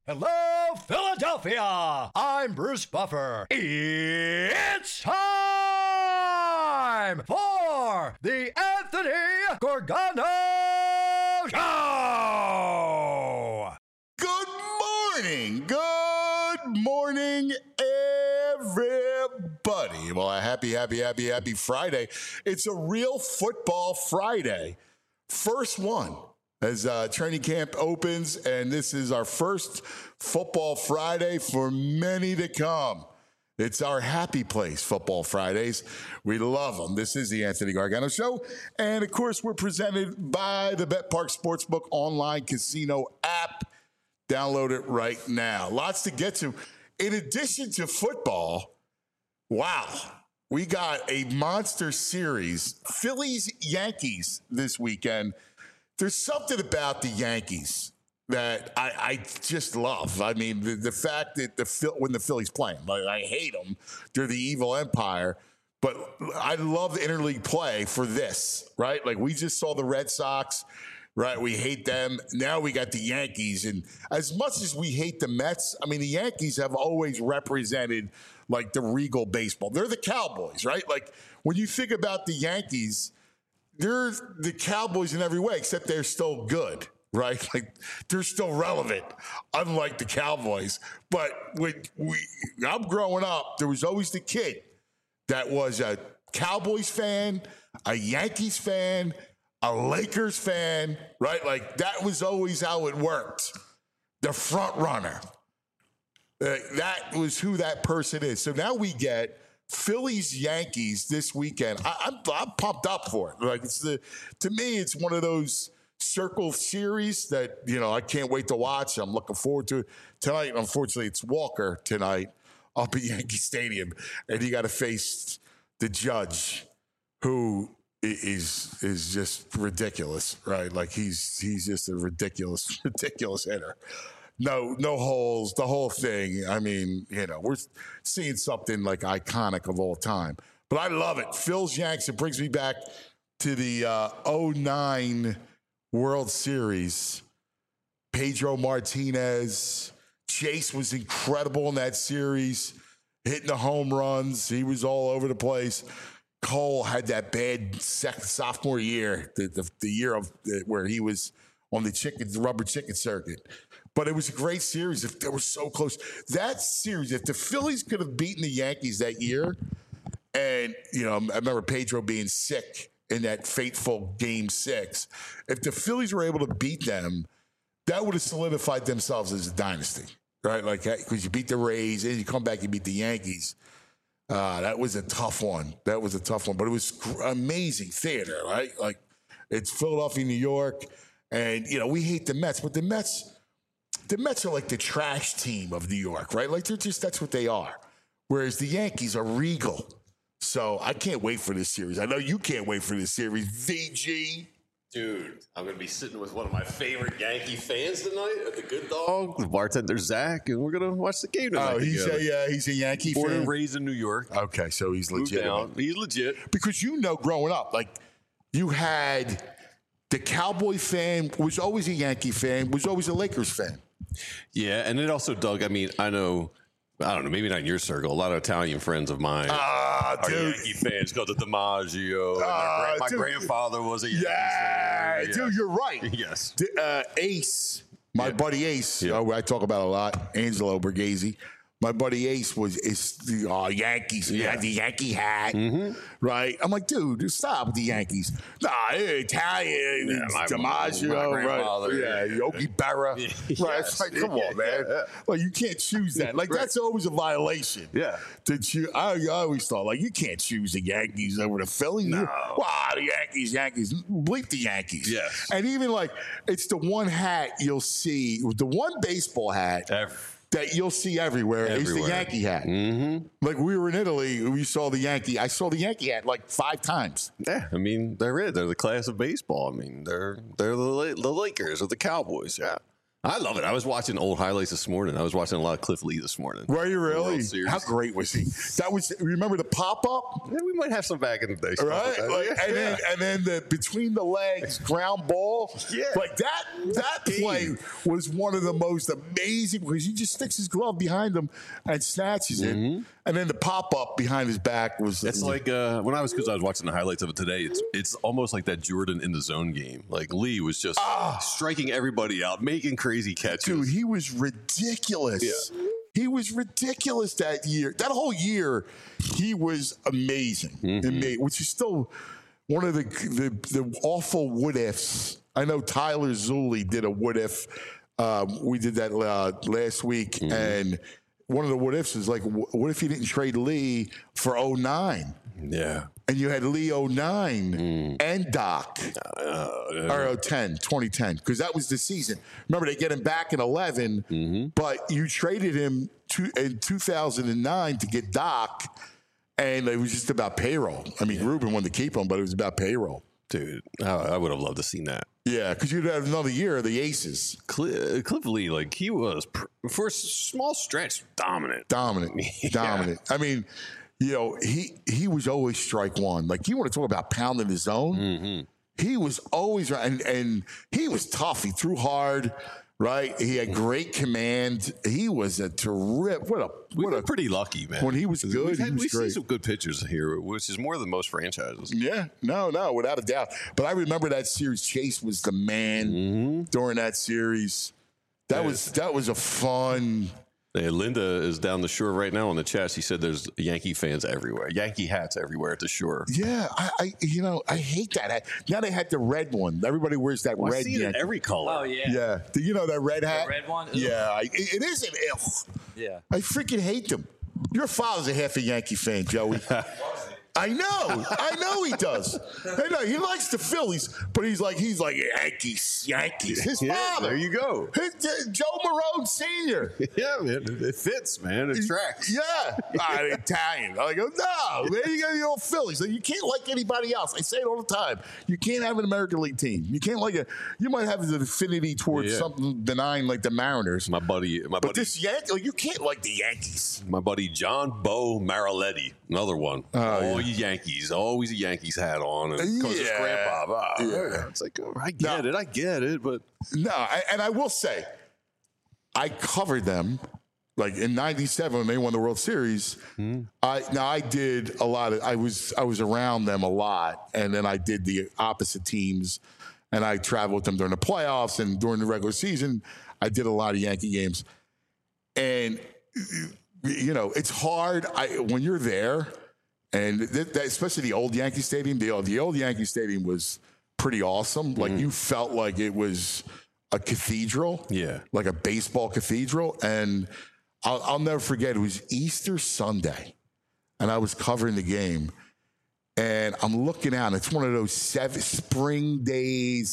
Hello, Philadelphia! I'm Bruce Buffer. It's time for the Anthony Gorgano Show! Good morning, everybody. Well, a happy Friday. It's a real football Friday. First one. As training camp opens, and this is our first Football Friday for many to come. It's our happy place, Football Fridays. We love them. This is the Anthony Gargano Show. And, of course, we're presented by the BetPark Sportsbook online casino app. Download it right now. Lots to get to. In addition to football, wow, we got a monster series. Phillies-Yankees this weekend. There's something about the Yankees that I just love. I mean, the fact that when the Phillies playing, like, I hate them. They're the evil empire. But I love the interleague play for this, right? Like, we just saw the Red Sox, right? We hate them. Now we got the Yankees. And as much as we hate the Mets, I mean, the Yankees have always represented, like, the regal baseball. They're the Cowboys, right? Like, when you think about the Yankees, they're the Cowboys in every way, except they're still good, right? Like, they're still relevant, unlike the Cowboys. But when I'm growing up, there was always the kid that was a Cowboys fan, a Yankees fan, a Lakers fan, right? Like, that was always how it worked. The front runner. That was who that person is. So now we get Phillies Yankees this weekend. I'm pumped up for it. Like, to me, it's one of those circle series that, you know, I can't wait to watch. I'm looking forward to it tonight. Unfortunately, it's Walker tonight up at Yankee Stadium, and you got to face the Judge, who is just ridiculous, right? Like, he's just a ridiculous hitter. No holes, the whole thing. I mean, you know, we're seeing something like iconic of all time. But I love it. Phil's Yanks, it brings me back to the 2009 World Series. Pedro Martinez. Chase was incredible in that series, hitting the home runs. He was all over the place. Cole had that bad sophomore year, the year of where he was on the rubber chicken circuit. But it was a great series. If they were so close, that series, if the Phillies could have beaten the Yankees that year, and, you know, I remember Pedro being sick in that fateful Game 6. If the Phillies were able to beat them, that would have solidified themselves as a dynasty, right? Like, because you beat the Rays, and you come back and beat the Yankees. That was a tough one. But it was amazing theater, right? Like, it's Philadelphia, New York, and, you know, we hate the Mets, but the Mets are like the trash team of New York, right? Like, that's what they are. Whereas the Yankees are regal. So I can't wait for this series. I know you can't wait for this series. VG. Dude, I'm going to be sitting with one of my favorite Yankee fans tonight at the Good Dog, the bartender Zach, and we're going to watch the game tonight. Oh, he's a Yankee fan. Born and raised in New York. Okay, so he's legit. He's legit. Because, you know, growing up, like, you had the Cowboy fan was always a Yankee fan, was always a Lakers fan. Yeah, and it also, Doug, I mean, I don't know, maybe not in your circle. A lot of Italian friends of mine are Yankee fans. Go to DiMaggio. My grandfather was a Yankee fan. Dude, you're right. Yes. Ace, my buddy Ace, I talk about a lot, Angelo Borghese. My buddy Ace is the Yankees. He had the Yankee hat, right? I'm like, dude, stop with the Yankees. Nah, Italian, DiMaggio, right? Yeah, Yogi Berra. Right? It's like, come on, man. Like, you can't choose that. Like, that's always a violation. Yeah. I always thought, like, you can't choose the Yankees over the Phillies. No. Wow, the Yankees. Bleep the Yankees. Yes. And even, like, it's the one hat you'll see, the one baseball hat that you'll see everywhere is the Yankee hat. Mm-hmm. Like, we were in Italy, we saw the Yankee. I saw the Yankee hat like 5 times. Yeah, I mean, they're the class of baseball. I mean, they're the Lakers or the Cowboys. Yeah, I love it. I was watching old highlights this morning. I was watching a lot of Cliff Lee this morning. Were you really? How great was he? That was. Remember the pop up? Yeah, we might have some back in the day, right? Like, and then the between the legs ground ball. Yeah, like that play was one of the most amazing because he just sticks his glove behind him and snatches it, and then the pop up behind his back was. It's like when I was watching the highlights of it today. It's almost like that Jordan in the zone game. Like Lee was just striking everybody out, making crazy catches. Dude, he was ridiculous. Yeah. He was ridiculous that year. That whole year, he was amazing. Which is still one of the awful what ifs. I know Tyler Zulli did a what if. We did that last week, and one of the what ifs is like, what if you didn't trade Lee for 09? Yeah. And you had Lee 09 and Doc, or 2010, because that was the season. Remember, they get him back in 11, but you traded him in 2009 to get Doc, and it was just about payroll. I mean, Ruben wanted to keep him, but it was about payroll. Dude, I would have loved to seen that. Yeah, because you'd have another year of the Aces. Cliff Lee, like he was, for a small stretch, dominant. Yeah. I mean, you know, he was always strike one. Like, you want to talk about pounding his zone? He was always right, and he was tough. He threw hard, right? He had great command. He was a terrific. We're pretty lucky, man. When he was good, he was we great. see some good pitchers here, which is more than most franchises. Yeah, no, without a doubt. But I remember that series. Chase was the man during that series. That was a fun. Hey, Linda is down the shore right now on the chat. She said there's Yankee fans everywhere, Yankee hats everywhere at the shore. Yeah, I hate that hat. Now they had the red one. Everybody wears that red. I see it in every color. Oh yeah. Yeah. Do you know that red hat? The red one. Ugh. Yeah, it is an ill. Yeah. I freaking hate them. Your father's a half a Yankee fan, Joey. I know he does. I know he likes the Phillies, but he's like Yankees. His father. There you go. Joe Marone Sr. Yeah, man, it fits, man. It tracks. Yeah, Italian. I go, no, man, you got the old Phillies. Like, you can't like anybody else. I say it all the time. You can't have an American League team. You can't like you might have an affinity towards something benign like the Mariners. My buddy. This Yankee, like, you can't like the Yankees. My buddy John Bo Mariletti, another one. Yankees, always a Yankees hat on, and because his grandpa. It's like, I get it, but no. And I will say, I covered them like in '97 when they won the World Series. I did a lot of. I was around them a lot, and then I did the opposite teams, and I traveled with them during the playoffs and during the regular season. I did a lot of Yankee games, and you know, it's hard when you're there. And especially the old Yankee Stadium, the old Yankee Stadium was pretty awesome. Like, you felt like it was a cathedral, like a baseball cathedral. And I'll never forget, it was Easter Sunday, and I was covering the game, and I'm looking out, and it's one of those spring days,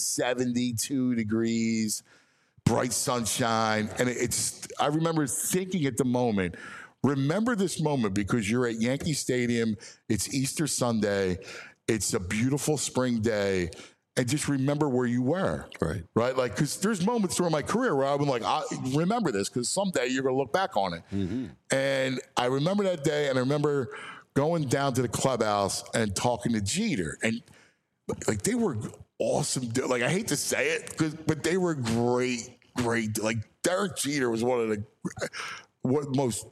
72 degrees, bright sunshine, and I remember thinking at the moment. Remember this moment because you're at Yankee Stadium. It's Easter Sunday. It's a beautiful spring day. And just remember where you were. Right? Like, because there's moments during my career where I've been like, I remember this because someday you're going to look back on it. And I remember that day, and I remember going down to the clubhouse and talking to Jeter. And, like, they were awesome. Like, I hate to say it, but they were great. Like, Derek Jeter was one of the most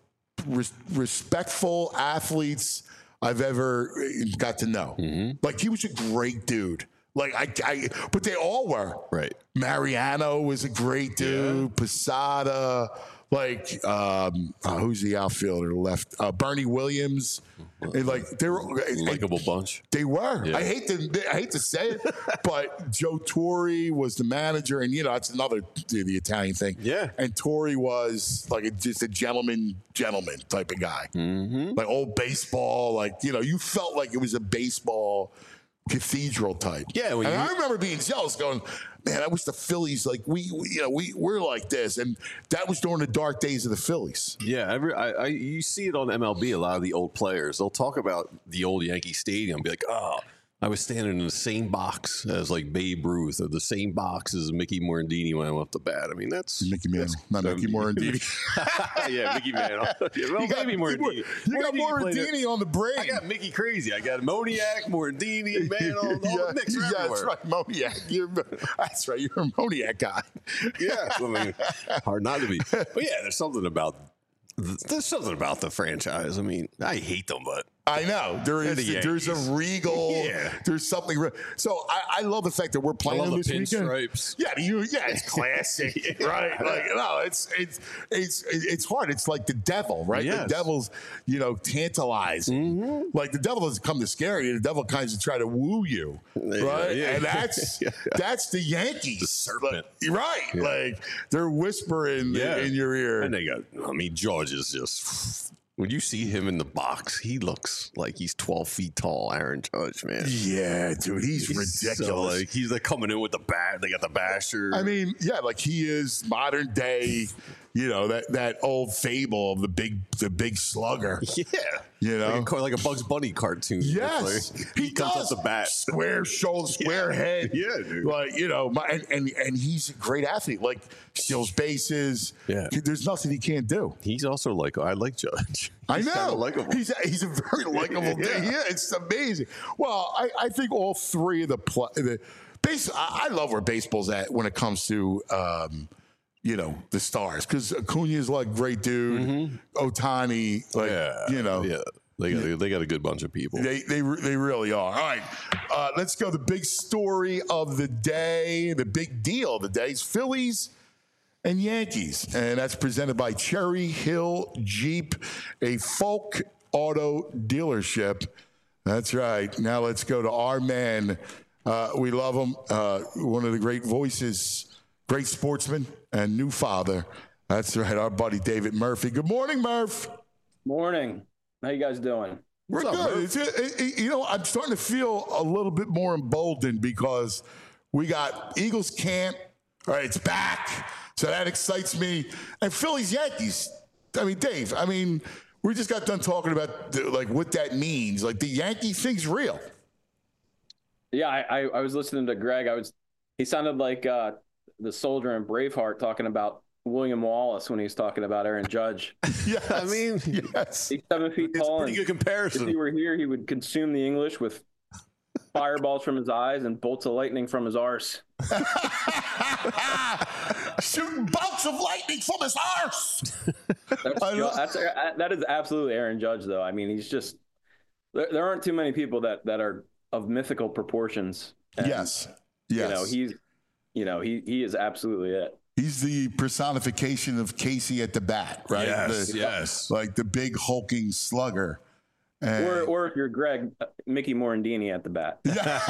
respectful athletes I've ever got to know. Like, he was a great dude. Like, but they all were. Right. Mariano was a great dude. Posada. Like, who's the outfielder left? Bernie Williams. And, like, they were likable bunch. They were. Yeah. I hate to say it, but Joe Torre was the manager, and that's another the Italian thing. Yeah. And Torre was like just a gentleman type of guy. Like old baseball. Like, you felt like it was a baseball cathedral type. Yeah. And I remember being jealous, going, man, I wish the Phillies, like, we're like this. And that was during the dark days of the Phillies. Yeah, you see it on MLB, a lot of the old players. They'll talk about the old Yankee Stadium, be like, oh, I was standing in the same box as like Babe Ruth, or the same box as Mickey Morandini when I went up the bat. I mean, that's Mickey Mantle, not Mickey Morandini. Yeah, Mickey Mantle. Well, maybe Morandini. You got Morandini on the brain. I got Mickey crazy. I got Moniak, Morandini, Mantle, all the mix everywhere. That's right, Moniak. That's right, you're a Moniak guy. Yeah, I mean, hard not to be. But yeah, there's something about the franchise. I mean, I hate them, but I know there's a regal. Yeah. There's something. So I love the fact that we're playing them this weekend. Pinstripes. Yeah, it's classic, right? Like it's hard. It's like the devil, right? Yes. The devil's tantalizing. Mm-hmm. Like the devil doesn't come to scare you. The devil kind of try to woo you, right? Yeah. And that's the Yankees, the serpent, right? Yeah. Like they're whispering in your ear, and they got. I mean, George is just. When you see him in the box, he looks like he's 12 feet tall, Aaron Judge, man. Yeah, dude, he's ridiculous. He's like coming in with the bat. They got the basher. I mean, yeah, like he is modern day. That old fable of the big slugger. Yeah, like a Bugs Bunny cartoon. Yes, he comes does. up the bat, square shoulder, square head. Yeah, dude. Like and he's a great athlete. Like steals bases. Yeah, there's nothing he can't do. He's also I like Judge. I know. Likable. He's a very likable dude. Yeah, it's amazing. Well, I think all three of the base. I love where baseball's at when it comes to. The stars, because Acuna's like great dude. Mm-hmm. Ohtani, they got a good bunch of people. They really are. All right, let's go. The big story of the day, the big deal of the day is Phillies and Yankees, and that's presented by Cherry Hill Jeep, a Folk Auto dealership. That's right. Now let's go to our man. We love him. One of the great voices. Great sportsman and new father. That's right, our buddy David Murphy. Good morning, Murph. Morning. How you guys doing? We're good. I'm starting to feel a little bit more emboldened because we got Eagles camp. All right, it's back. So that excites me. And Phillies Yankees. I mean, Dave, we just got done talking about what that means. Like the Yankee thing's real. Yeah, I was listening to Greg. He sounded like the soldier in Braveheart talking about William Wallace when he was talking about Aaron Judge. Yes. I mean, yes. He's 7 feet tall. Pretty good comparison. If he were here, he would consume the English with fireballs from his eyes and bolts of lightning from his arse. Shooting bolts of lightning from his arse. That is absolutely Aaron Judge, though. I mean, he's just there aren't too many people that are of mythical proportions. And, yes. He is absolutely it. He's the personification of Casey at the bat, right? Yes. Like the big hulking slugger. Or if you're Greg, Mickey Morandini at the bat.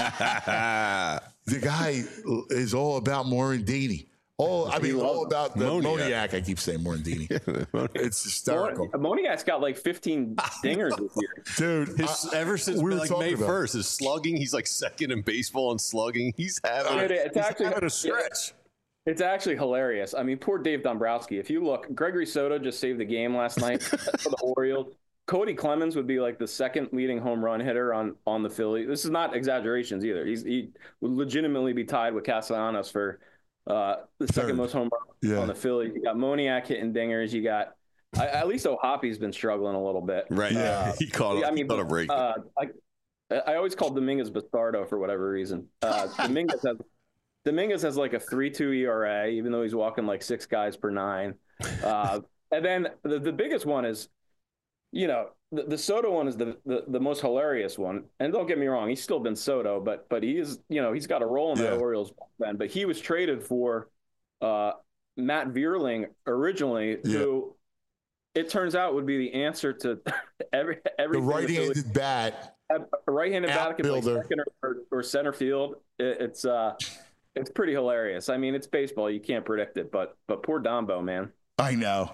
The guy is all about Morandini. All about the Moniak. I keep saying Morandini. It's hysterical. Moniak's got like 15 dingers this year. Dude, ever since May 1st, his slugging, he's like second in baseball in slugging. He's having a stretch. It's actually hilarious. I mean, poor Dave Dombrowski. If you look, Gregory Soto just saved the game last night for the Orioles. Cody Clemens would be like the second leading home run hitter on the Phillies. This is not exaggerations either. He would legitimately be tied with Castellanos for the second most home runs on the Phillies. You got Moniak hitting dingers. You got at least O'Hoppy's been struggling a little bit. Right. He caught a break. I always called Dominguez Bastardo for whatever reason. Dominguez has like a 3.2 ERA, even though he's walking like 6 guys per 9. And then the biggest one is, the Soto one is the most hilarious one. And don't get me wrong, he's still been Soto, but he is, he's got a role in the Orioles then. But he was traded for Matt Vierling originally, who it turns out would be the answer to everything. The right-handed bat. A right-handed bat can play second or center field. It's pretty hilarious. I mean, it's baseball. You can't predict it, but poor Dombo, man. I know.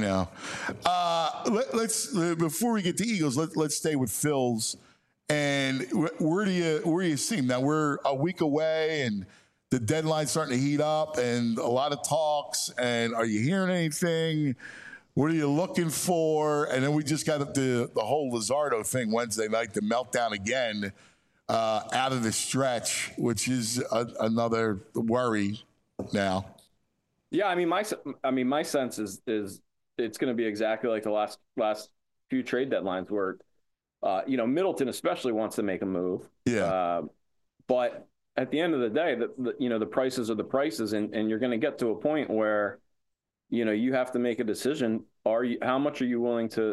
Let's before we get to Eagles, let's stay with Phil's. And where do you see him now? We're a week away, and the deadline's starting to heat up, and a lot of talks. And are you hearing anything? What are you looking for? And then we just got the whole Luzardo thing Wednesday night, the meltdown again. out of the stretch, which is another worry now. Yeah, I mean, my sense is it's going to be exactly like the last few trade deadlines where, Middleton especially wants to make a move. Yeah. But at the end of the day, the prices are the prices, and you're going to get to a point where, you have to make a decision. How much are you willing to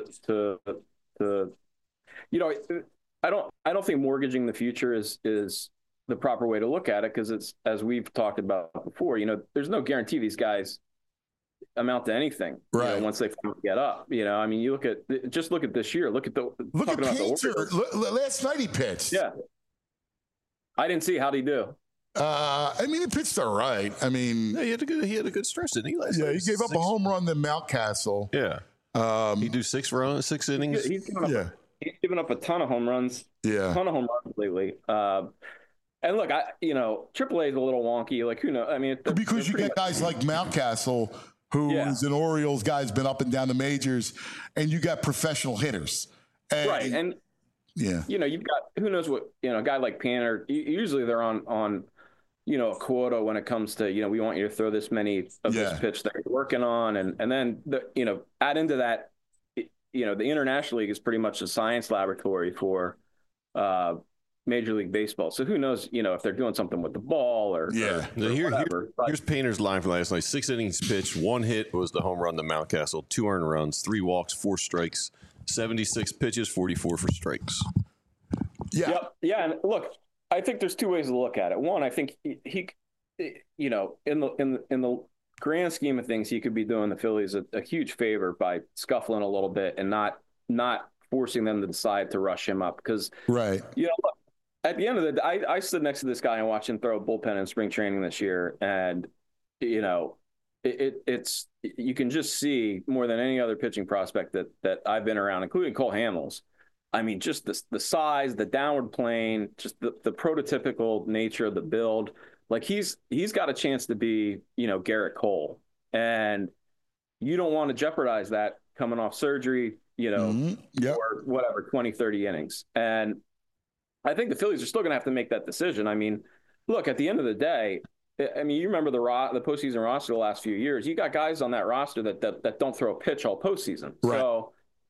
I don't think mortgaging the future is the proper way to look at it, because it's, as we've talked about before, there's no guarantee these guys amount to anything once they get up. I mean, look at this year. Look at Painter. Last night he pitched. Yeah, I didn't see. How'd he do? I mean, he pitched all right. I mean, yeah, he had a good stretch, didn't he? Last night? He gave up a home run to Mountcastle. Yeah, he do 6 innings. He's given up a ton of home runs. Yeah, a ton of home runs lately. And look, AAA is a little wonky. Like, who knows? I mean, because you get guys like Mountcastle, who is an Orioles guy, has been up and down the majors, and you got professional hitters. Right, and you've got, who knows what, a guy like Painter. Usually they're on a quota when it comes to, we want you to throw this many of this pitch that you're working on, and then add into that, the International League is pretty much a science laboratory for Major League Baseball. So who knows, if they're doing something with the ball or whatever. Here's Painter's line from last night. 6 innings pitched, 1 hit was the home run to Mountcastle, 2 earned runs, 3 walks, 4 strikes, 76 pitches, 44 for strikes. Yeah. Yep. Yeah. And look, I think there's 2 ways to look at it. One, I think he in the grand scheme of things, he could be doing the Phillies a huge favor by scuffling a little bit and not forcing them to decide to rush him up. Because, right. Look, at the end of the day, I stood next to this guy and watched him throw a bullpen in spring training this year. And, it's you can just see more than any other pitching prospect that I've been around, including Cole Hamels. I mean, just the size, the downward plane, just the prototypical nature of the build. Like, he's got a chance to be, Garrett Cole. And you don't want to jeopardize that coming off surgery, or whatever, 20, 30 innings. And I think the Phillies are still going to have to make that decision. I mean, look, at the end of the day, you remember the postseason roster the last few years. You got guys on that roster that don't throw a pitch all postseason. Right. So,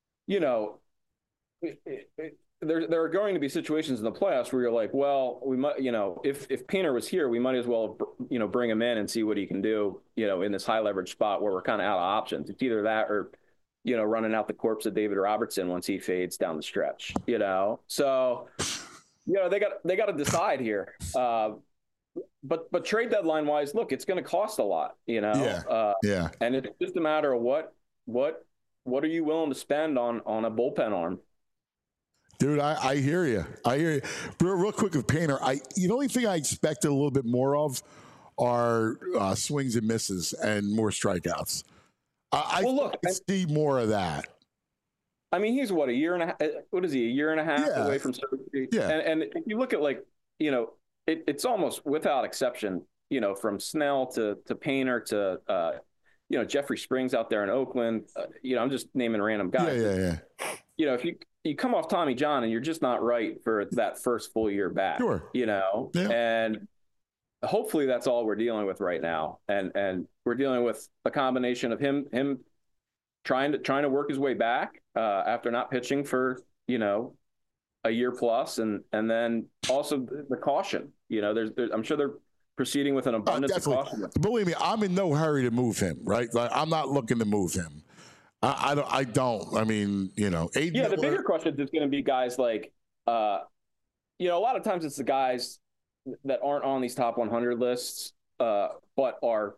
there are going to be situations in the playoffs where you're like, well, we might, if Painter was here, we might as well, bring him in and see what he can do, in this high leverage spot where we're kind of out of options. It's either that or, running out the corpse of David Robertson once he fades down the stretch, So, they got to decide here. But trade deadline wise, look, it's going to cost a lot, and it's just a matter of what are you willing to spend on a bullpen arm. Dude, I hear you. Real quick with Painter, the only thing I expected a little bit more of are swings and misses and more strikeouts. I see more of that. I mean, he's a year and a half. What is he? A year and a half away from surgery. Yeah. And if you look at it's almost without exception, from Snell to Painter to Jeffrey Springs out there in Oakland. I'm just naming random guys. Yeah. If you come off Tommy John and you're just not right for that first full year back, sure. And hopefully that's all we're dealing with right now. And we're dealing with a combination of him trying to work his way back after not pitching for, a year plus. And then also the caution, there's I'm sure they're proceeding with an abundance of caution. Believe me, I'm in no hurry to move him, right? Like, I'm not looking to move him. I don't. I mean, Aiden Miller. The bigger question is going to be guys like, a lot of times it's the guys that aren't on these top 100 lists, but are,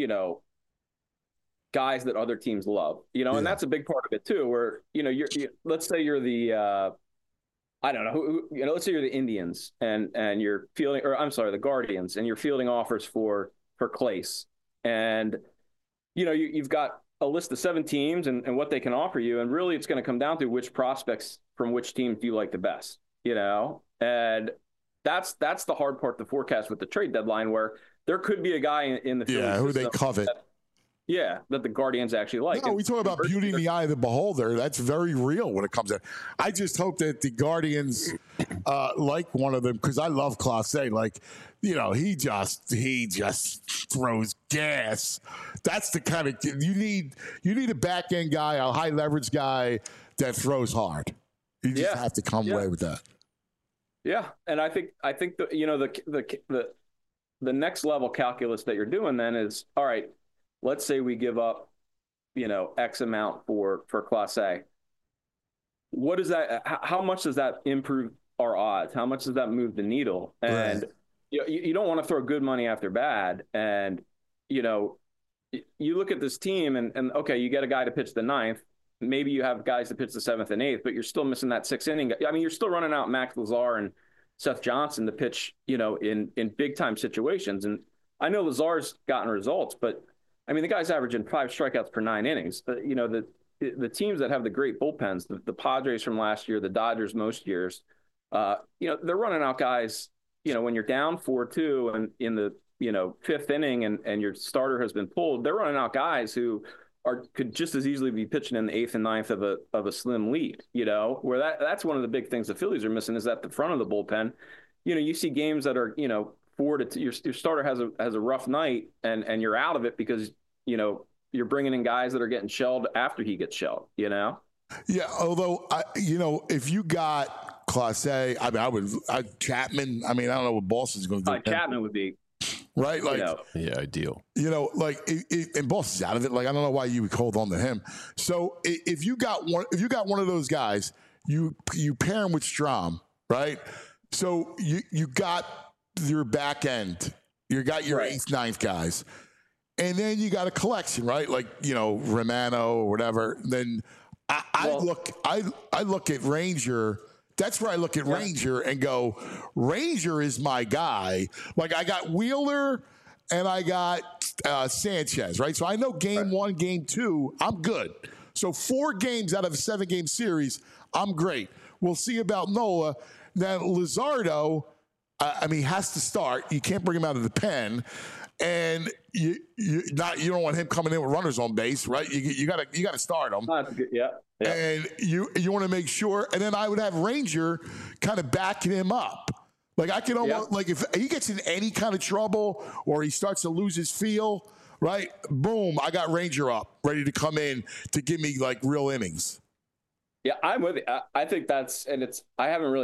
guys that other teams love, and that's a big part of it too, where, let's say you're the, I don't know who, let's say you're the Indians and you're fielding, or I'm sorry, the Guardians, and you're fielding offers for Clace, and, you've got a list of 7 teams and what they can offer you. And really it's going to come down to which prospects from which teams do you like the best, and that's the hard part to forecast with the trade deadline, where there could be a guy in the Phillies who they covet. Yeah, that the Guardians actually like. No, we talk about beauty in the eye of the beholder. That's very real when it comes to. I just hope that the Guardians like one of them, because I love Clase. Like, he just throws gas. That's the kind of you need. You need a back end guy, a high leverage guy that throws hard. You just have to come away with that. Yeah, and I think the next level calculus that you're doing then is, all right, let's say we give up, X amount for Class A. What is that? How much does that improve our odds? How much does that move the needle? And you don't want to throw good money after bad. And, you look at this team and okay, you get a guy to pitch the 9th. Maybe you have guys to pitch the 7th and 8th, but you're still missing that 6th inning. I mean, you're still running out Max Lazar and Seth Johnson to pitch, in big time situations. And I know Lazar's gotten results, but I mean, the guy's averaging 5 strikeouts per 9 innings. The teams that have the great bullpens, the Padres from last year, the Dodgers most years, they're running out guys, when you're down 4-2 and in the, 5th inning and your starter has been pulled, they're running out guys who could just as easily be pitching in the 8th and 9th of a slim lead, where that's one of the big things the Phillies are missing is at the front of the bullpen. You see games that are, 4-2, your starter has a rough night and you're out of it because, you're bringing in guys that are getting shelled after he gets shelled, Yeah. Although, if you got Class A, I mean, Chapman, I mean, I don't know what Boston's going to do. Chapman would be. Right? Like, ideal. And Boston's out of it. Like, I don't know why you would hold on to him. So if you got one of those guys, you pair him with Strom, right? So you got your back end. You got your 8th, 9th guys. And then you got a collection, right? Like, Romano or whatever. Then I look at Ranger. That's where I look at Ranger and go, Ranger is my guy. Like, I got Wheeler and I got Sanchez, right? So I know game 1, game 2, I'm good. So 4 games out of a 7-game series, I'm great. We'll see about Nola. Now, Luzardo, he has to start. You can't bring him out of the pen. And you don't want him coming in with runners on base, right? You got to start him. Yeah. And you want to make sure. And then I would have Ranger kind of backing him up. Like, I can almost like if he gets in any kind of trouble or he starts to lose his feel, right? Boom! I got Ranger up, ready to come in to give me like real innings. Yeah, I'm with you. I think that's, and it's. I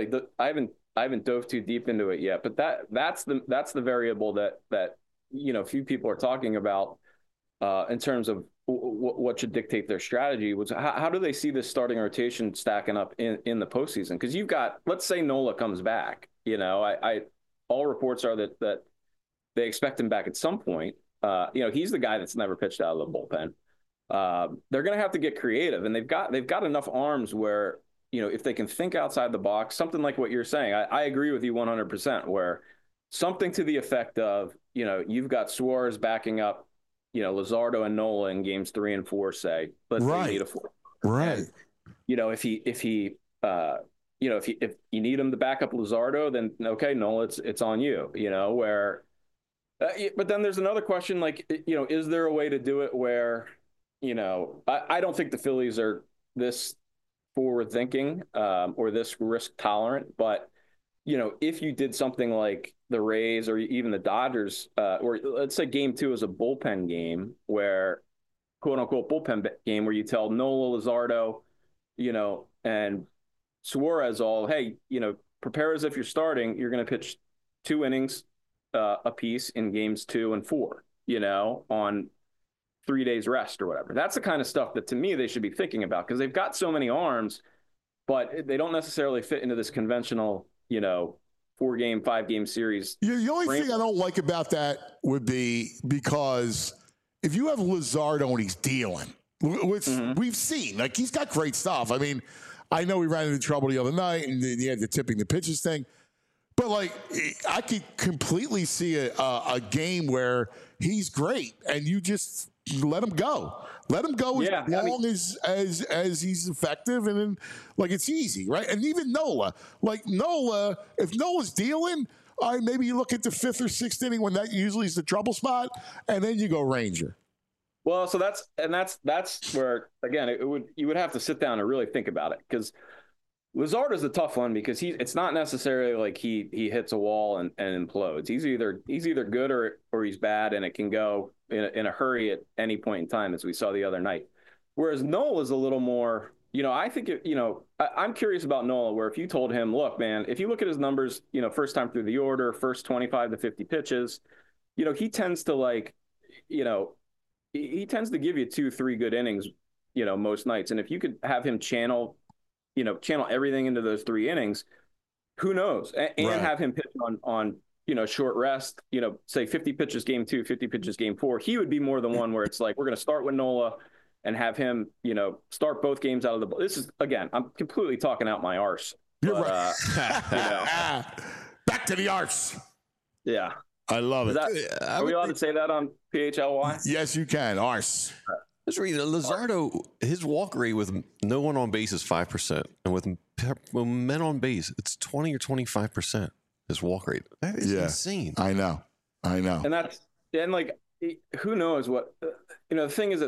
haven't dove too deep into it yet, but that's the variable that few people are talking about in terms of what should dictate their strategy. Was how do they see this starting rotation stacking up in the postseason? Because you've got, let's say Nola comes back. All reports are that they expect him back at some point. He's the guy that's never pitched out of the bullpen. They're going to have to get creative, and they've got enough arms where if they can think outside the box, something like what you're saying. I agree with you 100%. Where something to the effect of, you've got Suarez backing up, Luzardo and Nola in games 3 and 4, say, let's say you need a 4. Right. And, if you need him to back up Luzardo, then okay, Nola, it's on you, but then there's another question, like, is there a way to do it where, I don't think the Phillies are this forward thinking, or this risk tolerant, but if you did something like the Rays or even the Dodgers, or let's say game 2 is a bullpen game where, quote unquote, bullpen game where you tell Nola, Luzardo, and Suarez all, hey, prepare as if you're starting. You're going to pitch 2 innings apiece in games 2 and 4, on 3 days rest or whatever. That's the kind of stuff that to me they should be thinking about, because they've got so many arms, but they don't necessarily fit into this conventional, 4-game, 5-game series. The only thing I don't like about that would be because if you have Luzardo and he's dealing, which we've seen, like, he's got great stuff. I mean, I know he ran into trouble the other night and he had the tipping the pitches thing, but like, I could completely see a game where he's great and you just let him go. Let him go as long as he's effective, and then, like, it's easy, right? And even Nola, if Nola's dealing, all right, maybe you look at the 5th or 6th inning when that usually is the trouble spot, and then you go Ranger. Well, so that's where again you would have to sit down and really think about it, because Lazard is a tough one, because it's not necessarily like he hits a wall and implodes. He's either good or he's bad, and it can go in a hurry at any point in time, as we saw the other night. Whereas Nola is a little more, I think I'm curious about Nola, where if you told him, look, man, if you look at his numbers, first time through the order, first 25 to 50 pitches, he tends to he tends to give you 2-3 good innings, most nights. And if you could have him channel everything into those 3 innings, who knows? And right. Have him pitch on short rest, say 50 pitches game 2, 50 pitches game 4. He would be more than one where it's like, we're going to start with Nola and have him, start both games out of the. This is, again, I'm completely talking out my arse. You're right. Back to the arse. Yeah. I love it. Are we allowed to say that on PHLY? Yes, you can. Arse. Let's read it. Luzardo, his walk rate with no one on base is 5%. And with men on base, it's 20 or 25%. His walk rate. That is insane. I know. And who knows what, the thing is,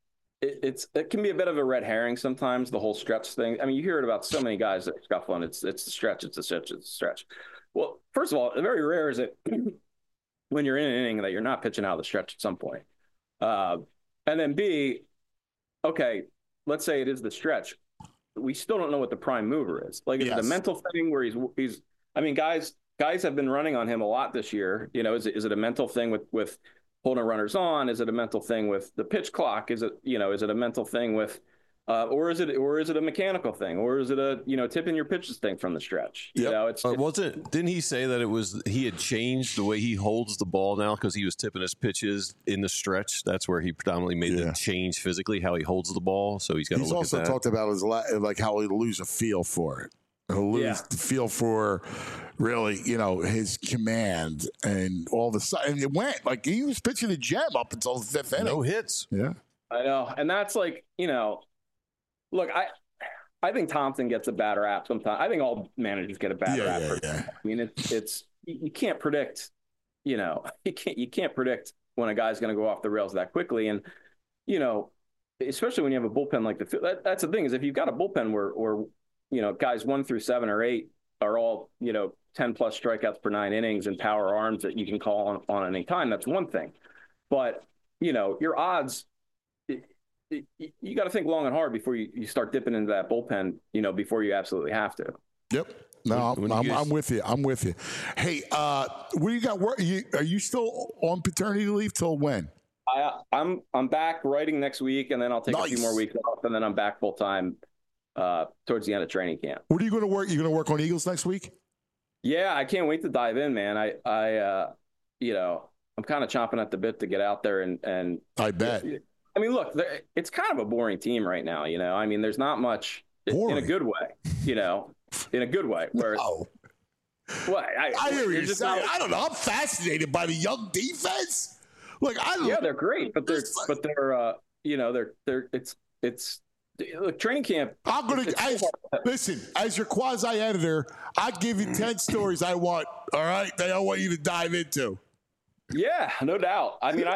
it can be a bit of a red herring sometimes, the whole stretch thing. I mean, you hear it about so many guys that are scuffling. It's the stretch. It's a stretch. It's a stretch. Well, first of all, very rare is it when you're in an inning that you're not pitching out of the stretch at some point. And then B, okay, let's say it is the stretch. We still don't know what the prime mover is. Like, is it a mental thing where he's I mean, guys have been running on him a lot this year. Is it a mental thing with holding runners on? Is it a mental thing with the pitch clock? Is it a mental thing with or is it a mechanical thing, or is it a tipping your pitches thing from the stretch? Yep. Didn't he say that he had changed the way he holds the ball now because he was tipping his pitches in the stretch? That's where he predominantly made the change physically, how he holds the ball. So he's got to look at that. He's also talked about how he'll lose a feel for it. He'll lose the feel for really, his command and all the stuff. And it went like he was pitching a gem up until the 5th inning. No hits. Yeah, I know, and that's like Look, I think Thompson gets a bad rap sometimes. I think all managers get a bad rap. Yeah. I mean, it's you can't predict, you can't predict when a guy's going to go off the rails that quickly, and especially when you have a bullpen like that's the thing, is if you've got a bullpen where guys 1 through 7 or 8 are all 10 plus strikeouts per 9 innings and power arms that you can call on any time. That's one thing, but your odds. You got to think long and hard before you start dipping into that bullpen, before you absolutely have to. Yep. No, I'm with you. I'm with you. Hey, what do you got? Are you still on paternity leave till when? I'm back writing next week, and then I'll take a few more weeks off, and then I'm back full time towards the end of training camp. What are you going to work? You're going to work on Eagles next week? Yeah, I can't wait to dive in, man. I'm kind of chomping at the bit to get out there and I bet. I mean, look, it's kind of a boring team right now. I mean, there's not much in a good way. In a good way. Where Well, I hear what you're saying. I don't know. I'm fascinated by the young defense. Look, they're great, but they're look, training camp. I'm gonna listen as your quasi editor. I give you 10 stories I want. All right, that I want you to dive into. Yeah, no doubt. I mean,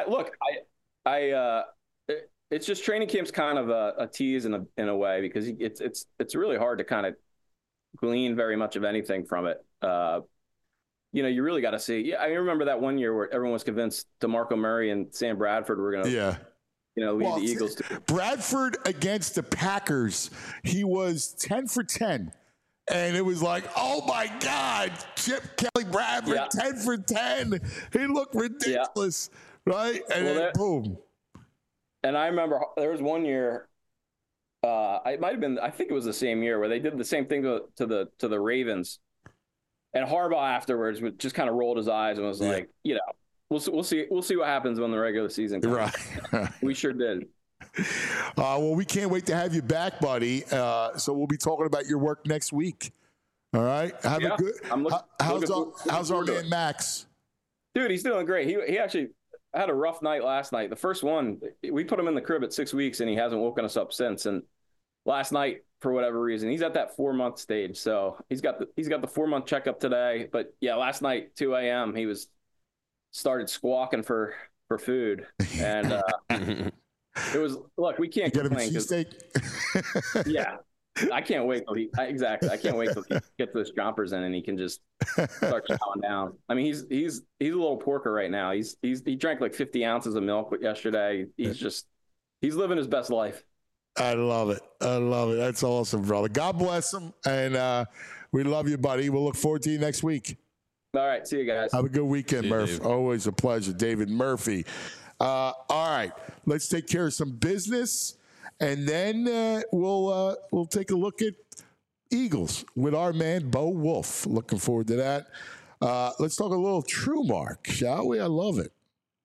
it's just training camp's kind of a tease in a way, because it's really hard to kind of glean very much of anything from it. You really got to see. Yeah, I remember that one year where everyone was convinced DeMarco Murray and Sam Bradford were going to, lead the Eagles. Bradford against the Packers, he was 10 for 10. And it was like, oh my God, Chip Kelly Bradford, 10 for 10. He looked ridiculous, right? And then boom. And I remember there was one year, it might have been, I think it was the same year, where they did the same thing to the Ravens. And Harbaugh afterwards just kind of rolled his eyes and was like, we'll see what happens when the regular season comes. Right. We sure did. Well, we can't wait to have you back, buddy. So we'll be talking about your work next week. All right. Have a good. How's our man Max? Dude, he's doing great. He actually had a rough night last night. The first one, we put him in the crib at 6 weeks, and he hasn't woken us up since. And last night, for whatever reason, he's at that 4-month stage. So he's got the 4-month checkup today. But yeah, last night, 2 a.m., he started squawking for food. And It was, look, we can't complain. Yeah. I can't wait till exactly. I can't wait till he gets those chompers in and he can just start chowing down. I mean, he's a little porker right now. He drank like 50 ounces of milk yesterday. He's living his best life. I love it. That's awesome, brother. God bless him. And we love you, buddy. We'll look forward to you next week. All right. See you guys. Have a good weekend, Murph. Dave. Always a pleasure. David Murphy. All right. Let's take care of some business. And then we'll take a look at Eagles with our man, Bo Wolf. Looking forward to that. Let's talk a little TrueMark, shall we? I love it.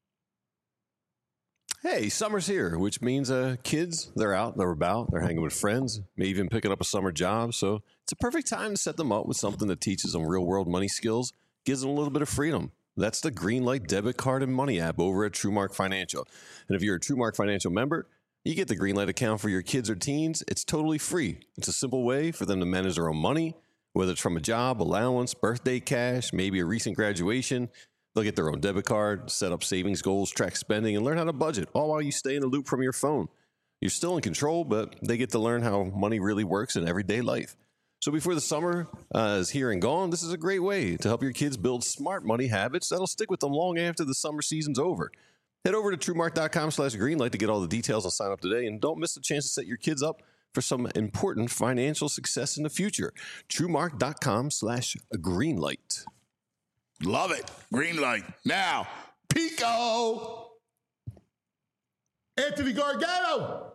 Hey, summer's here, which means kids, they're out, they're about, they're hanging with friends, maybe even picking up a summer job. So it's a perfect time to set them up with something that teaches them real-world money skills, gives them a little bit of freedom. That's the Greenlight debit card and money app over at TrueMark Financial. And if you're a TrueMark Financial member, you get the Greenlight account for your kids or teens. It's totally free. It's a simple way for them to manage their own money, whether it's from a job, allowance, birthday cash, maybe a recent graduation. They'll get their own debit card, set up savings goals, track spending, and learn how to budget, all while you stay in the loop from your phone. You're still in control, but they get to learn how money really works in everyday life. So before the summer is here and gone, this is a great way to help your kids build smart money habits that'll stick with them long after the summer season's over. Head over to TrueMark.com/Greenlight to get all the details and sign up today. And don't miss the chance to set your kids up for some important financial success in the future. TrueMark.com/Greenlight. Love it. Greenlight. Now, Pico. Anthony Gargano.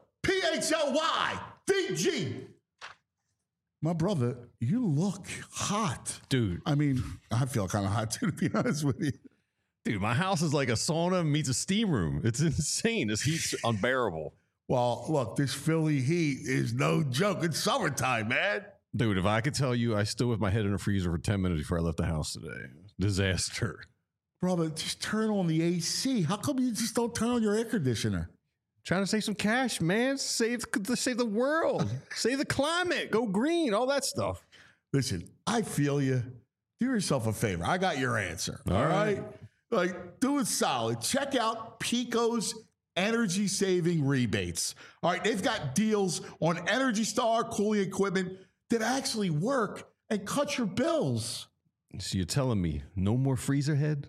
PHLYVG. My brother, you look hot. Dude. I mean, I feel kind of hot too, to be honest with you. Dude, my house is like a sauna meets a steam room. It's insane. This heat's unbearable. Well, look, this Philly heat is no joke. It's summertime, man. Dude, if I could tell you, I stood with my head in the freezer for 10 minutes before I left the house today. Disaster. Brother, just turn on the AC. How come you just don't turn on your air conditioner? Trying to save some cash, man. Save the world. Save the climate. Go green. All that stuff. Listen, I feel you. Do yourself a favor. I got your answer. All right? Like, do it solid. Check out Pico's energy saving rebates. All right, they've got deals on Energy Star cooling equipment that actually work and cut your bills. So you're telling me no more freezer head?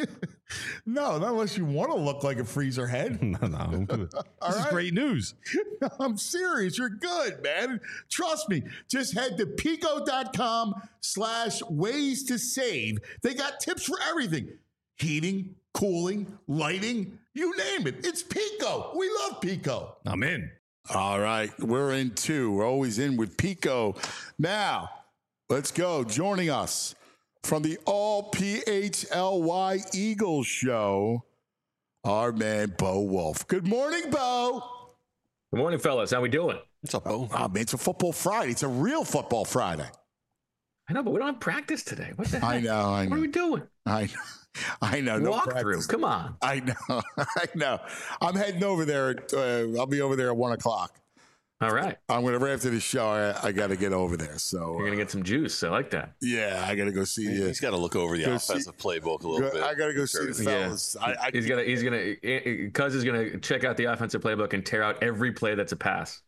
No, not unless you want to look like a freezer head. No, I'm good. This is great news. I'm serious. You're good, man. Trust me. Just head to pico.com/ways to save. They got tips for everything. Heating, cooling, lighting, you name it. It's Pico. We love Pico. I'm in. All right. We're in too. We're always in with Pico. Now, let's go. Joining us from the All PHLY Eagles show, our man, Bo Wolf. Good morning, Bo. Good morning, fellas. How we doing? What's up, Bo? Oh, man, it's a football Friday. It's a real football Friday. I know, but we don't have practice today. What the heck? I know. What are we doing? I know. No Walk through. Come on. I know. I'm heading over there. I'll be over there at 1 o'clock. All right. I'm going to, right after the show, I got to get over there. So You're going to get some juice. I like that. Yeah, I got to go see you. He's got to look over the offensive playbook a little bit. I got to go see the fellas. Yeah. He's gonna Cuz is gonna check out the offensive playbook and tear out every play that's a pass.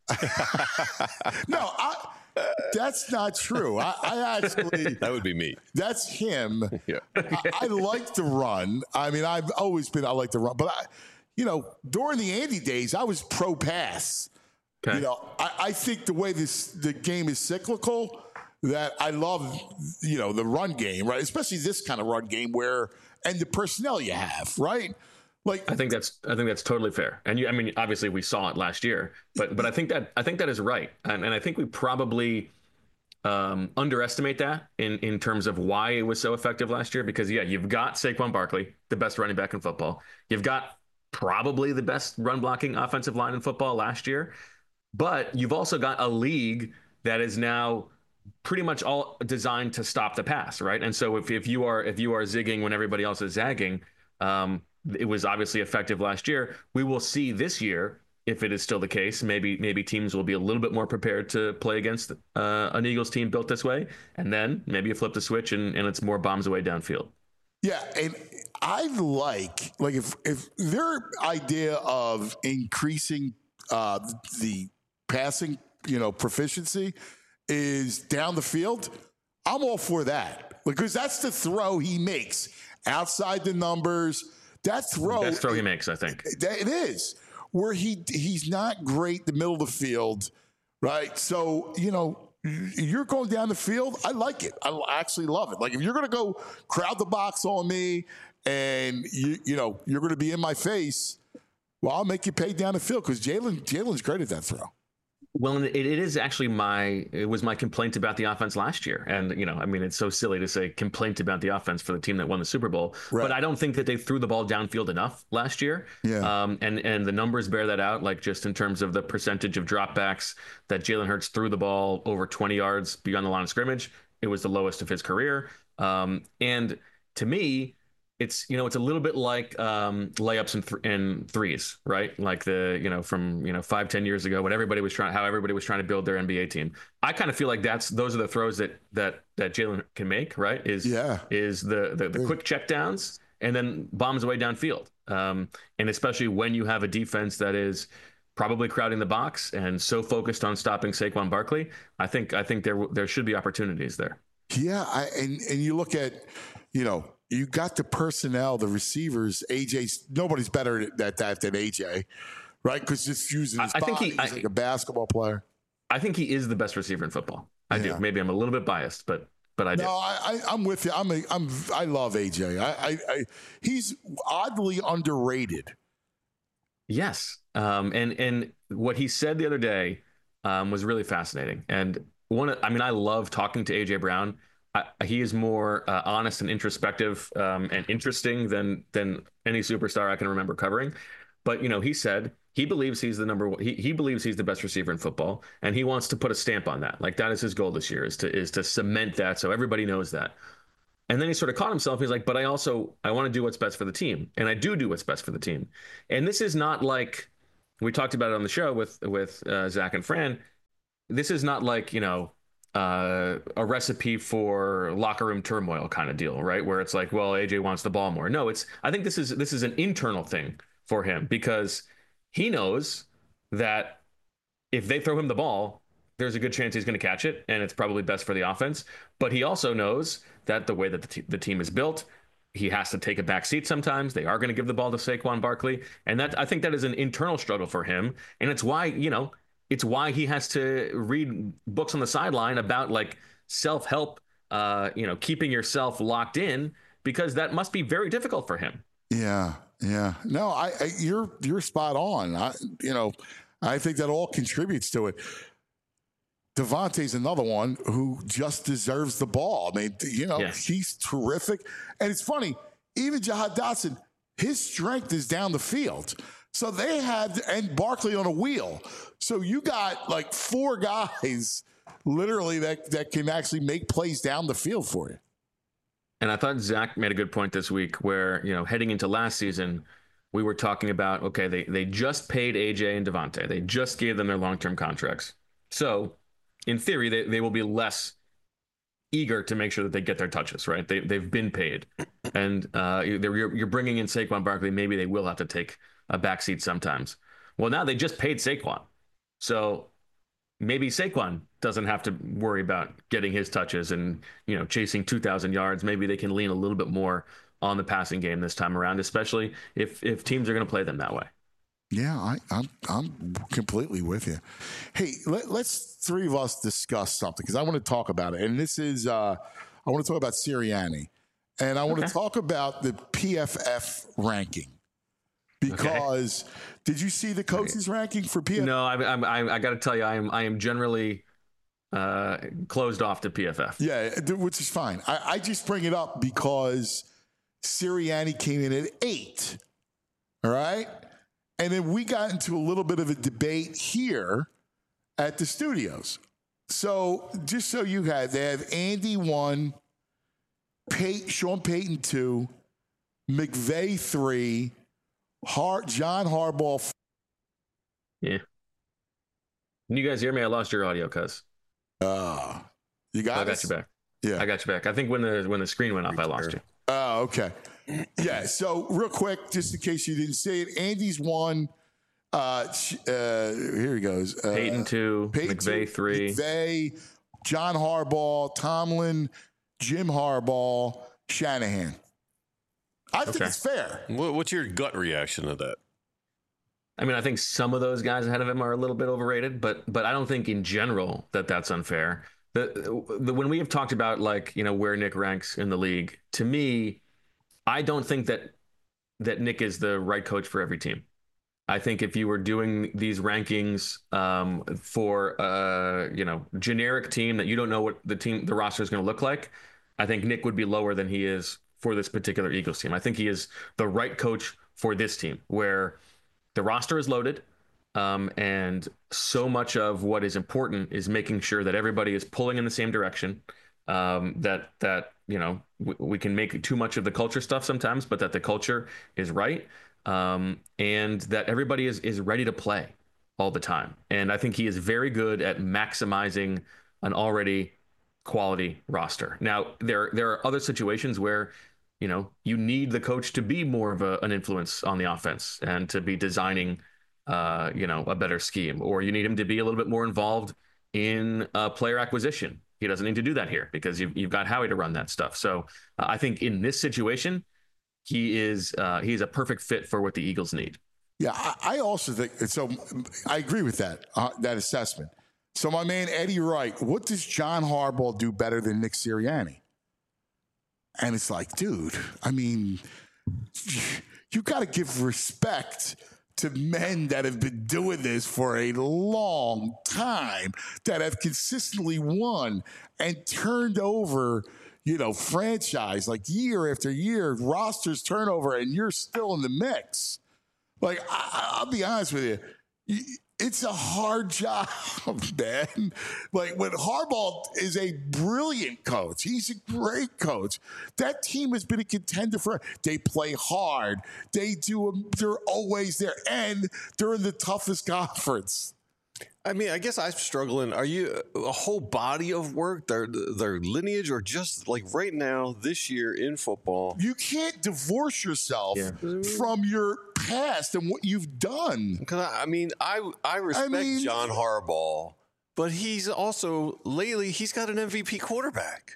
No, that's not true. I actually that would be me. That's him. Yeah. I like to run. I mean, I like to run, but during the Andy days, I was pro pass. Okay. I think the way the game is cyclical, that I love, the run game, right? Especially this kind of run game and the personnel you have, right? Like, I think that's totally fair. And obviously we saw it last year, but I think that is right. And I think we probably underestimate that in terms of why it was so effective last year, because you've got Saquon Barkley, the best running back in football. You've got probably the best run blocking offensive line in football last year. But you've also got a league that is now pretty much all designed to stop the pass, right? And so if you are zigging when everybody else is zagging, it was obviously effective last year. We will see this year if it is still the case. Maybe teams will be a little bit more prepared to play against an Eagles team built this way, and then maybe you flip the switch and it's more bombs away downfield. Yeah, and I like if their idea of increasing the passing, proficiency is down the field, I'm all for that, because that's the throw he makes outside the numbers. That throw, best throw he makes, I think. It is where he's not great the middle of the field, right? So you're going down the field. I like it. I actually love it. Like, if you're going to go crowd the box on me and you're going to be in my face, well, I'll make you pay down the field, because Jalen's great at that throw. Well, it is actually it was my complaint about the offense last year. And, it's so silly to say complaint about the offense for the team that won the Super Bowl. Right. But I don't think that they threw the ball downfield enough last year. Yeah. And the numbers bear that out, like just in terms of the percentage of dropbacks that Jalen Hurts threw the ball over 20 yards beyond the line of scrimmage. It was the lowest of his career. And to me, it's a little bit like layups and threes, right? Like from 5-10 years ago, when everybody was trying to build their NBA team. I kind of feel like those are the throws that Jalen can make, right? Is the quick checkdowns and then bombs away downfield. And especially when you have a defense that is probably crowding the box and so focused on stopping Saquon Barkley, I think there should be opportunities there. Yeah, and you look at, you got the personnel, the receivers. Nobody's better at that than AJ, right? Because just using his body, he's like a basketball player. I think he is the best receiver in football. I do. Maybe I'm a little bit biased, but I do. No, I'm with you. I love AJ. He's oddly underrated. Yes, and what he said the other day was really fascinating. And I love talking to AJ Brown. He is more honest and introspective and interesting than any superstar I can remember covering. But he said he believes he's the number one. He believes he's the best receiver in football, and he wants to put a stamp on that. Like, that is his goal this year, is to cement that so everybody knows that. And then he sort of caught himself. He's like, but I want to do what's best for the team, and I do what's best for the team. And this is not like we talked about it on the show with Zach and Fran. This is not like a recipe for locker room turmoil kind of deal, right? Where it's like, well, AJ wants the ball more. No, I think this is an internal thing for him, because he knows that if they throw him the ball, there's a good chance he's going to catch it, and it's probably best for the offense. But he also knows that the way that the team is built, he has to take a back seat sometimes. They are going to give the ball to Saquon Barkley, and I think that is an internal struggle for him, and it's why it's why he has to read books on the sideline about like self-help, keeping yourself locked in, because that must be very difficult for him. Yeah. No, you're spot on. I think that all contributes to it. Devontae's another one who just deserves the ball. I mean, He's terrific. And it's funny, even Jahan Dotson, his strength is down the field. So and Barkley on a wheel. So you got like 4 guys literally that can actually make plays down the field for you. And I thought Zach made a good point this week where, heading into last season, we were talking about, okay, they just paid AJ and Devontae. They just gave them their long-term contracts. So in theory, they will be less eager to make sure that they get their touches, right? They've been paid. And you're bringing in Saquon Barkley. Maybe they will have to take a backseat sometimes. Well, now they just paid Saquon. So maybe Saquon doesn't have to worry about getting his touches and, chasing 2,000 yards. Maybe they can lean a little bit more on the passing game this time around, especially if teams are going to play them that way. Yeah, I'm completely with you. Hey, let's 3 of us discuss something, because I want to talk about it. And this is, I want to talk about Sirianni. And I want to talk about the PFF ranking. Because did you see the coaches ranking for PFF? No, I got to tell you, I am generally closed off to PFF. Yeah, which is fine. I just bring it up because Sirianni came in at 8. All right. And then we got into a little bit of a debate here at the studios. So just so they have Andy 1, Sean Payton 2, McVay 3, John Harbaugh. Yeah. Can you guys hear me? I lost your audio, cuz. You got I got you back. Yeah, I got you back. I think when the screen went off, I lost you. Oh, okay. Yeah. So real quick, just in case you didn't see it, Andy's 1. Here he goes. Peyton 2, McVay 3. McVay, John Harbaugh, Tomlin, Jim Harbaugh, Shanahan. I think it's fair. What's your gut reaction to that? I mean, I think some of those guys ahead of him are a little bit overrated, but I don't think in general that's unfair. When we have talked about where Nick ranks in the league, to me, I don't think that Nick is the right coach for every team. I think if you were doing these rankings for generic team that you don't know what the roster is going to look like, I think Nick would be lower than he is for this particular Eagles team. I think he is the right coach for this team, where the roster is loaded, and so much of what is important is making sure that everybody is pulling in the same direction. That we can make too much of the culture stuff sometimes, but that the culture is right. And that everybody is ready to play all the time. And I think he is very good at maximizing an already quality roster. Now, there are other situations where, you need the coach to be more of an influence on the offense and to be designing, a better scheme, or you need him to be a little bit more involved in player acquisition. He doesn't need to do that here because you've got Howie to run that stuff. So I think in this situation, he's a perfect fit for what the Eagles need. Yeah, I also think so. I agree with that assessment. So my man Eddie Wright, what does John Harbaugh do better than Nick Sirianni? And it's like, dude, I mean, you got to give respect to men that have been doing this for a long time, that have consistently won and turned over, franchise like year after year, rosters turnover, and you're still in the mix. Like, I'll be honest with you. It's a hard job, man. Like, when Harbaugh is a brilliant coach, he's a great coach. That team has been a contender for. They play hard. They're always there, and they're in the toughest conference. I mean, I guess I'm struggling. Are you a whole body of work, their lineage, or just like right now, this year in football? You can't divorce yourself from your past and what you've done. Because I respect John Harbaugh, but he's also lately he's got an MVP quarterback.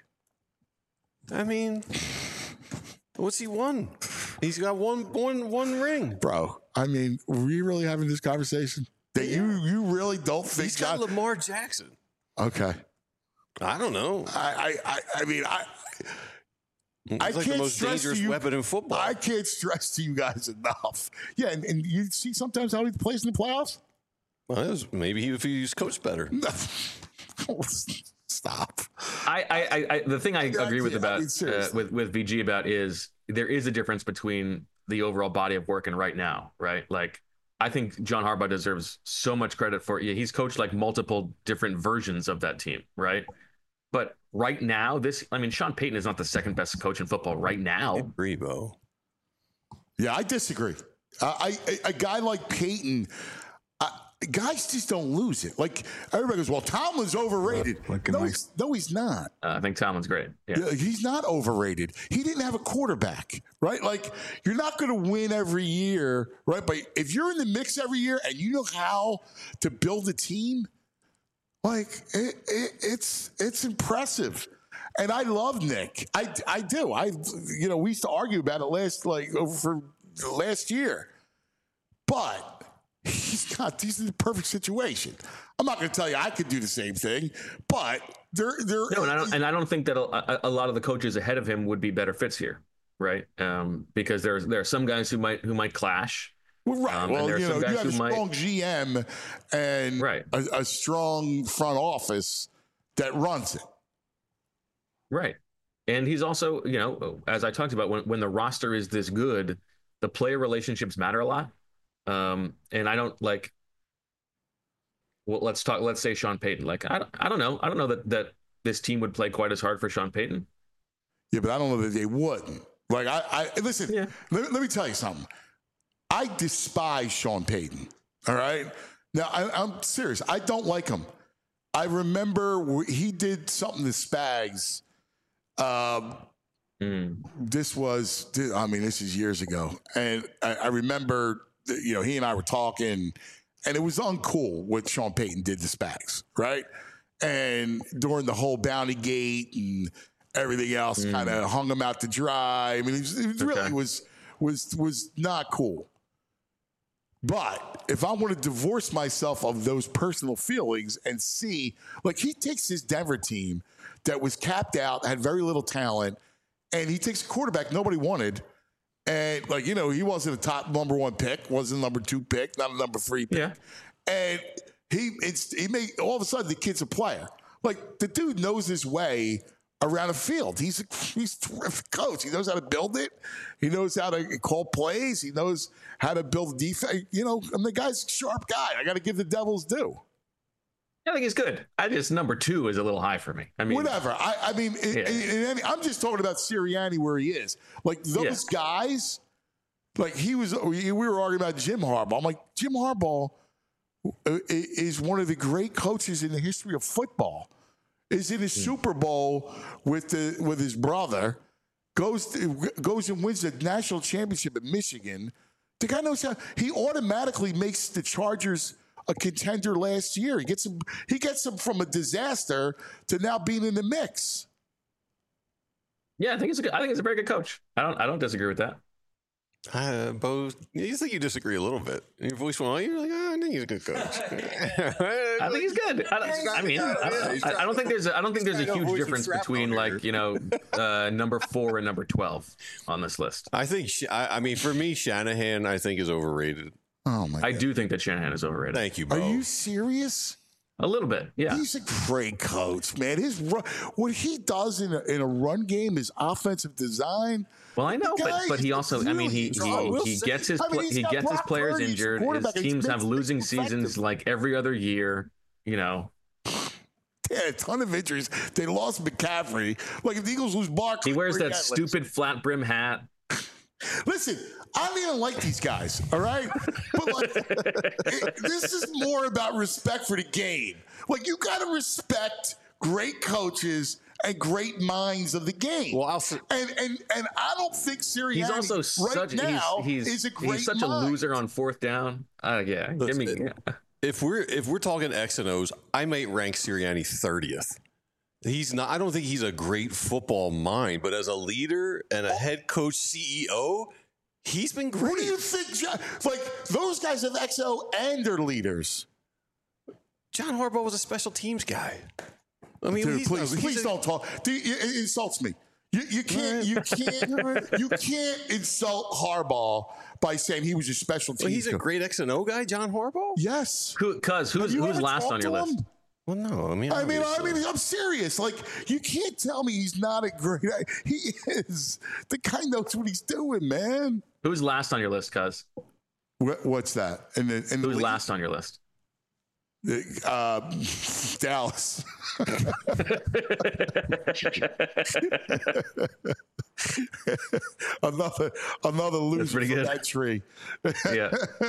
I mean, what's he won? He's got one ring, bro. I mean, were we really having this conversation? That you really don't think he's got Lamar Jackson? Okay, I don't know. I mean, it's like the most dangerous weapon in football. I can't stress to you guys enough. Yeah, and you see sometimes how he plays in the playoffs. Well, maybe if he's coached better. Stop. The thing I agree with with VG about is there is a difference between the overall body of work and right now, right? Like, I think John Harbaugh deserves so much credit for it. He's coached like multiple different versions of that team, right? But right now, Sean Payton is not the second best coach in football right now. I agree, Bo. Yeah, I disagree. A guy like Payton, guys just don't lose it. Like, everybody goes, well, Tomlin's overrated. No, he's not. I think Tomlin's great. Yeah. He's not overrated. He didn't have a quarterback, right? Like, you're not going to win every year, right? But if you're in the mix every year and you know how to build a team, like, it's impressive. And I love Nick. I do. We used to argue about it for last year. But he's in the perfect situation. I'm not going to tell you I could do the same thing, but I don't think that a lot of the coaches ahead of him would be better fits here, right? Because there are some guys who might clash. Well, right. You have a strong GM and a strong front office that runs it. Right. And he's also, as I talked about, when the roster is this good, the player relationships matter a lot. And I don't like. Well, let's say Sean Payton. Like, I don't know. I don't know that this team would play quite as hard for Sean Payton. Yeah, but I don't know that they wouldn't. Like, I listen. Yeah. Let me tell you something. I despise Sean Payton. All right. Now I'm serious. I don't like him. I remember he did something to Spags. This is years ago. And I remember, he and I were talking, and it was uncool what Sean Payton did to Spags, right? And during the whole Bounty Gate and everything else, kind of hung him out to dry. I mean, it really was not cool. But if I want to divorce myself of those personal feelings and see, like, he takes his Denver team that was capped out, had very little talent, and he takes a quarterback nobody wanted. And, he wasn't a top number 1 pick, wasn't a number 2 pick, not a number 3 pick. Yeah. And he made, all of a sudden, the kid's a player. Like, the dude knows his way around a field. He's a terrific coach. He knows how to build it. He knows how to call plays. He knows how to build defense. The guy's a sharp guy. I got to give the Devils due. I think he's good. Number 2 is a little high for me. I mean, whatever. I'm just talking about Sirianni where he is. Like, those guys, like, we were arguing about Jim Harbaugh. I'm like, Jim Harbaugh is one of the great coaches in the history of football. Is in a Super Bowl with his brother, goes and wins the national championship at Michigan. The guy knows how. He automatically makes the Chargers a contender last year. He gets them from a disaster to now being in the mix. Yeah, I think it's a very good coach. I don't disagree with that. Bo, you think you disagree a little bit. Your voice went on. You're like, I think he's a good coach. I think he's good. I don't think there's a huge difference between number 4 and number 12 on this list. I think. For me, Shanahan, I think, is overrated. Oh my! God. I do think that Shanahan is overrated. Thank you, Bo. Are you serious? A little bit, yeah. He's a great coach, man. What he does in a run game is offensive design. Well, I know, but he also, he gets his players injured. His teams have losing seasons like every other year. Yeah, a ton of injuries. They lost McCaffrey. Like, if the Eagles lose Barkley, he wears that stupid flat brim hat. Listen, I don't even like these guys, all right? But this is more about respect for the game. Like, you got to respect great coaches and great minds of the game. Well, and I don't think Sirianni he's also is a great he's such mind. A loser on 4th down. Yeah. If we're talking X and O's, I might rank Sirianni 30th. He's not. I don't think he's a great football mind, but as a leader and a head coach, CEO, he's been great. What do you think? Like, those guys have XO and they're leaders. John Harbaugh was a special teams guy. I mean, dude, please don't talk. It insults me. You can't insult Harbaugh by saying he was a special teams. Well, he's a great X and O guy, John Harbaugh. Yes. Who's last on your list? Well, no, I'm serious. Like, you can't tell me he's not a great. He is. The guy knows what he's doing, man. Who's last on your list, Cuz? What's that? Who's last on your list? Dallas. another loser from that tree. Yeah.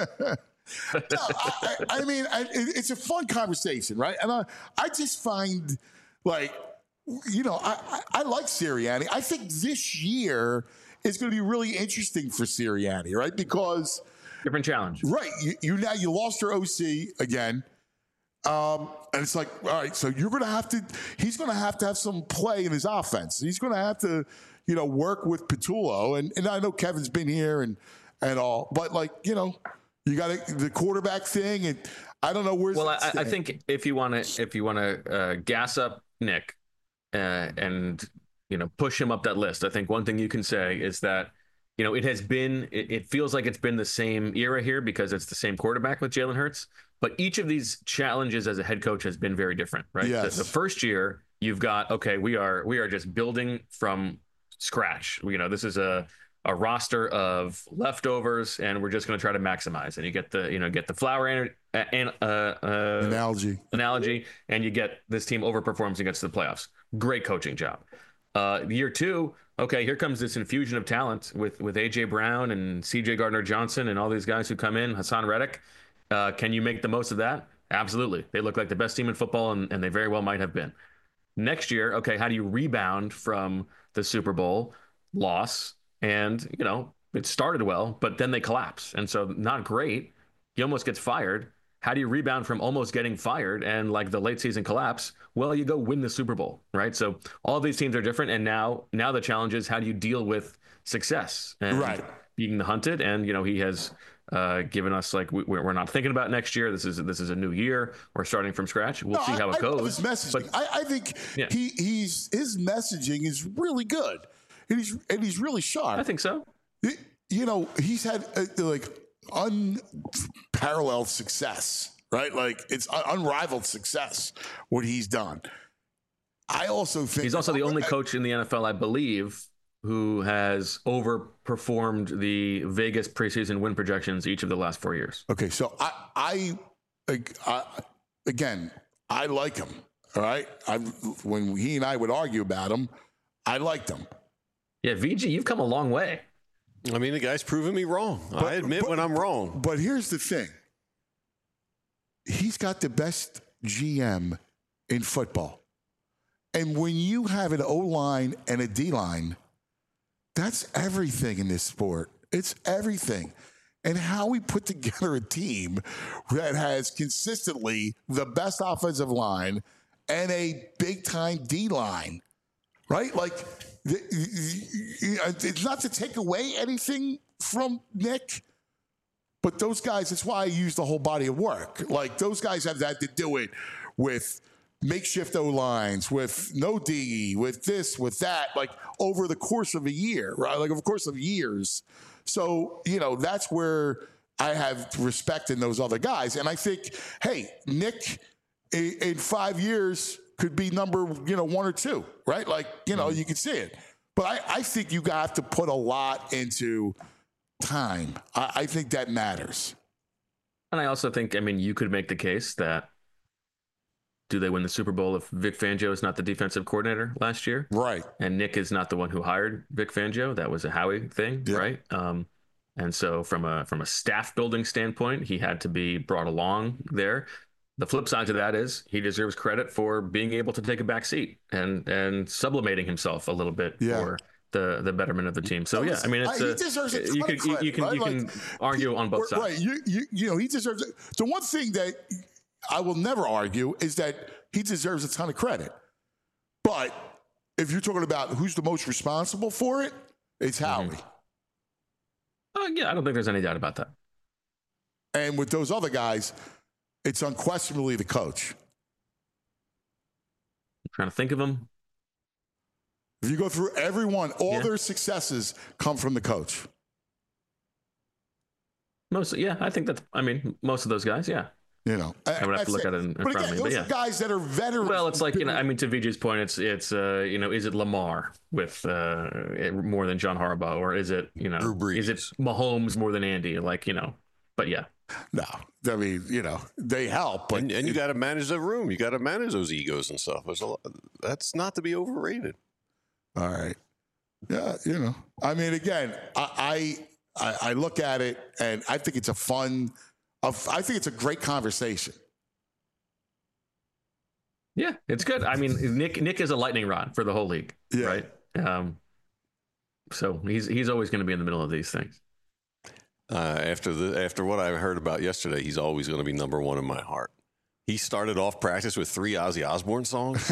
It's a fun conversation, right? And I just find, like, I like Sirianni. I think this year is going to be really interesting for Sirianni, right? Because different challenge, right? You lost your OC again, and it's like, all right, so he's going to have to have some play in his offense. He's going to have to, work with Patullo, and I know Kevin's been here and all, but you got the quarterback thing, and I don't know where's. Well, I think if you want to gas up Nick and push him up that list, I think one thing you can say is that it feels like it's been the same era here because it's the same quarterback with Jalen Hurts, but each of these challenges as a head coach has been very different, right? Yes. The first year you've got we are just building from scratch. This is a roster of leftovers, and we're just going to try to maximize. And you get the flower analogy, and you get this team overperforms and gets to the playoffs. Great coaching job. Year 2, here comes this infusion of talent with AJ Brown and CJ Gardner-Johnson and all these guys who come in, Hassan Reddick. Can you make the most of that? Absolutely. They look like the best team in football, and they very well might have been. Next year, how do you rebound from the Super Bowl? loss, and it started well, but then they collapse, and so not great. He almost gets fired. How do you rebound from almost getting fired and like the late season collapse? Well, you go win the Super Bowl, right? So all of these teams are different, and now the challenge is how do you deal with success and being hunted? And he has given us like we're not thinking about next year. This is a new year. We're starting from scratch. We'll see how it goes. His messaging, but I think his messaging is really good, and he's really sharp. I think so. He's had like unparalleled success, right? Like it's unrivaled success what he's done. I also think he's also the only coach in the NFL, I believe, who has overperformed the Vegas preseason win projections each of the last 4 years. Okay, so I again, I like him. All right, when he and I would argue about him, I liked him. Yeah, VG, you've come a long way. I mean, the guy's proven me wrong. I admit when I'm wrong. But here's the thing. He's got the best GM in football. And when you have an O-line and a D-line, that's everything in this sport. It's everything. And how we put together a team that has consistently the best offensive line and a big-time D-line, right? Like, it's not to take away anything from Nick, but those guys, that's why I use the whole body of work. Like, those guys have had to do it with makeshift O-lines, with no D, with this, with that, like over the course of a year, right? Like over the course of years. So, that's where I have respect in those other guys. And I think, hey, Nick in 5 years could be number, 1 or 2, right? Like, you can see it. But I think you have to put a lot into time. I think that matters. And I also think, you could make the case that do they win the Super Bowl if Vic Fangio is not the defensive coordinator last year? Right. And Nick is not the one who hired Vic Fangio. That was a Howie thing, right? And so from a staff building standpoint, he had to be brought along there. The flip side to that is he deserves credit for being able to take a back seat and sublimating himself a little bit for the betterment of the team. So it's he deserves a ton of credit, you can argue on both sides. Right. He deserves it. The one thing that I will never argue is that he deserves a ton of credit. But if you're talking about who's the most responsible for it, it's Howie. I don't think there's any doubt about that. And with those other guys, it's unquestionably the coach. I'm trying to think of them. If you go through everyone, all their successes come from the coach. I think that's, most of those guys, yeah. I would have to look at it in front of me. Those are guys that are veterans. Well, it's like, to VJ's point, it's is it Lamar with more than John Harbaugh, or is it, is it Mahomes more than Andy? But yeah. No, they help. But and you got to manage the room. You got to manage those egos and stuff. That's not to be overrated. All right. Yeah, again, I look at it and I think it's I think it's a great conversation. Yeah, it's good. Nick is a lightning rod for the whole league, right? So he's always going to be in the middle of these things. After what I heard about yesterday, he's always going to be number one in my heart. He started off practice with 3 Ozzy Osbourne songs.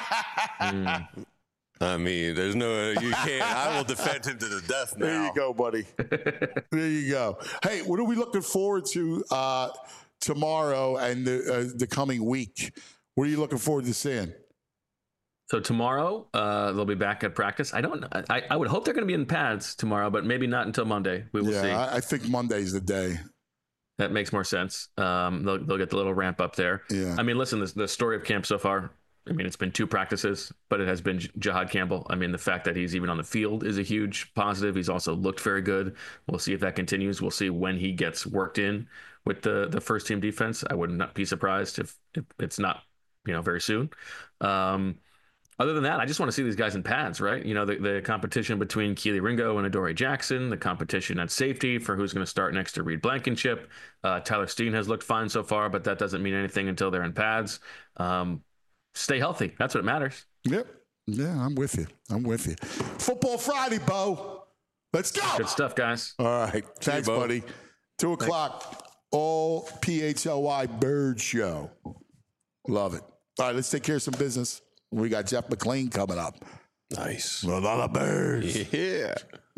There's no, you can't. I will defend him to the death now. There you go, buddy. There you go. Hey, what are we looking forward to tomorrow and the coming week? What are you looking forward to seeing? So tomorrow, they'll be back at practice. I would hope they're going to be in pads tomorrow, but maybe not until Monday. We will see. I think Monday's the day. That makes more sense. They'll get the little ramp up there. Yeah. Listen, the story of camp so far, it's been 2 practices, but it has been Jahad Campbell. The fact that he's even on the field is a huge positive. He's also looked very good. We'll see if that continues. We'll see when he gets worked in with the first team defense. I would not be surprised if it's not, very soon. Other than that, I just want to see these guys in pads, right? The competition between Keely Ringo and Adoree Jackson, the competition at safety for who's going to start next to Reed Blankenship. Tyler Steen has looked fine so far, but that doesn't mean anything until they're in pads. Stay healthy. That's what matters. Yep. Yeah, I'm with you. Football Friday, Bo. Let's go. Good stuff, guys. All right. Thanks, buddy. 2 o'clock, all PHLY Bird Show. Love it. All right, let's take care of some business. We got Jeff McLean coming up. Nice. A lot of birds. Yeah.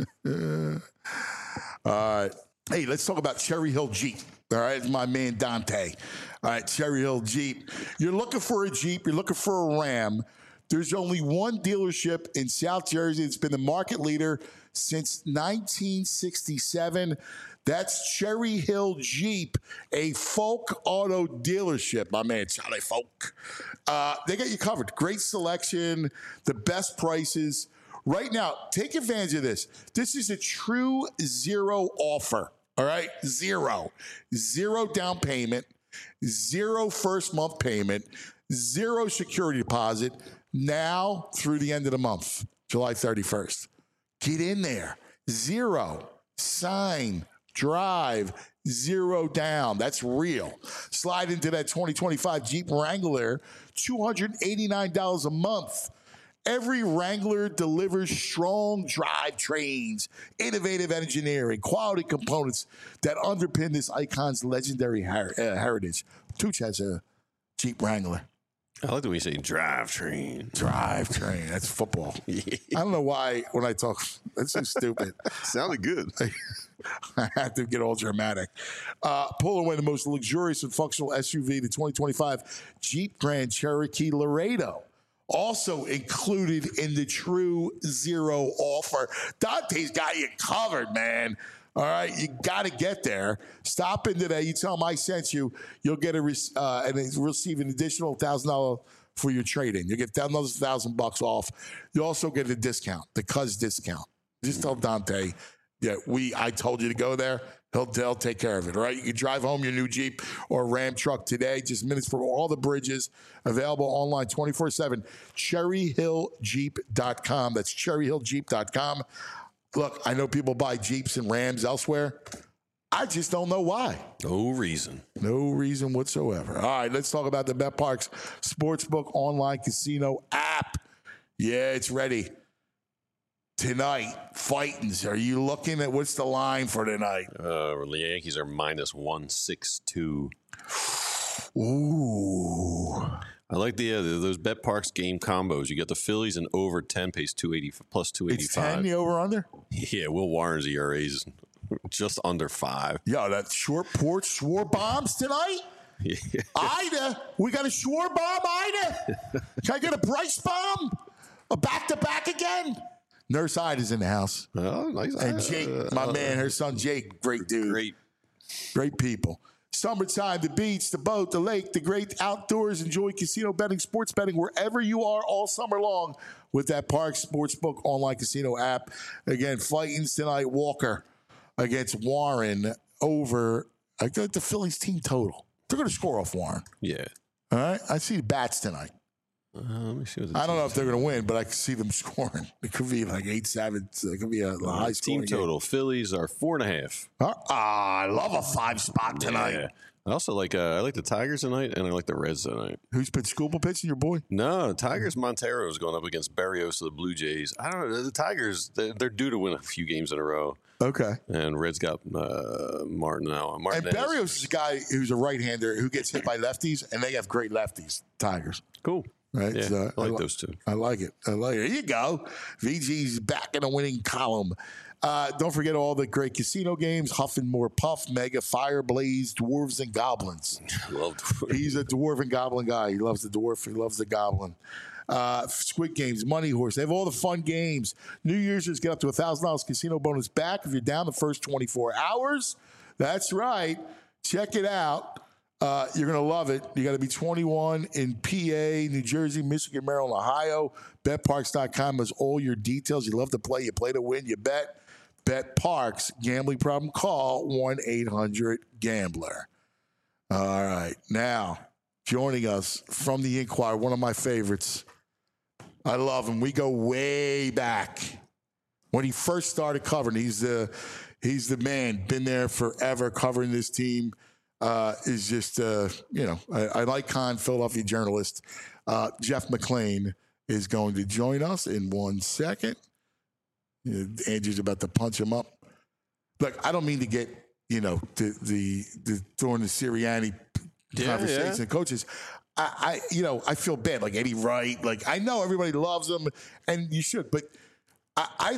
All right. Hey, let's talk about Cherry Hill Jeep. All right, it's my man Dante. All right, Cherry Hill Jeep. You're looking for a Jeep. You're looking for a Ram. There's only one dealership in South Jersey. It's been the market leader since 1967. That's Cherry Hill Jeep, a Folk Auto dealership. My man, Charlie Folk. They got you covered. Great selection, the best prices. Right now, take advantage of this. This is a true zero offer. All right? Zero down payment, zero first month payment, zero security deposit now through the end of the month, July 31st. Get in there. Zero. Sign. Drive. Zero down. That's real. Slide into that 2025 Jeep Wrangler, $289 a month. Every Wrangler delivers strong drivetrains, innovative engineering, quality components that underpin this icon's legendary heritage. Tooch has a Jeep Wrangler. I like the way you say drivetrain. Drivetrain. That's football. Yeah. I don't know why when I talk, that's so stupid. Sounded good. I have to get all dramatic. Pull away the most luxurious and functional SUV, the 2025 Jeep Grand Cherokee Laredo. Also included in the True Zero offer. Dante's got you covered, man. All right, you got to get there. Stop in today. You tell them I sent you. You'll get and receive an additional $1,000 for your trade-in. You get another $1,000 off. You also get a discount, the Cuz discount. Just tell Dante, yeah, I told you to go there. He'll take care of it, all right? You can drive home your new Jeep or Ram truck today. Just minutes from all the bridges. Available online 24/7. CherryHillJeep.com. That's CherryHillJeep.com. Look, I know people buy Jeeps and Rams elsewhere. I just don't know why. No reason. No reason whatsoever. All right, let's talk about the BetParx Sportsbook online casino app. Yeah, it's ready. Tonight, Fightins. Are you looking at what's the line for tonight? The Yankees are minus 162. Ooh. I like those BetParx game combos. You get the Phillies and over 10 pays 280 plus 285. It's 10, the over under? Yeah, Will Warren's ERA is just under 5. Yo, that short porch Schwar bombs tonight? Yeah. Ida, we got a Schwar bomb, Ida. Can I get a Bryce bomb? A back-to-back again? Nurse Ida's in the house. Oh, nice. And Jake, my man, her son Jake, great dude. Great people. Summertime, the beach, the boat, the lake, the great outdoors. Enjoy casino betting, sports betting wherever you are all summer long with that Parx Sportsbook online casino app. Again, Fightins tonight, Walker against Warren over. I got the Phillies team total. They're going to score off Warren. Yeah. All right. I see the bats tonight. Let me see what I don't know if they're going to win, but I can see them scoring. It could be like 8-7. It could be a high team total. Game. Phillies are 4.5. I love a 5 spot tonight. Yeah. I also like the Tigers tonight, and I like the Reds tonight. Who's Scoopable pitching, your boy? No, Tigers Montero is going up against Berrios of the Blue Jays. I don't know. The Tigers, they're due to win a few games in a row. Okay. And Reds got Martin now. And Berrios is a guy who's a right-hander who gets hit by lefties, and they have great lefties, Tigers. Cool. Right, yeah, so I like those two. I like it. Here you go. VG's back in the winning column. Don't forget all the great casino games: Huff and More Puff, Mega, Fire Blaze, Dwarves and Goblins. He's a dwarf and goblin guy. He loves the dwarf. He loves the goblin. Squid Games, Money Horse. They have all the fun games. New Year's just get up to $1,000 casino bonus back if you're down the first 24 hours. That's right. Check it out. You're going to love it. You got to be 21 in PA, New Jersey, Michigan, Maryland, Ohio. BetParx.com has all your details. You love to play. You play to win. You bet. BetParx. Gambling problem? Call 1-800-GAMBLER. All right. Now, joining us from the Inquirer, one of my favorites. I love him. We go way back. When he first started covering, he's the man. Been there forever covering this team. Is just, I like Con, Philadelphia journalist, Jeff McLean. is going to join us in 1 second. Andrew's about to punch him up. Look, I don't mean to get, the throwing the Sirianni conversation and coaches. I feel bad. Like Eddie Wright. Like I know everybody loves him, and you should, but I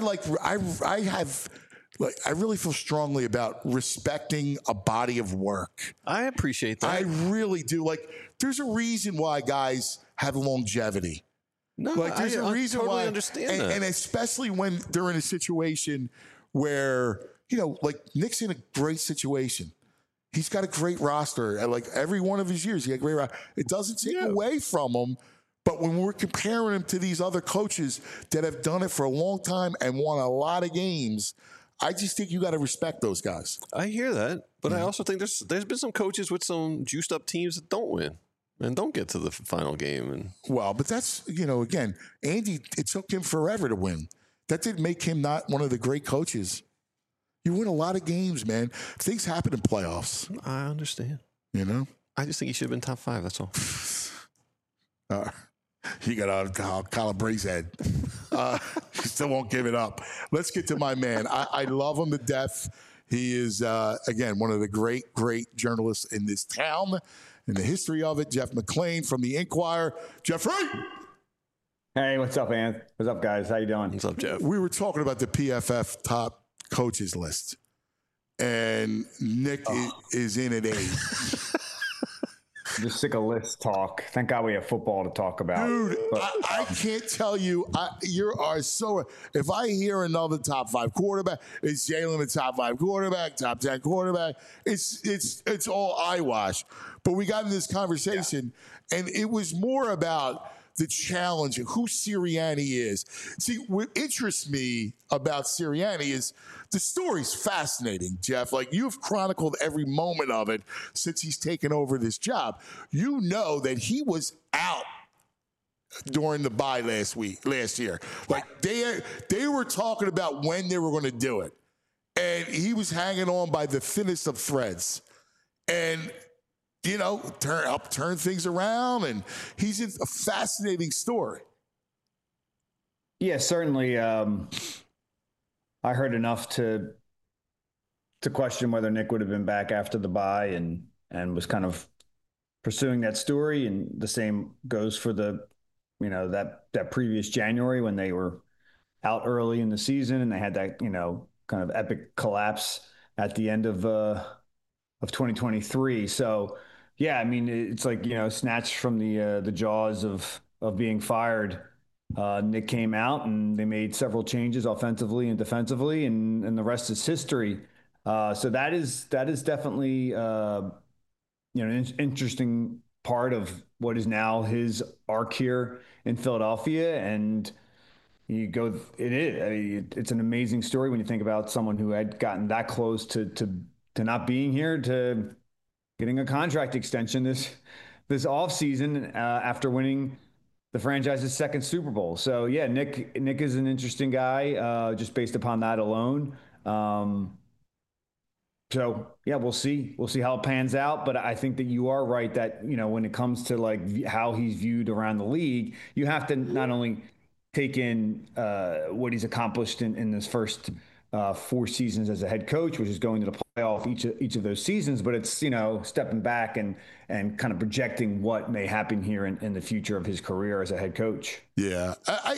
really feel strongly about respecting a body of work. I appreciate that. I really do. Like, there's a reason why guys have longevity. No, there's a reason totally why, understand that. And especially when they're in a situation where, like Nick's in a great situation. He's got a great roster. Like every one of his years, he had a great roster. It doesn't take away from him. But when we're comparing him to these other coaches that have done it for a long time and won a lot of games, I just think you got to respect those guys. I hear that, but I also think there's been some coaches with some juiced up teams that don't win and don't get to the final game. And well, but that's again, Andy. It took him forever to win. That didn't make him not one of the great coaches. You win a lot of games, man. Things happen in playoffs. I understand. I just think he should have been top 5. That's all. He got on Colin Bray's head. He still won't give it up. Let's get to my man. I love him to death. He is, again, one of the great journalists in this town, in the history of it. Jeff McLean from the Inquirer. Jeffrey! Hey, what's up, man? What's up, guys? How you doing? What's up, Jeff? We were talking about the PFF top coaches list, and Nick is in at 8. I'm just sick of list talk. Thank God we have football to talk about. Dude, I can't tell you. You are so. If I hear another top 5 quarterback, is Jalen a top 5 quarterback, top 10 quarterback? It's all eyewash. But we got in this conversation, and it was more about the challenge of who Sirianni is. See, what interests me about Sirianni is the story's fascinating, Jeff. Like, you've chronicled every moment of it since he's taken over this job. You know that he was out during the bye last year. Like, they were talking about when they were going to do it. And he was hanging on by the thinnest of threads. And turn things around, and he's a fascinating story. Yeah, certainly. I heard enough to question whether Nick would have been back after the bye, and was kind of pursuing that story. And the same goes for that previous January when they were out early in the season and they had that kind of epic collapse at the end of 2023. So. Yeah, I mean, it's like, snatched from the jaws of being fired. Nick came out and they made several changes offensively and defensively, and the rest is history. So that is definitely an interesting part of what is now his arc here in Philadelphia. And it's an amazing story when you think about someone who had gotten that close to not being here, to getting a contract extension this offseason after winning the franchise's second Super Bowl. So yeah, Nick is an interesting guy just based upon that alone. So yeah, we'll see how it pans out. But I think that you are right that when it comes to like how he's viewed around the league, you have to not only take in what he's accomplished in this first 4 seasons as a head coach, which is going to the playoff each of those seasons, but it's stepping back and kind of projecting what may happen here in the future of his career as a head coach. Yeah,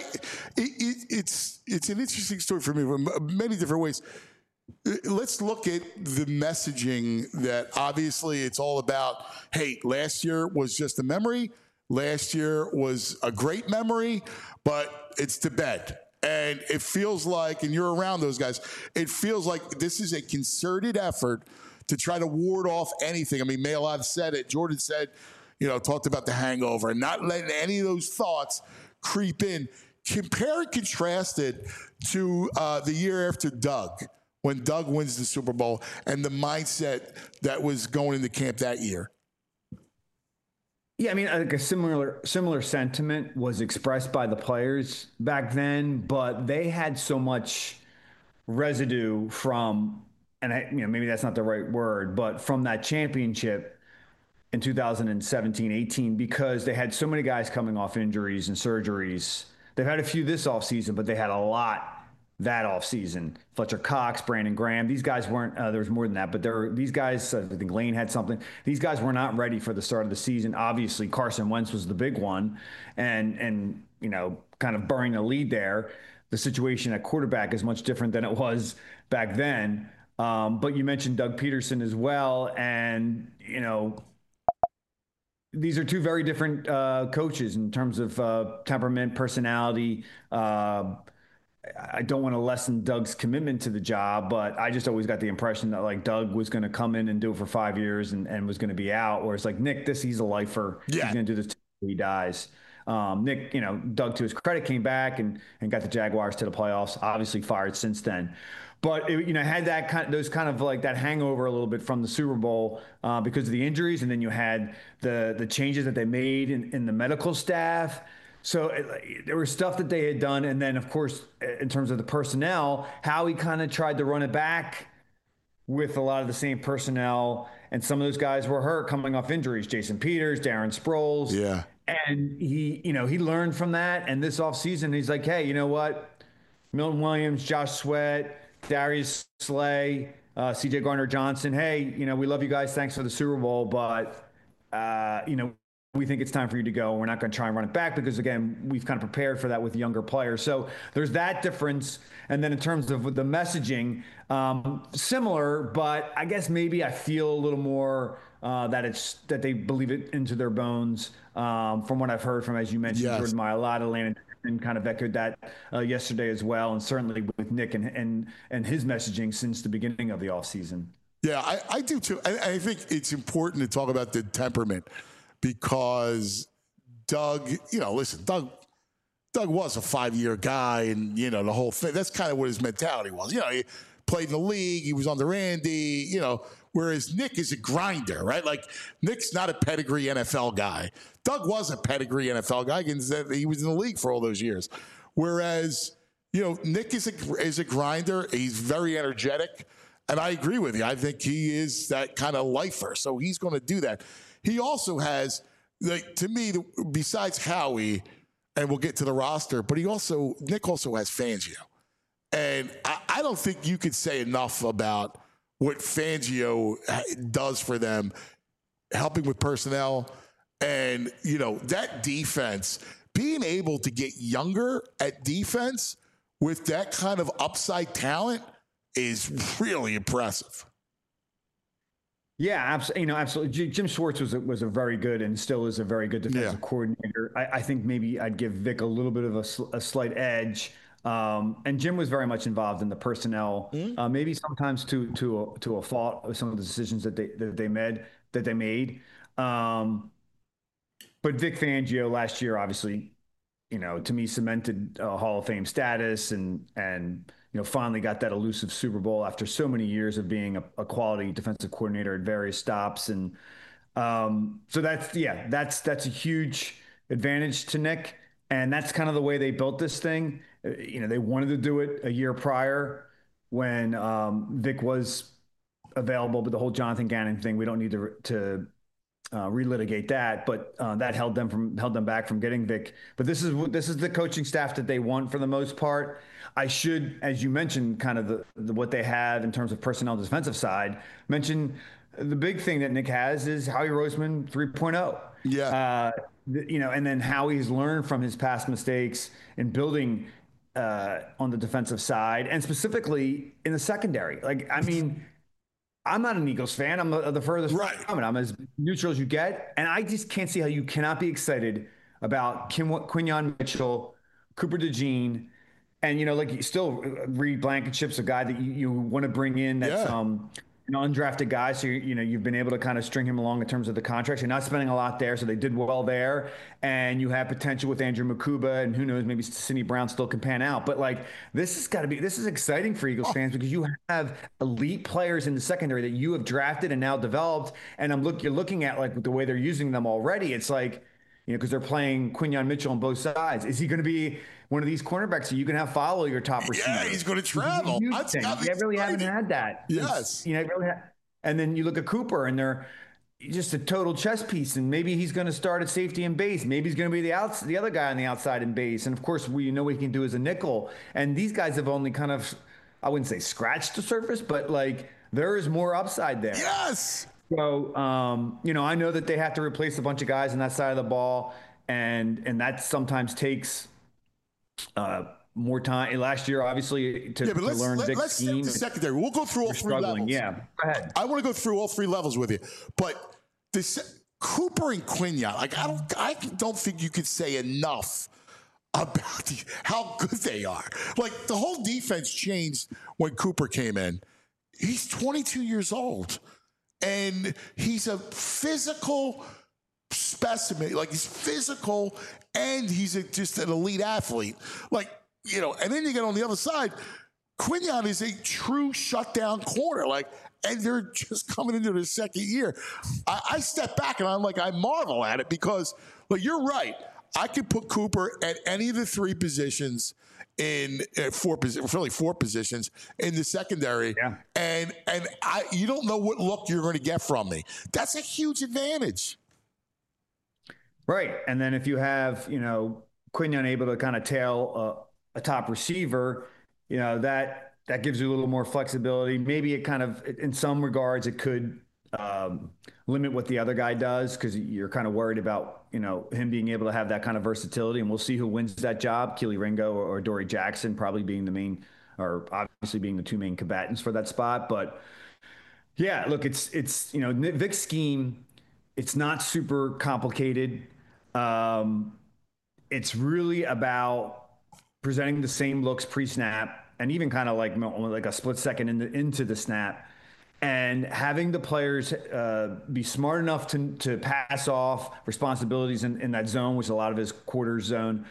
it's an interesting story for me in many different ways. Let's look at the messaging that obviously it's all about. Hey, last year was just a memory. Last year was a great memory, but it's to bed. And it feels like, and you're around those guys, it feels like this is a concerted effort to try to ward off anything. I mean, Maylard said it. Jordan said, talked about the hangover and not letting any of those thoughts creep in. Compare and contrast it to the year after Doug, when Doug wins the Super Bowl, and the mindset that was going into camp that year. Yeah, I mean, I think a similar sentiment was expressed by the players back then, but they had so much residue from, and maybe that's not the right word, but from that championship in 2017-18 because they had so many guys coming off injuries and surgeries. They've had a few this offseason, but they had a lot that offseason. Fletcher Cox, Brandon Graham, these guys weren't, there was more than that, but these guys, I think Lane had something. These guys were not ready for the start of the season. Obviously, Carson Wentz was the big one and kind of burying the lead there. The situation at quarterback is much different than it was back then. But you mentioned Doug Peterson as well. And, these are two very different coaches in terms of temperament, personality. I don't want to lessen Doug's commitment to the job, but I just always got the impression that like Doug was going to come in and do it for 5 years and was going to be out. Whereas like Nick, he's a lifer. Yeah. He's going to do this till he dies. Nick, Doug, to his credit, came back and got the Jaguars to the playoffs. Obviously fired since then. But it, had that those kind of like that hangover a little bit from the Super Bowl because of the injuries, and then you had the changes that they made in the medical staff. So there was stuff that they had done, and then of course, in terms of the personnel, Howie kind of tried to run it back with a lot of the same personnel, and some of those guys were hurt coming off injuries. Jason Peters, Darren Sproles, yeah, and he learned from that. And this offseason, he's like, hey, you know what, Milton Williams, Josh Sweat, Darius Slay, CJ Gardner-Johnson. Hey, we love you guys. Thanks for the Super Bowl, but we think it's time for you to go. We're not going to try and run it back because, again, we've kind of prepared for that with younger players. So there's that difference. And then in terms of the messaging, similar, but I guess maybe I feel a little more that they believe it into their bones from what I've heard from, as you mentioned, Jordan Mailata, Landon, and kind of echoed that yesterday as well. And certainly with Nick and his messaging since the beginning of the offseason. Yeah, I do too. I think it's important to talk about the temperament. Because Doug, listen, Doug was a 5-year guy and, the whole thing. That's kind of what his mentality was. He played in the league. He was under Andy, whereas Nick is a grinder, right? Like, Nick's not a pedigree NFL guy. Doug was a pedigree NFL guy. He was in the league for all those years. Whereas, Nick is a grinder. He's very energetic. And I agree with you. I think he is that kind of lifer. So he's going to do that. He also has, to me, besides Howie, and we'll get to the roster, but Nick also has Fangio. And I don't think you could say enough about what Fangio does for them, helping with personnel. And, that defense, being able to get younger at defense with that kind of upside talent is really impressive. Yeah, absolutely. Jim Schwartz was a very good and still is a very good defensive coordinator. I think maybe I'd give Vic a little bit of a slight edge. And Jim was very much involved in the personnel, maybe sometimes to a fault of some of the decisions that they made. But Vic Fangio last year, obviously, to me cemented Hall of Fame status and finally got that elusive Super Bowl after so many years of being a quality defensive coordinator at various stops. And so that's a huge advantage to Nick. And that's kind of the way they built this thing. They wanted to do it a year prior when Vic was available, but the whole Jonathan Gannon thing, we don't need to relitigate that, but that held them back from getting Vic. But this is the coaching staff that they want for the most part. I should, as you mentioned, kind of what they have in terms of personnel defensive side, mention the big thing that Nick has is Howie Roseman 3.0. Yeah. And then Howie's learned from his past mistakes in building on the defensive side and specifically in the secondary. I'm not an Eagles fan. I'm the furthest from it. I'm as neutral as you get. And I just can't see how you cannot be excited about Quinyon Mitchell, Cooper DeJean, and, still Reed Blankenship's a guy that you want to bring in that's an undrafted guy. So, you've been able to kind of string him along in terms of the contracts. You're not spending a lot there. So they did well there. And you have potential with Andrew Makuba, and who knows, maybe Sidney Brown still can pan out. But this is exciting for Eagles fans because you have elite players in the secondary that you have drafted and now developed. And you're looking at the way they're using them already. It's because they're playing Quinyon Mitchell on both sides. Is he going to be one of these cornerbacks that you can have follow your top receiver? Yeah, he's going to travel. They really haven't had that. Yes. And then you look at Cooper, and they're just a total chess piece, and maybe he's going to start at safety and base. Maybe he's going to be the other guy on the outside in base, and of course we know what he can do as a nickel. And these guys have only kind of, I wouldn't say scratched the surface, but like there is more upside there. Yes. So I know that they have to replace a bunch of guys on that side of the ball, and that sometimes takes more time. Last year, obviously, to learn Vic's scheme. Let's secondary. We'll go through all three levels. Yeah, go ahead. I want to go through all three levels with you, but this Cooper and Quignon, like I don't think you could say enough about how good they are. Like the whole defense changed when Cooper came in. He's 22 years old, and he's a physical specimen. Like he's physical, and he's just an elite athlete. Like. And then you get on the other side, Quignon is a true shutdown corner. And they're just coming into their second year. I step back and I marvel at it because, you're right. I could put Cooper at any of the three positions in four positions in the secondary. Yeah. And you don't know what look you're going to get from me. That's a huge advantage. Right. And then if you have, Quignon able to kind of tail a top receiver, that gives you a little more flexibility. Maybe it kind of, in some regards, it could limit what the other guy does because you're kind of worried about, him being able to have that kind of versatility. And we'll see who wins that job, Kelee Ringo or Dory Jackson, probably being the main, or obviously being the two main combatants for that spot. But yeah, look, it's Vic's scheme. It's not super complicated. It's really about presenting the same looks pre-snap and even kind of like a split second into the snap, and having the players be smart enough to pass off responsibilities in that zone, which a lot of his quarter zone,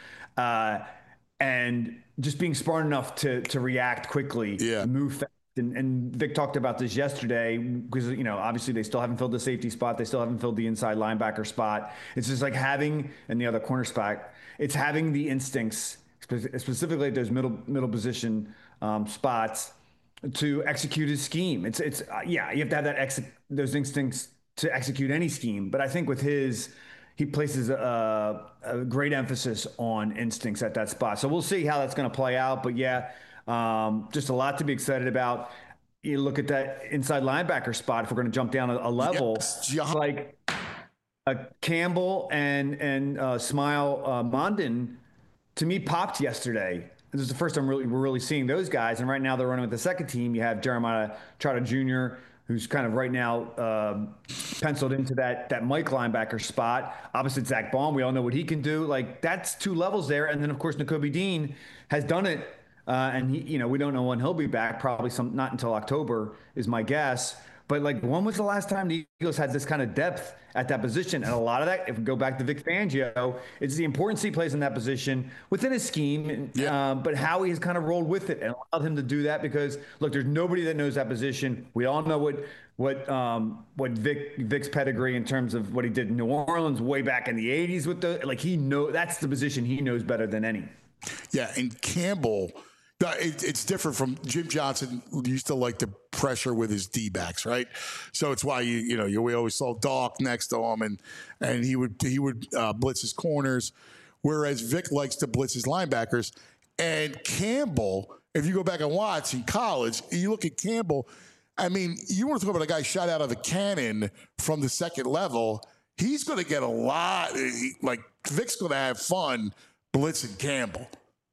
and just being smart enough to react quickly, move fast. And Vic talked about this yesterday because, obviously they still haven't filled the safety spot. They still haven't filled the inside linebacker spot. It's just like having, and the other corner spot, it's having the instincts, specifically at those middle position spots, to execute his scheme. It's you have to have those instincts to execute any scheme. But I think with he places a great emphasis on instincts at that spot. So we'll see how that's going to play out. But just a lot to be excited about. You look at that inside linebacker spot. If we're going to jump down a level, like Campbell and Smile Mondin, to me, popped yesterday. This is the first time we're really seeing those guys. And right now they're running with the second team. You have Jeremiah Trotter Jr., who's kind of right now penciled into that Mike linebacker spot. Opposite Zach Baum, we all know what he can do. That's two levels there. And then, of course, Nakobe Dean has done it. And he, we don't know when he'll be back. Probably not until October is my guess. But when was the last time the Eagles had this kind of depth at that position? And a lot of that, if we go back to Vic Fangio, it's the importance he plays in that position within his scheme, but how he has kind of rolled with it and allowed him to do that. Because look, there's nobody that knows that position. We all know what Vic's pedigree in terms of what he did in New Orleans way back in the '80s with that's the position he knows better than any. Yeah, and Campbell. It's different from Jim Johnson, who used to like to pressure with his D-backs, right? So it's why we always saw Doc next to him, and he would blitz his corners, whereas Vic likes to blitz his linebackers. And Campbell, if you go back and watch in college, you look at Campbell. I mean, you want to talk about a guy shot out of a cannon from the second level. He's going to get a lot. Vic's going to have fun blitzing Campbell.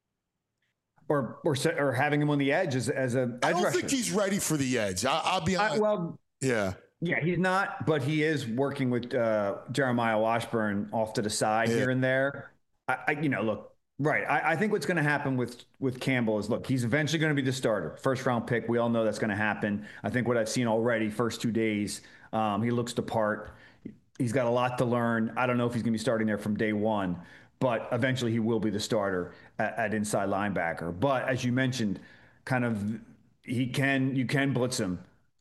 Or having him on the edge as a edge rusher. I don't think he's ready for the edge. I'll be honest. Yeah, he's not, but he is working with Jeremiah Washburn off to the side here and there. I think what's going to happen with Campbell is, look, he's eventually going to be the starter, first round pick. We all know that's going to happen. I think what I've seen already, first 2 days, he looks the part. He's got a lot to learn. I don't know if he's going to be starting there from day one, but eventually he will be the starter at inside linebacker. But as you mentioned, you can blitz him.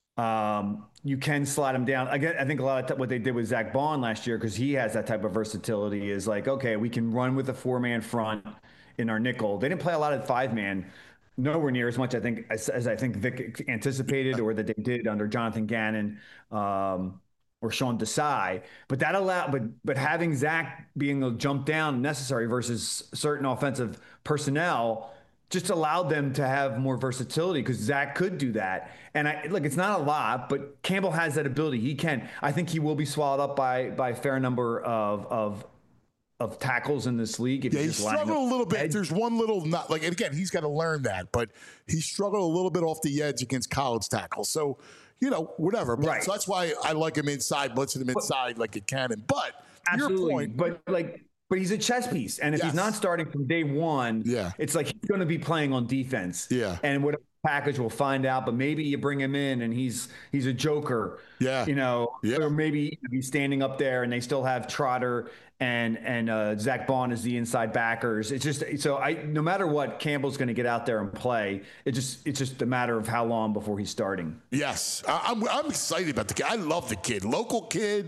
You can slide him down. Again, I think a lot of what they did with Zach Baun last year, because he has that type of versatility, is okay, we can run with a 4-man front in our nickel. They didn't play a lot of 5-man, nowhere near as much, I think, as I think Vic anticipated or that they did under Jonathan Gannon. or Sean Desai, but but having Zach being a jump down necessary versus certain offensive personnel just allowed them to have more versatility because Zach could do that. And it's not a lot, but Campbell has that ability. He can. I think he will be swallowed up by a fair number of tackles in this league. Yeah, he struggled a little bit. There's one little not like, and again, he's got to learn that, but he struggled a little bit off the edge against college tackles. So, whatever. But, so that's why I like him inside, blitzing him inside like a cannon. But absolutely. Your point, but he's a chess piece, and if he's not starting from day one, it's like he's going to be playing on defense. Yeah, and whatever package we'll find out. But maybe you bring him in, and he's a joker. Yeah, or maybe he's standing up there, and they still have Trotter and Zach Bond as the inside backers. It's just no matter what, Campbell's going to get out there and play. It's just a matter of how long before he's starting. Yes, I'm excited about the kid. I love the kid, local kid.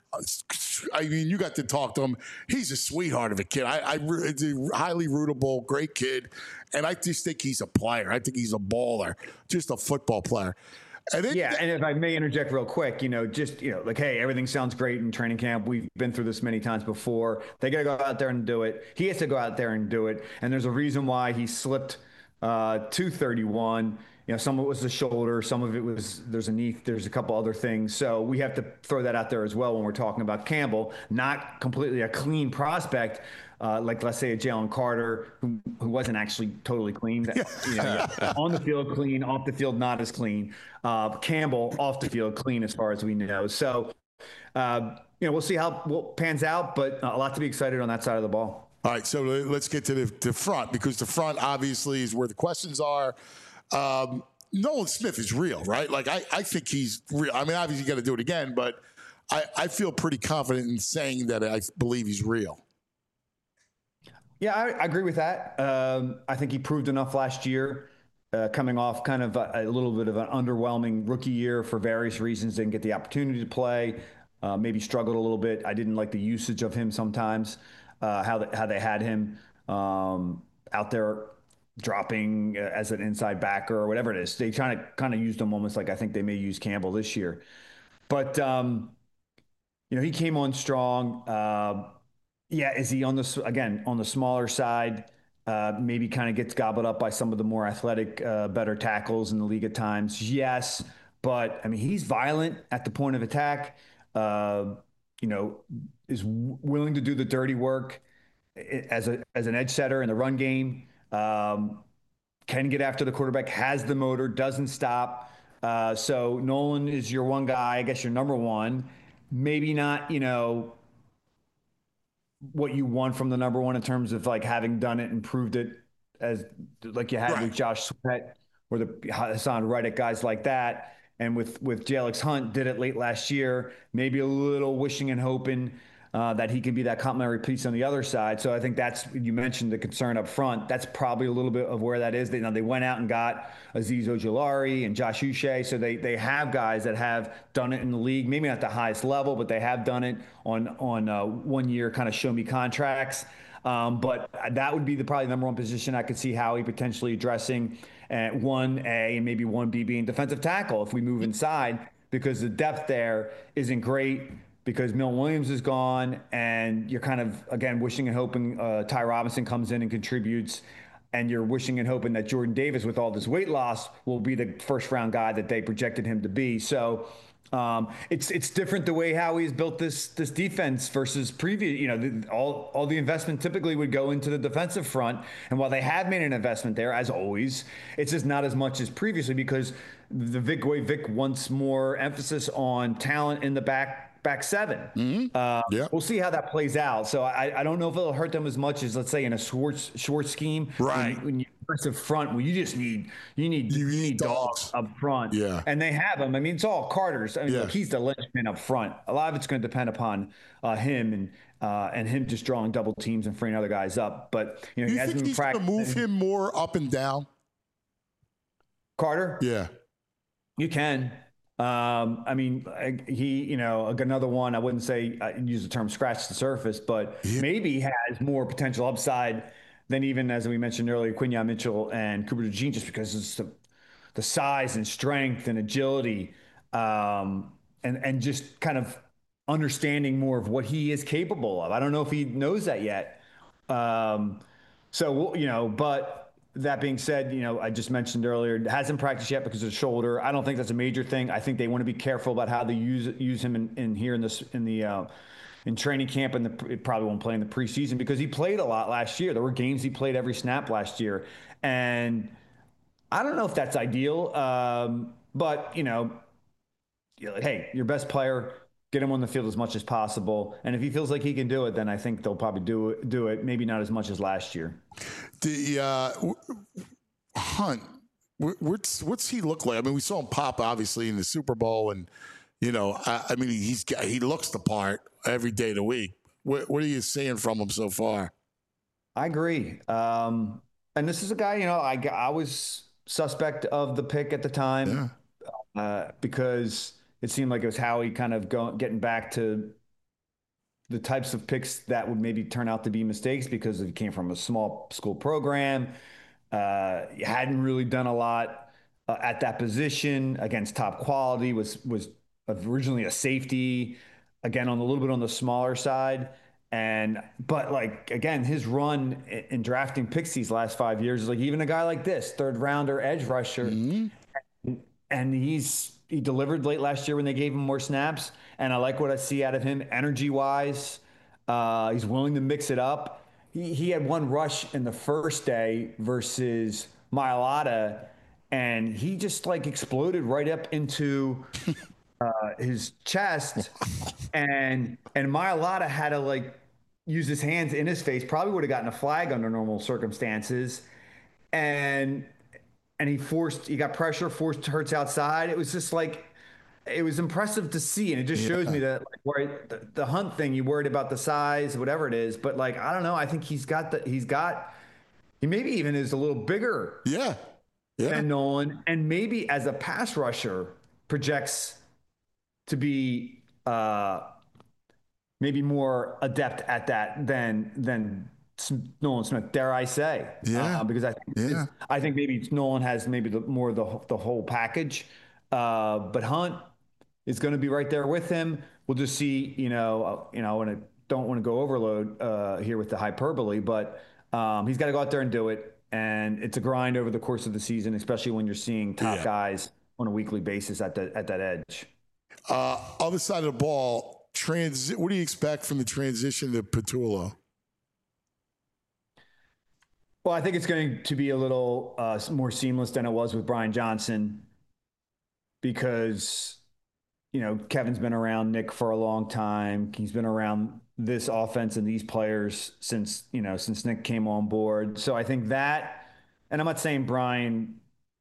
I mean, you got to talk to him. He's a sweetheart of a kid. It's a highly rootable, great kid, and I just think he's a player. I think he's a baller, just a football player. And if I may interject real quick, hey, everything sounds great in training camp. We've been through this many times before. They got to go out there and do it. He has to go out there and do it. And there's a reason why he slipped 231. Some of it was the shoulder, some of it was there's a knee, there's a couple other things. So we have to throw that out there as well when we're talking about Campbell, not completely a clean prospect, like let's say a Jalen Carter, who wasn't actually totally clean. On the field clean, off the field not as clean. Campbell off the field clean as far as we know. So we'll see how it pans out, but a lot to be excited on that side of the ball. All right, so let's get to the front, because the front obviously is where the questions are. Nolan Smith is real, right? Like I think he's real. I mean, obviously you got to do it again, but I feel pretty confident in saying that I believe he's real. Yeah, I agree with that. I think he proved enough last year, coming off kind of a little bit of an underwhelming rookie year for various reasons. Didn't get the opportunity to play, maybe struggled a little bit. I didn't like the usage of him sometimes, how they had him out there dropping as an inside backer or whatever it is. They kind of used him almost like I think they may use Campbell this year. But, he came on strong. Is he on the smaller side? Maybe kind of gets gobbled up by some of the more athletic, better tackles in the league at times. Yes, but I mean, he's violent at the point of attack. Is willing to do the dirty work as an edge setter in the run game. Can get after the quarterback, has the motor, doesn't stop. So Nolan is your one guy, I guess your number one. Maybe not, what you want from the number one in terms of like having done it and proved it as like you had with Josh Sweat or the Hassan Reddick, guys like that. And with Jalix Hunt did it late last year, maybe a little wishing and hoping that he can be that complementary piece on the other side. So I think you mentioned the concern up front. That's probably a little bit of where that is. They went out and got Azeez Ojulari and Josh Uche. So they have guys that have done it in the league, maybe not the highest level, but they have done it on 1 year kind of show me contracts. But that would be probably the number one position I could see Howie potentially addressing at 1A and maybe 1B being defensive tackle if we move inside, because the depth there isn't great. Because Milton Williams is gone, and you're kind of, again, wishing and hoping Ty Robinson comes in and contributes, and you're wishing and hoping that Jordan Davis, with all this weight loss, will be the first-round guy that they projected him to be. So it's different the way Howie's built this defense versus previous. All the investment typically would go into the defensive front, and while they have made an investment there, as always, it's just not as much as previously because Vic wants more emphasis on talent in the back seven. Mm-hmm. We'll see how that plays out. So I don't know if it'll hurt them as much as, let's say, in a Schwartz scheme. Right. When you aggressive front, where you need dogs up front. Yeah. And they have them. I mean, it's all Carter's. I mean, look, he's the linchpin up front. A lot of it's going to depend upon him and him just drawing double teams and freeing other guys up. But you think he's going to move him more up and down? Carter? Yeah. You can. I mean, he, another one, I wouldn't say use the term scratch the surface, but maybe has more potential upside than even, as we mentioned earlier, Quinyon Mitchell and Cooper DeJean, just because it's the size and strength and agility, and just kind of understanding more of what he is capable of. I don't know if he knows that yet. But that being said, I just mentioned earlier, hasn't practiced yet because of the shoulder. I don't think that's a major thing. I think they want to be careful about how they use him in training camp, and it probably won't play in the preseason because he played a lot last year. There were games he played every snap last year, and I don't know if that's ideal. But hey, your best player, get him on the field as much as possible. And if he feels like he can do it, then I think they'll probably do it. Maybe not as much as last year. The Hunt, what's he look like? I mean, we saw him pop obviously in the Super Bowl, and he looks the part every day of the week. What are you seeing from him so far? I agree. And this is a guy, I was suspect of the pick at the time because it seemed like it was Howie kind of getting back to the types of picks that would maybe turn out to be mistakes because he came from a small school program. Hadn't really done a lot at that position against top quality, was originally a safety, again, on a little bit on the smaller side. But again, his run in drafting picks these last 5 years is like even a guy like this, third rounder edge rusher. Mm-hmm. And he delivered late last year when they gave him more snaps. And I like what I see out of him energy wise. He's willing to mix it up. He had one rush in the first day versus Mailata, and he just exploded right up into his chest. And Mailata had to use his hands in his face, probably would have gotten a flag under normal circumstances. And he got pressure, forced Hurts outside. It was just it was impressive to see. And it just shows me that the Hunt thing, you worried about the size, whatever it is. But I don't know. I think he maybe even is a little bigger than Nolan. And maybe as a pass rusher projects to be maybe more adept at that than Nolan Smith, dare I say? Because I think maybe Nolan has maybe the whole package, but Hunt is going to be right there with him. We'll just see. And I don't want to go overload here with the hyperbole, but he's got to go out there and do it, and it's a grind over the course of the season, especially when you're seeing top guys on a weekly basis at that edge. Other side of the ball, what do you expect from the transition to Patullo? Well, I think it's going to be a little more seamless than it was with Brian Johnson because, Kevin's been around Nick for a long time. He's been around this offense and these players since Nick came on board. So I think that, and I'm not saying Brian,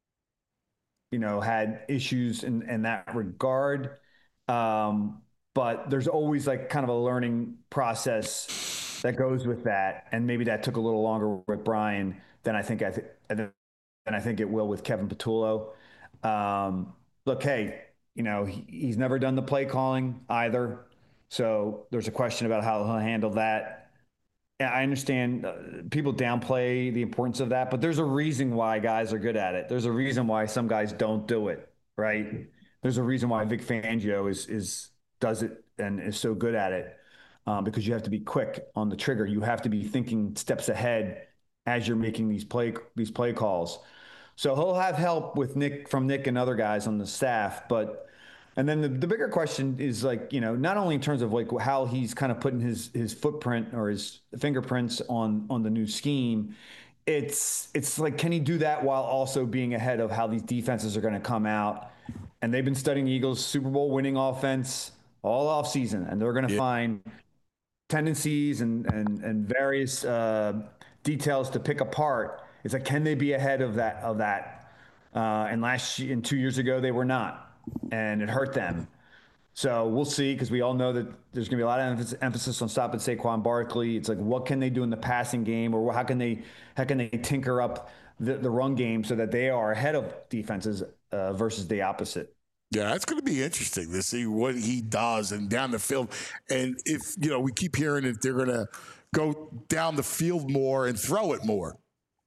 had issues in that regard. But there's always kind of a learning process that goes with that, and maybe that took a little longer with Brian than I think it will with Kevin Patullo. Look, hey, he's never done the play calling either, so there's a question about how he'll handle that. I understand people downplay the importance of that, but there's a reason why guys are good at it. There's a reason why some guys don't do it, right? There's a reason why Vic Fangio does it and is so good at it, because you have to be quick on the trigger. You have to be thinking steps ahead as you're making these play calls. So he'll have help from Nick and other guys on the staff, and then the bigger question is not only in terms of how he's kind of putting his footprint or his fingerprints on the new scheme. It's can he do that while also being ahead of how these defenses are going to come out? And they've been studying the Eagles' Super Bowl winning offense all off season, and they're going to find tendencies and various details to pick apart. It's can they be ahead of that? And 2 years ago they were not, and it hurt them. So we'll see, because we all know that there's going to be a lot of emphasis on stopping Saquon Barkley. It's what can they do in the passing game, or how can they tinker up the run game so that they are ahead of defenses versus the opposite. Yeah, that's going to be interesting to see what he does and down the field. And if, we keep hearing that they're going to go down the field more and throw it more.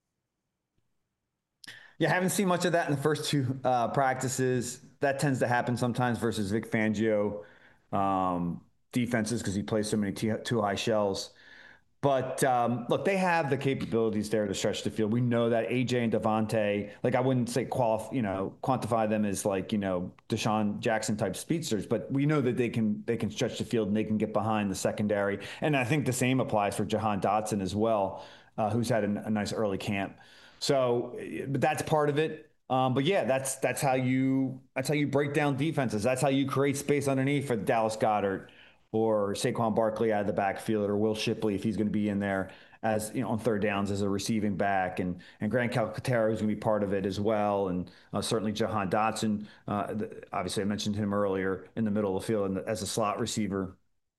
Yeah, I haven't seen much of that in the first two practices. That tends to happen sometimes versus Vic Fangio. defenses because he plays so many too high shells. But look, they have the capabilities there to stretch the field. We know that AJ and Devontae, like I wouldn't say quantify them as like, Deshaun Jackson type speedsters, but we know that they can stretch the field and they can get behind the secondary. And I think the same applies for Jahan Dotson as well, who's had a nice early camp. So, but that's part of it. But yeah, that's how you break down defenses. That's how you create space underneath for Dallas Goedert or Saquon Barkley out of the backfield, or Will Shipley if he's going to be in there as on third downs as a receiving back, and Grant Calcaterra is going to be part of it as well, and certainly Jahan Dotson. Obviously, I mentioned him earlier in the middle of the field as a slot receiver.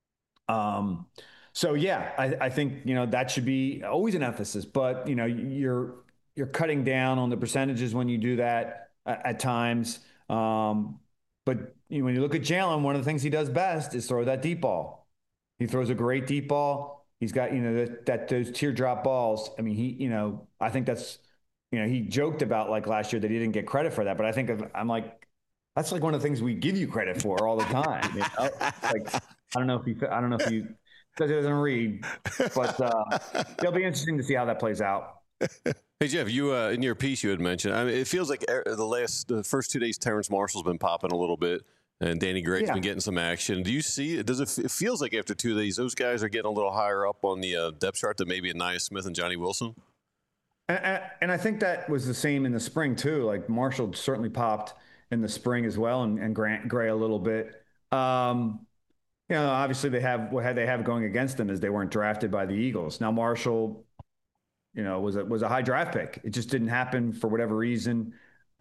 So yeah, I think that should be always an emphasis, but you're cutting down on the percentages when you do that at times. But when you look at Jalen, one of the things he does best is throw that deep ball. He throws a great deep ball. He's got those teardrop balls. I mean, I think that's he joked about like last year that he didn't get credit for that, but I think I'm like that's like one of the things we give you credit for all the time. Like I don't know if you because it doesn't read, but it'll be interesting to see how that plays out. Hey Jeff, you in your piece you had mentioned. I mean, it feels like the first 2 days, Terrence Marshall's been popping a little bit, and Danny Gregg's been getting some action. Do you see? It feels like after 2 days, those guys are getting a little higher up on the depth chart than maybe Ainias Smith and Johnny Wilson. And I think that was the same in the spring too. Like Marshall certainly popped in the spring as well, and Grant Gray a little bit. Obviously they have what they have going against them is they weren't drafted by the Eagles. Now Marshall, was a high draft pick. It just didn't happen for whatever reason.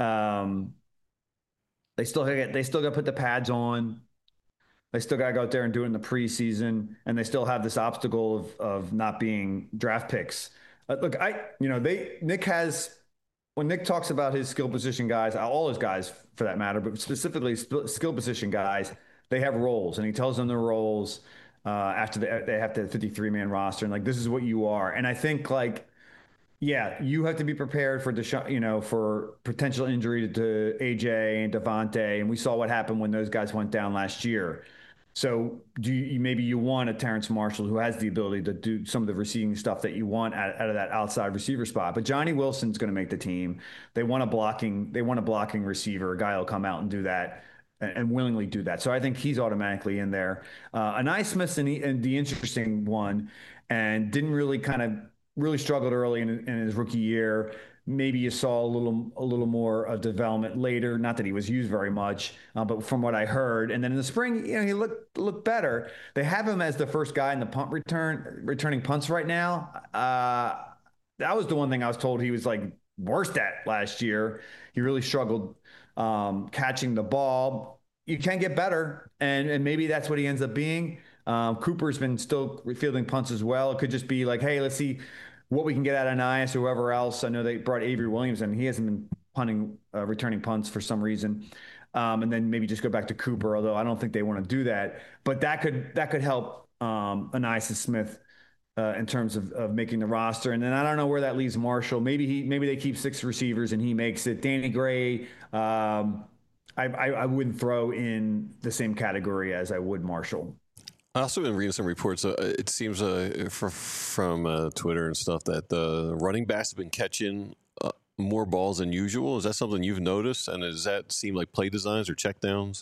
They still got to put the pads on. They still got to go out there and do it in the preseason, and they still have this obstacle of not being draft picks. Look, Nick has, when Nick talks about his skill position guys, all his guys for that matter, but specifically skill position guys, they have roles, and he tells them their roles after they have the 53-man roster, and like this is what you are. And I think you have to be prepared for for potential injury to AJ and Devontae, and we saw what happened when those guys went down last year. So maybe you want a Terrence Marshall who has the ability to do some of the receiving stuff that you want out of that outside receiver spot. But Johnny Wilson's going to make the team. They want a blocking receiver, a guy who'll come out and do that and willingly do that. So I think he's automatically in there. Ainias Smith's and the interesting one, and didn't really struggled early in his rookie year. Maybe you saw a little more of development later. Not that he was used very much, but from what I heard, and then in the spring, he looked better. They have him as the first guy in the punt returning punts right now. That was the one thing I was told he was like worst at last year. He really struggled catching the ball. You can get better, and maybe that's what he ends up being. Cooper's been still fielding punts as well. It could just be like, hey, let's see what we can get out of Ainias or whoever else. I know they brought Avery Williams in. He hasn't been returning punts for some reason. And then maybe just go back to Cooper, although I don't think they want to do that. But that could help Ainias Smith in terms of making the roster. And then I don't know where that leaves Marshall. Maybe they keep 6 receivers and he makes it. Danny Gray, I wouldn't throw in the same category as I would Marshall. I also been reading some reports. It seems from Twitter and stuff that the running backs have been catching more balls than usual. Is that something you've noticed? And does that seem like play designs or checkdowns?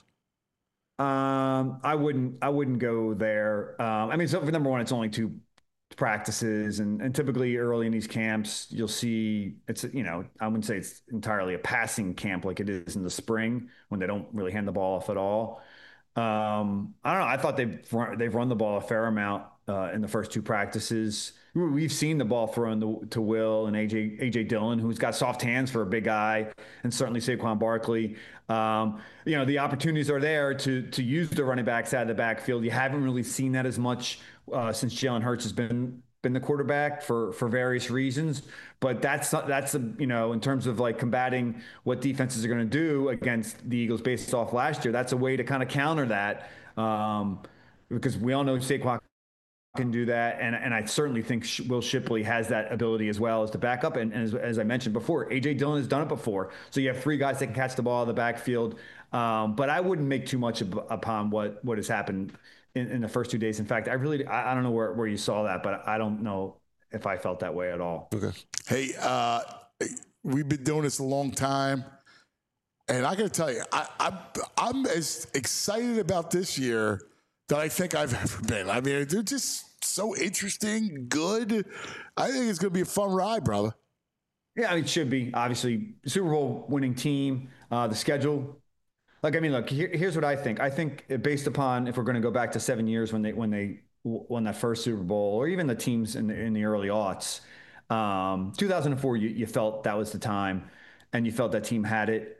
I wouldn't go there. So for number one, it's only 2 practices, and typically early in these camps, you'll see it's I wouldn't say it's entirely a passing camp like it is in the spring when they don't really hand the ball off at all. I don't know. I thought they've run the ball a fair amount in the first 2 practices. We've seen the ball thrown to Will and AJ Dillon, who's got soft hands for a big guy, and certainly Saquon Barkley. The opportunities are there to use the running backs out of the backfield. You haven't really seen that as much since Jalen Hurts has been the quarterback for various reasons. But that's in terms of like combating what defenses are going to do against the Eagles based off last year, that's a way to kind of counter that because we all know Saquon can do that, and I certainly think Will Shipley has that ability as well as to back up. And as I mentioned before, AJ Dillon has done it before, so you have 3 guys that can catch the ball in the backfield. But I wouldn't make too much upon what has happened in the first 2 days. In fact, I don't know where you saw that, but I don't know if I felt that way at all. Okay. Hey, we've been doing this a long time, and I got to tell you, I'm as excited about this year that I think I've ever been. I mean, they're just so interesting, good. I think it's going to be a fun ride, brother. Yeah, it should be. Obviously, Super Bowl winning team, the schedule. Look, here's what I think. I think based upon, if we're going to go back to 7 years when they won that first Super Bowl, or even the teams in the early aughts, 2004, you felt that was the time, and you felt that team had it.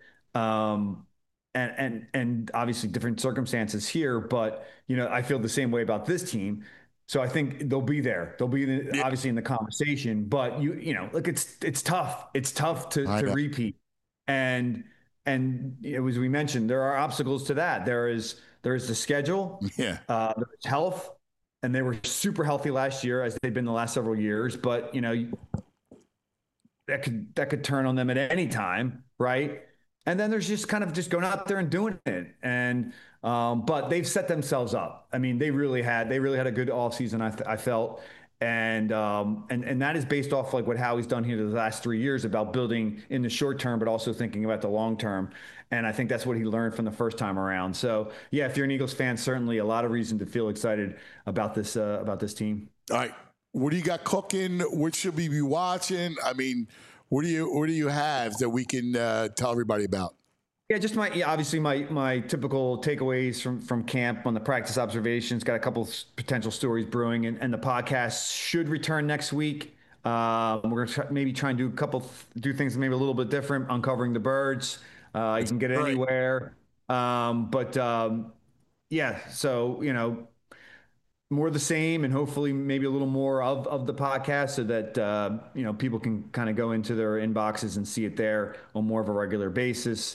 And obviously different circumstances here, but I feel the same way about this team. So I think they'll be there. They'll be obviously in the conversation, but look, it's tough. It's tough to repeat. And as we mentioned, there are obstacles to that. There is the schedule, there's health, and they were super healthy last year, as they've been the last several years. But that could turn on them at any time, right? And then there's just kind of just going out there and doing it. And but they've set themselves up. I mean, they really had a good offseason, I felt. And that is based off like what Howie's done here the last 3 years about building in the short term, but also thinking about the long term. And I think that's what he learned from the first time around. So yeah, if you're an Eagles fan, certainly a lot of reason to feel excited about this team. All right, what do you got cooking? What should we be watching? I mean, what do you have that we can tell everybody about? Yeah, just obviously my typical takeaways from camp on the practice observations. Got a couple potential stories brewing, and the podcast should return next week. We're going to maybe try and do things maybe a little bit different, uncovering the birds. You can get it anywhere. Yeah, so, more of the same, and hopefully maybe a little more of the podcast, so that people can kind of go into their inboxes and see it there on more of a regular basis.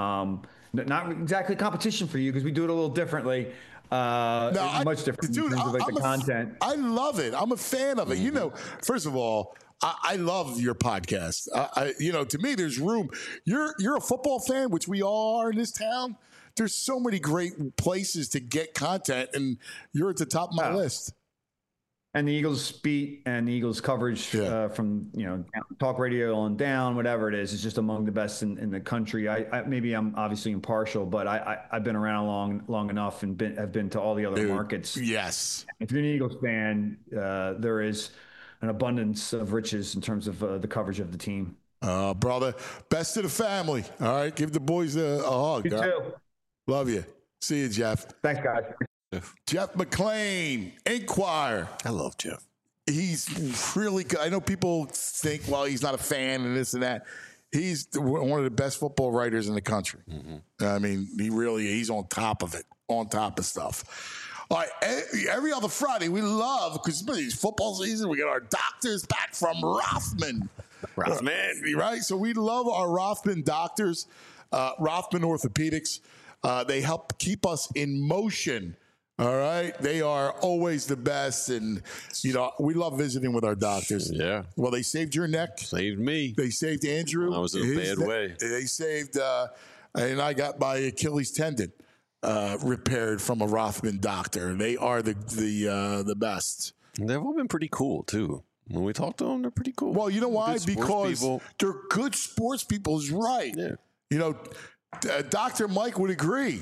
Not exactly competition for you, because we do it a little differently. Much different in terms of the content. I love it. I'm a fan of it. First of all, I love your podcast. To me, there's room. You're a football fan, which we all are in this town. There's so many great places to get content, and you're at the top of my list. And the Eagles beat and the Eagles coverage from talk radio on down, whatever it is just among the best in the country. Maybe I'm obviously impartial, but I've been around long enough and have been to all the other markets. Yes. If you're an Eagles fan, there is an abundance of riches in terms of the coverage of the team. Brother, best to the family. All right, give the boys a hug. You too. Love you. See you, Jeff. Thanks, guys. Jeff McLean, Inquirer. I love Jeff. He's really good. I know people think, well, he's not a fan and this and that. He's one of the best football writers in the country. Mm-hmm. I mean, he's on top of it, on top of stuff. All right, every other Friday, we love, because it's football season, we get our doctors back from Rothman. Right? So we love our Rothman doctors, Rothman Orthopedics. They help keep us in motion. All right. They are always the best. And, we love visiting with our doctors. Yeah. Well, they saved your neck. Saved me. They saved Andrew. I was in a bad way. They saved, and I got my Achilles tendon repaired from a Rothman doctor. They are the best. They've all been pretty cool, too. When we talk to them, they're pretty cool. Well, you know why? Because they're good sports people, is right. Yeah. Dr. Mike would agree.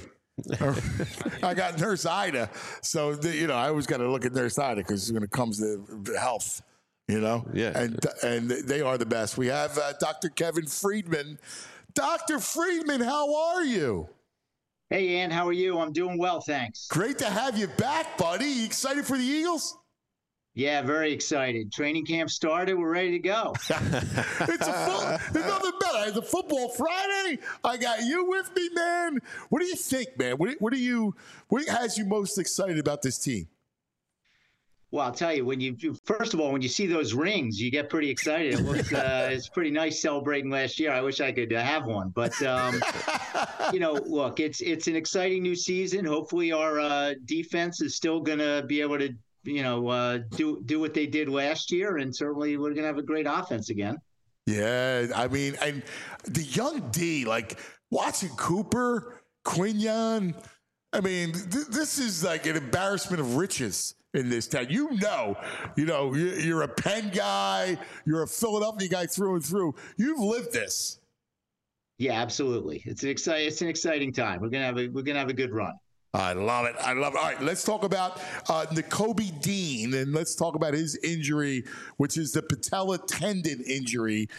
I got Nurse Ida, so I always got to look at Nurse Ida, because when it comes to health, Yeah. And they are the best. We have Dr. Kevin Friedman. Dr. Friedman, how are you? Hey, Ann, how are you? I'm doing well, thanks. Great to have you back, buddy. You excited for the Eagles? Yeah, very excited. Training camp started. We're ready to go. There's nothing better. It's a football Friday. I got you with me, man. What do you think, man? What has you most excited about this team? Well, I'll tell you, first of all, when you see those rings, you get pretty excited. It looks, it's pretty nice celebrating last year. I wish I could have one, but look, it's an exciting new season. Hopefully, our defense is still going to be able to do what they did last year, and certainly we're going to have a great offense again. Yeah, I mean, and the young D, like watching Cooper, Quinion, I mean, this is like an embarrassment of riches in this town. You're a Penn guy. You're a Philadelphia guy through and through. You've lived this. Yeah, absolutely. It's an exciting time. We're gonna have a good run. I love it. All right, let's talk about Nakobe Dean, and let's talk about his injury, which is the patella tendon injury.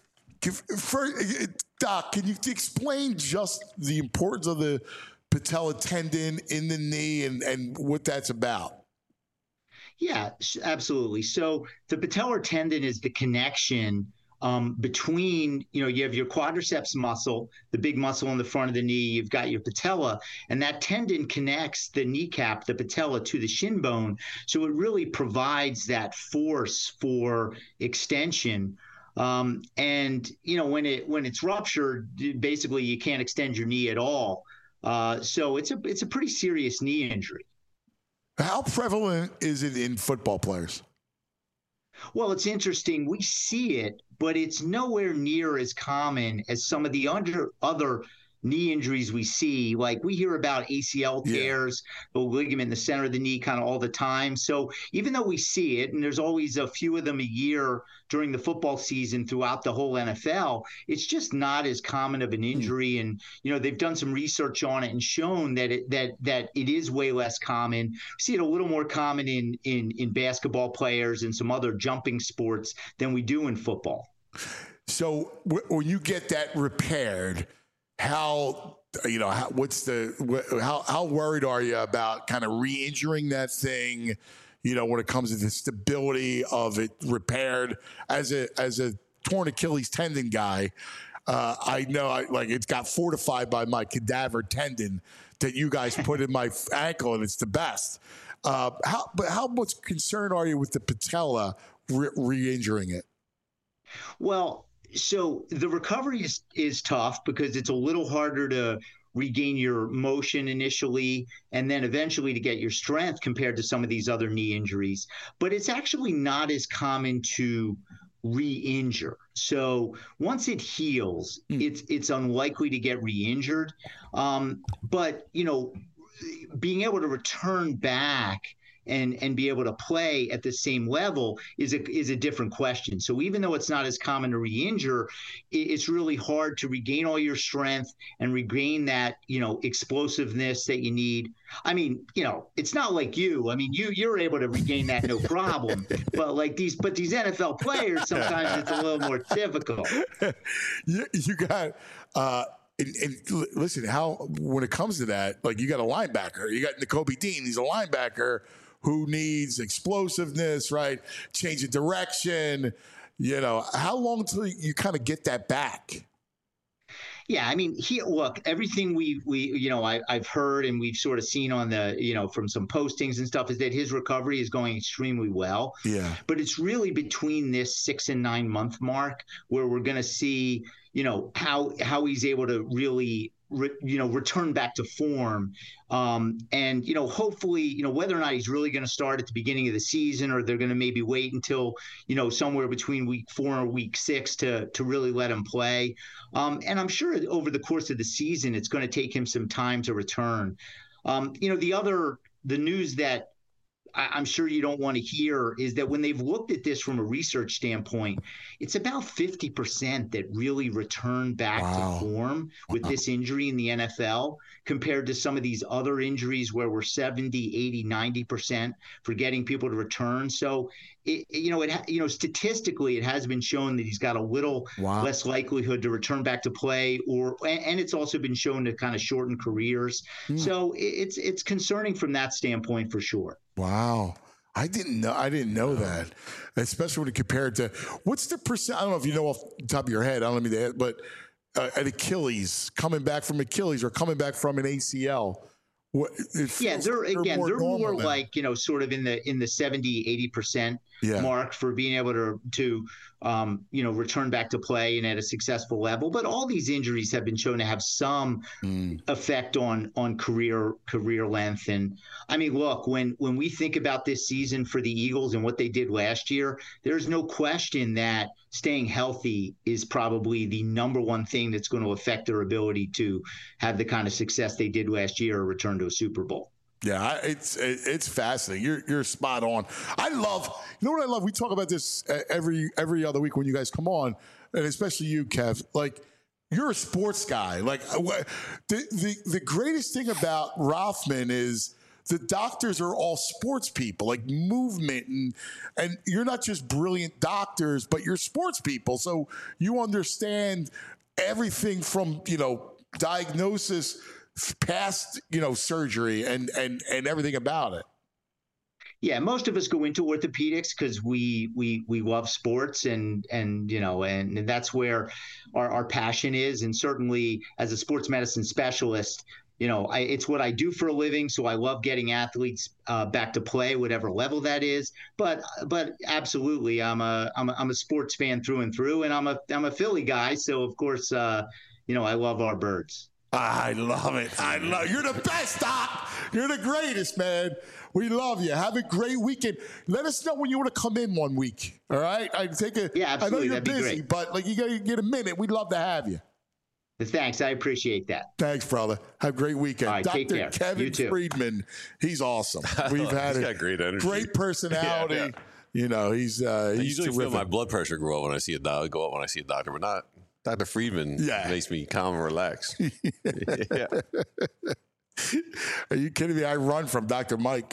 Doc, can you explain just the importance of the patella tendon in the knee and what that's about? Yeah, absolutely. So the patellar tendon is the connection between, you have your quadriceps muscle, the big muscle in the front of the knee, you've got your patella, and that tendon connects the kneecap, the patella, to the shin bone. So it really provides that force for extension. And when it's ruptured, basically you can't extend your knee at all. So it's a pretty serious knee injury. How prevalent is it in football players? Well, it's interesting. We see it, but it's nowhere near as common as some of the other knee injuries we see. Like we hear about ACL tears, the ligament in the center of the knee kind of all the time. So even though we see it, and there's always a few of them a year during the football season throughout the whole NFL, it's just not as common of an injury. And, they've done some research on it and shown that it is way less common. We see it a little more common in basketball players and some other jumping sports than we do in football. So when you get that repaired, how worried are you about kind of re-injuring that thing, when it comes to the stability of it repaired? As a torn Achilles tendon guy, I know it's got fortified by my cadaver tendon that you guys put in my ankle, and it's the best. How much concerned are you with the patella re-injuring it? Well, so the recovery is tough because it's a little harder to regain your motion initially and then eventually to get your strength compared to some of these other knee injuries. But it's actually not as common to re-injure. So once it heals, it's unlikely to get re-injured. But being able to return back and be able to play at the same level is a different question. So even though it's not as common to re-injure, it's really hard to regain all your strength and regain that, explosiveness that you need. I mean, it's not like you. I mean, you're able to regain that no problem. But these NFL players, sometimes it's a little more difficult. You got and listen, when it comes to that, you got a linebacker. You got Nakobe Dean. He's a linebacker who needs explosiveness, right? Change of direction. How long till you kind of get that back? Yeah, I mean, look, everything I've heard and we've sort of seen on the, from some postings and stuff is that his recovery is going extremely well. Yeah. But it's really between this 6 and 9 month mark where we're going to see, how he's able to really return back to form. And, hopefully, whether or not he's really going to start at the beginning of the season or they're going to maybe wait until, somewhere between week 4 and week 6 to really let him play. And I'm sure over the course of the season, it's going to take him some time to return. The news that I'm sure you don't want to hear is that when they've looked at this from a research standpoint, it's about 50% that really return back to form with this injury in the NFL compared to some of these other injuries where we're 70, 80, 90% for getting people to return. So, statistically, it has been shown that he's got a little less likelihood to return back to play, and it's also been shown to kind of shorten careers. So it's concerning from that standpoint for sure. Wow. I didn't know that, especially when you compare it to what's the percent. I don't know if you know off the top of your head. I don't know if but an Achilles, coming back from Achilles or coming back from an ACL. They're more like, sort of in the 70, 80% mark for being able to return back to play and at a successful level. But all these injuries have been shown to have some effect on career length. And I mean, look, when we think about this season for the Eagles and what they did last year, there's no question that staying healthy is probably the number one thing that's going to affect their ability to have the kind of success they did last year or return return to a Super Bowl. Yeah, it's fascinating. You're spot on. I love, you know what I love? We talk about this every other week when you guys come on, and especially you, Kev. Like, you're a sports guy. Like, the greatest thing about Rothman is the doctors are all sports people, like movement, and you're not just brilliant doctors, but you're sports people. So you understand everything from, diagnosis past, surgery and everything about it. Yeah, most of us go into orthopedics because we love sports and that's where our passion is. And certainly as a sports medicine specialist, it's what I do for a living. So I love getting athletes back to play, whatever level that is. But absolutely, I'm a sports fan through and through, and I'm a Philly guy. So of course, I love our birds. I love it. You're the best, Doc. You're the greatest, man. We love you. Have a great weekend. Let us know when you want to come in one week. All right? Yeah, absolutely. I know you're That'd busy, but you got to get a minute. We'd love to have you. Thanks. I appreciate that. Thanks, brother. Have a great weekend. All right, Dr. take care. Kevin Friedman, he's awesome. We've had he's got great energy. Great personality. Yeah. He's I usually terrific. feel my blood pressure go up when I see a doctor, but not Dr. Friedman. Makes me calm and relaxed. Yeah. Are you kidding me? I run from Dr. Mike.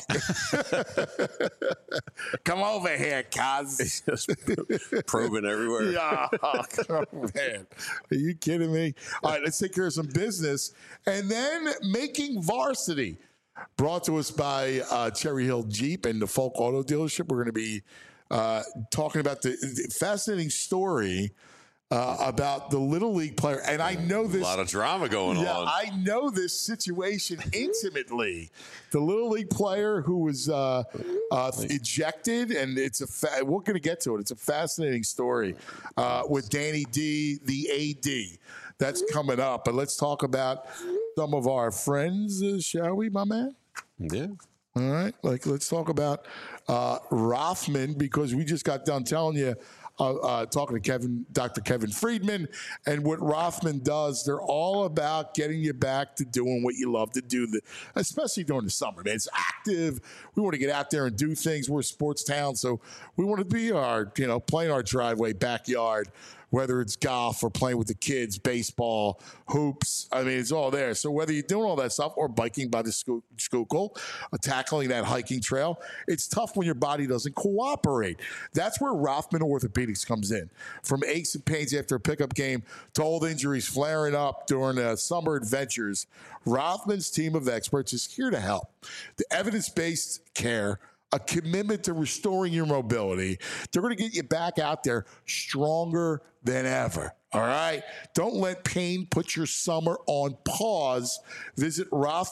Come over here, cuz. Just probing everywhere. Yeah, man. Are you kidding me? All right, let's take care of some business. And then Making Varsity, brought to us by Cherry Hill Jeep and the Folk Auto Dealership. We're going to be talking about the fascinating story about the Little League player. And I know this. A lot of drama going on. I know this situation intimately. The Little League player who was ejected, and we're going to get to it. It's a fascinating story with Danny D, the AD. That's coming up. But let's talk about some of our friends, shall we, my man? Yeah. All right. Let's talk about Rothman, because we just got done telling you, talking to Dr. Kevin Friedman, and what Rothman does. They're all about getting you back to doing what you love to do, especially during the summer, man. It's active. We want to get out there and do things. We're a sports town, so we want to be playing our driveway, backyard, whether it's golf or playing with the kids, baseball, hoops. I mean, it's all there. So whether you're doing all that stuff or biking by the Schuylkill, tackling that hiking trail, it's tough when your body doesn't cooperate. That's where Rothman Orthopedics comes in. From aches and pains after a pickup game to old injuries flaring up during summer adventures, Rothman's team of experts is here to help. The evidence-based care, a commitment to restoring your mobility. They're going to get you back out there stronger than ever. All right? Don't let pain put your summer on pause. Visit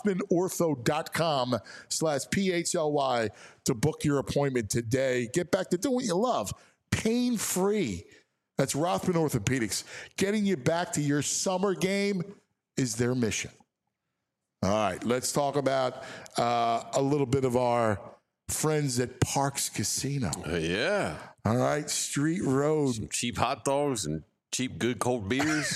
RothmanOrtho.com/PHLY to book your appointment today. Get back to doing what you love. Pain-free. That's Rothman Orthopedics. Getting you back to your summer game is their mission. All right. Let's talk about a little bit of our friends at Parks Casino. Yeah. All right. Street Road. Some cheap hot dogs and cheap, good cold beers.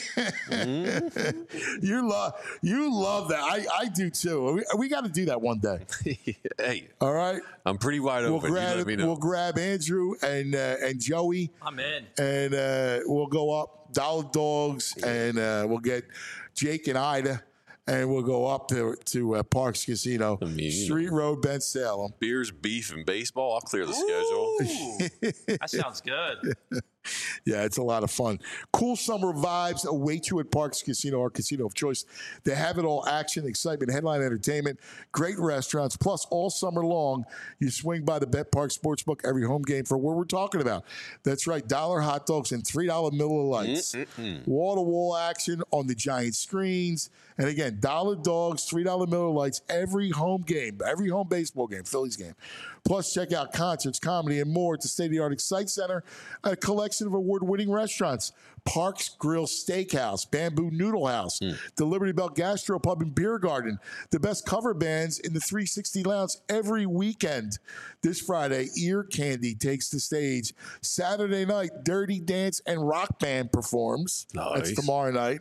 You love that. I do too. We got to do that one day. Hey. All right. I'm pretty wide open. We'll grab Andrew and Joey. I'm in. And we'll go up Dollar Dogs, and we'll get Jake and Ida. And we'll go up to Parks Casino, Street Road, Ben Salem. Beers, beef, and baseball. I'll clear the schedule. That sounds good. Yeah, it's a lot of fun. Cool summer vibes await you at Parks Casino, our casino of choice. They have it all: action, excitement, headline entertainment, great restaurants. Plus, all summer long, you swing by the Bet Park Sportsbook every home game for what we're talking about. That's right, $1 hot dogs and $3 Miller Lights. Wall-to-wall action on the giant screens. And again, $1 dogs, $3 Miller Lights every home game, every home baseball game, Phillies game. Plus, check out concerts, comedy, and more at the state-of-the-art Excite Center, a collection of award-winning restaurants. Parks Grill Steakhouse, Bamboo Noodle House, the Liberty Bell Gastro Pub and Beer Garden, the best cover bands in the 360 Lounge every weekend. This Friday, Ear Candy takes the stage. Saturday night, Dirty Dance and Rock Band performs. Nice. That's tomorrow night.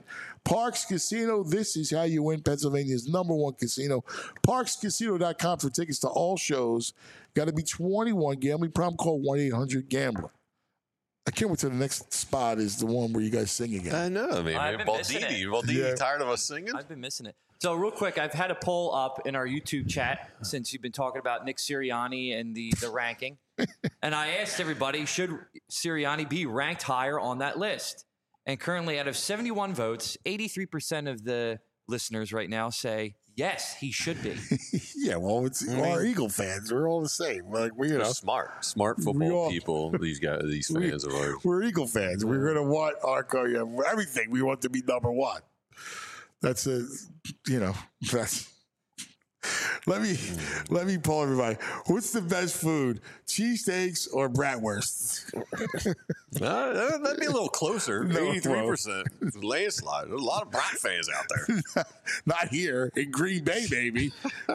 Parks Casino, this is how you win Pennsylvania's #1 casino. ParksCasino.com for tickets to all shows. Got to be 21. Gambling problem, call 1-800-GAMBLER. I can't wait till the next spot is the one where you guys sing again. I know, man. I've been missing it. Baldini, tired of us singing? I've been missing it. So real quick, I've had a poll up in our YouTube chat since you've been talking about Nick Sirianni and the ranking. And I asked everybody, should Sirianni be ranked higher on that list? And currently, out of 71 votes, 83% of the listeners right now say, yes, he should be. Yeah, well, we're Eagle fans. We're all the same. Like we're smart football people. These fans of ours. We're Eagle fans. We're gonna want our everything. We want to be #1. That's that's. Let me poll everybody. What's the best food? Cheesesteaks or bratwurst? That'd be a little closer. 83%. Landslide. There's a lot of brat fans out there. Not here in Green Bay, baby.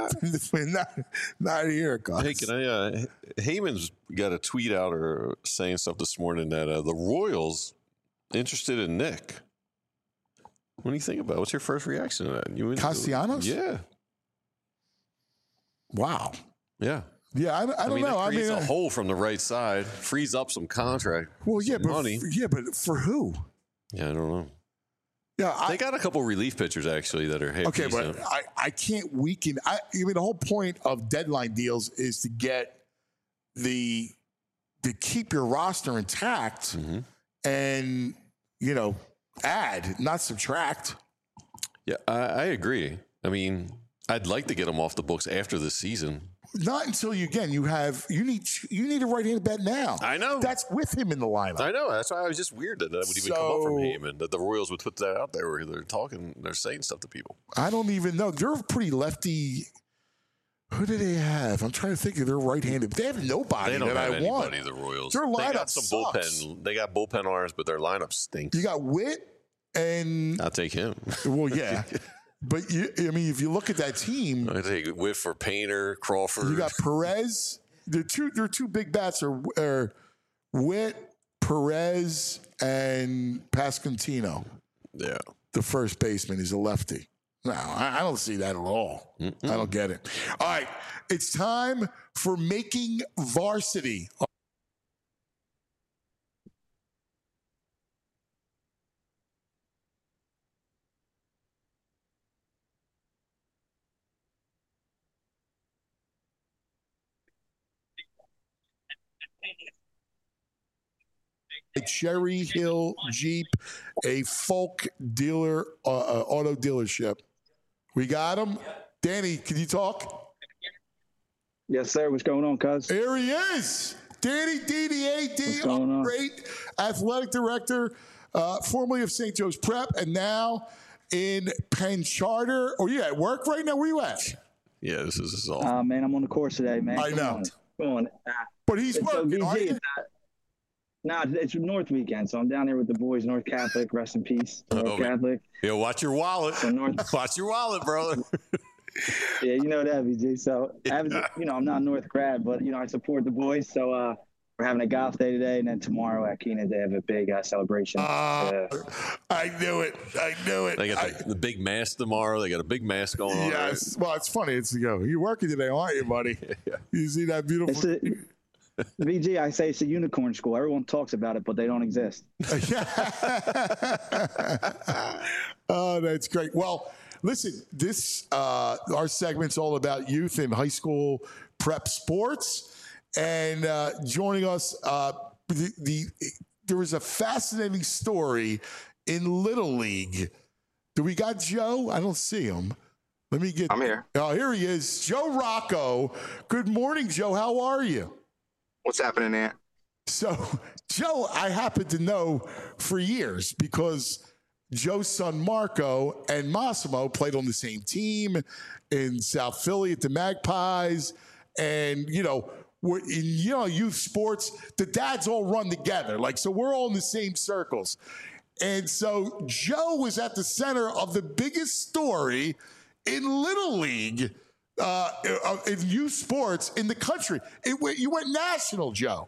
not here, guys. Hey, can I? Heyman's got a tweet out or saying stuff this morning that the Royals interested in Nick. What do you think about it? What's your first reaction to that? Castellanos? Yeah. Wow. Yeah. Yeah, I don't know. That creates a hole from the right side, frees up some contract. Well, yeah, but money. But for who? Yeah, I don't know. Yeah, they got a couple relief pitchers actually that are okay, but I can't weaken. The whole point of deadline deals is to get to keep your roster intact, and add, not subtract. Yeah, I agree. I mean, I'd like to get him off the books after this season. Not until you need a right-handed bat now. I know. That's with him in the lineup. I know. That's why I was just weird that would even come up from Heyman, that the Royals would put that out there where they're saying stuff to people. I don't even know. They're pretty lefty. Who do they have? I'm trying to think of their right-handed. They have nobody. They don't that have I anybody. Want. The Royals. Their lineup they got some sucks. bullpen. They got bullpen arms, but their lineup stinks. You got Witt and I'll take him. Well, yeah. But if you look at that team, I take Whit for Painter, Crawford. You got Perez. Their two big bats are Witt, Perez, and Pasquantino. Yeah, the first baseman is a lefty. No, I don't see that at all. I don't get it. All right, it's time for Making Varsity. Cherry Hill Jeep, a Folk dealer, auto dealership. We got him. Danny, can you talk? Yes, sir. What's going on, cuz? There he is. Danny DDAD, great athletic director, formerly of St. Joe's Prep, and now in Penn Charter. Oh, you at work right now? Where you at? Yeah, this is awesome. Man, I'm on the course today, man. I know. Come on. But he's working, aren't you? No, it's North weekend, so I'm down here with the boys. North Catholic, rest in peace. North Catholic. Yeah, watch your wallet. So watch your wallet, brother. Yeah, you know that, BG. So, I'm not a North grad, but, I support the boys. So, we're having a golf day today, and then tomorrow at Keena, they have a big celebration. I knew it. They got the big mask tomorrow. They got a big mask going on. Yes. Well, it's funny. You're working today, aren't you, buddy? Yeah. You see that beautiful... VG, I say it's a unicorn school. Everyone talks about it, but they don't exist. Oh, that's great. Well, listen, this our segment's all about youth and high school prep sports. And joining us, there was a fascinating story in Little League. Do we got Joe? I don't see him. I'm here. Oh, here he is. Joe Rocco. Good morning, Joe. How are you? What's happening there? So, Joe, I happen to know for years because Joe's son Marco and Massimo played on the same team in South Philly at the Magpies. And, in youth sports, the dads all run together. So we're all in the same circles. And so Joe was at the center of the biggest story in Little League in youth sports in the country. You went national, Joe.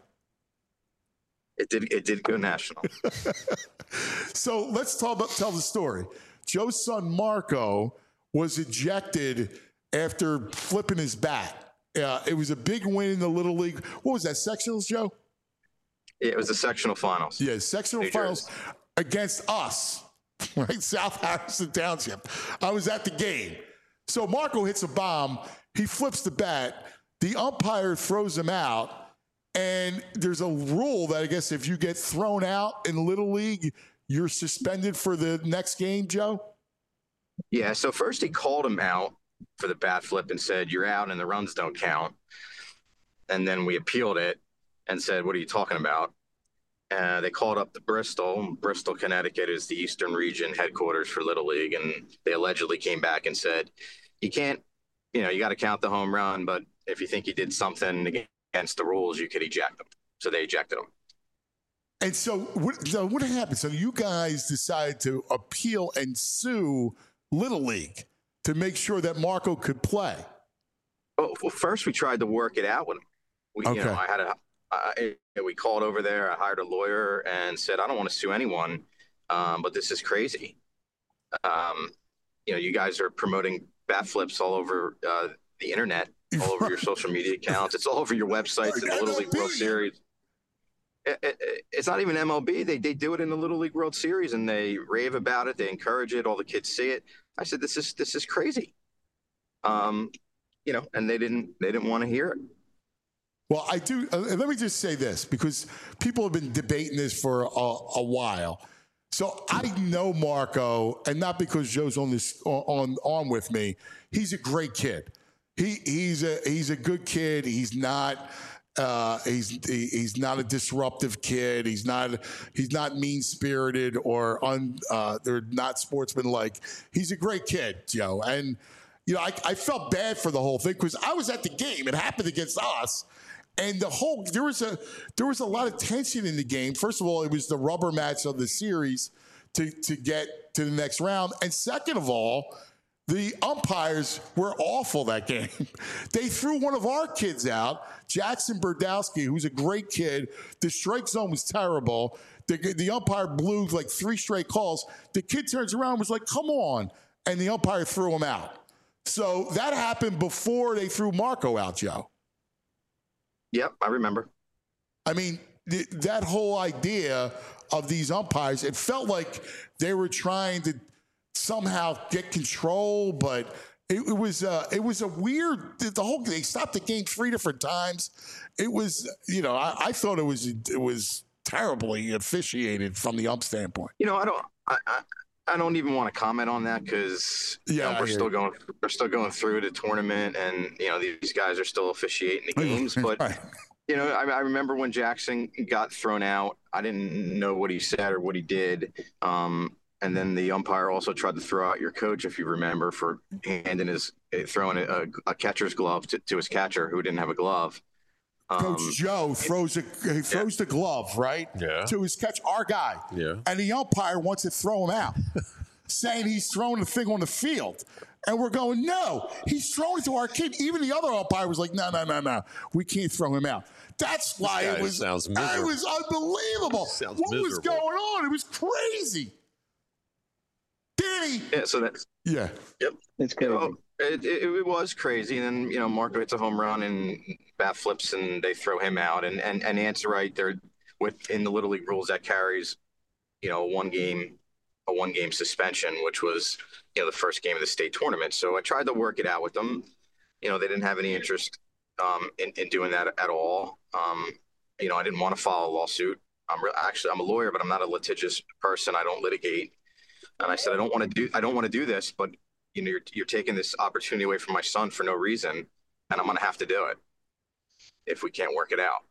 It did go national. So let's tell the story. Joe's son Marco was ejected after flipping his bat. It was a big win in the Little League. What was that, sectionals, Joe? It was the sectional finals. Yeah, sectional finals against us, right? South Harrison Township. I was at the game. So Marco hits a bomb. He flips the bat. The umpire throws him out. And there's a rule that I guess if you get thrown out in Little League, you're suspended for the next game, Joe? Yeah, so first he called him out for the bat flip and said, you're out and the runs don't count. And then we appealed it and said, what are you talking about? They called up to Bristol. Bristol, Connecticut is the Eastern Region headquarters for Little League. And they allegedly came back and said, you can't, you got to count the home run, but if you think he did something against the rules, you could eject him. So they ejected him. And so what happened? So you guys decided to appeal and sue Little League to make sure that Marco could play. Well, first we tried to work it out with him. We called over there. I hired a lawyer and said, I don't want to sue anyone, but this is crazy. You guys are promoting bat flips all over the internet, all over your social media accounts. It's all over your websites in the Little League World Series. It's not even MLB. They do it in the Little League World Series, and they rave about it. They encourage it. All the kids see it. I said, this is crazy. And they didn't want to hear it. Well, I do. Let me just say this, because people have been debating this for a while. So I know Marco, and not because Joe's on with me. He's a great kid. He's a good kid. He's not. He's not a disruptive kid. He's not mean-spirited or they're not sportsmanlike. He's a great kid, Joe. And I felt bad for the whole thing because I was at the game. It happened against us. And there was a lot of tension in the game. First of all, it was the rubber match of the series to get to the next round. And second of all, the umpires were awful that game. They threw one of our kids out, Jackson Berdowski, who's a great kid. The strike zone was terrible. The umpire blew like 3 straight calls. The kid turns around and was like, come on. And the umpire threw him out. So that happened before they threw Marco out, Joe. Yep, I remember. I mean, that whole idea of these umpires, it felt like they were trying to somehow get control, but it was a weird. They stopped the game 3 different times. It was, I thought it was terribly officiated from the ump standpoint. I don't even want to comment on that because we're still going through the tournament, and these guys are still officiating the games. But right. I remember when Jackson got thrown out. I didn't know what he said or what he did. And then the umpire also tried to throw out your coach, if you remember, for throwing a catcher's glove to his catcher who didn't have a glove. Coach Joe throws the glove, right? Yeah. To his catch, our guy. Yeah. And the umpire wants to throw him out, saying he's throwing the thing on the field. And we're going, no, he's throwing it to our kid. Even the other umpire was like, no, we can't throw him out. That's why it was unbelievable. What was going on? It was crazy. Danny. Yeah, so that's. Yeah. Yep. It's crazy. It was crazy. And then, Marco hits a home run and bat flips and they throw him out. And Ant's right. They're within the Little League rules that carries, a one game suspension, which was, the first game of the state tournament. So I tried to work it out with them. They didn't have any interest in doing that at all. I didn't want to file a lawsuit. I'm a lawyer, but I'm not a litigious person. I don't litigate. And I said, I don't want to do this, but you're taking this opportunity away from my son for no reason, and I'm going to have to do it if we can't work it out.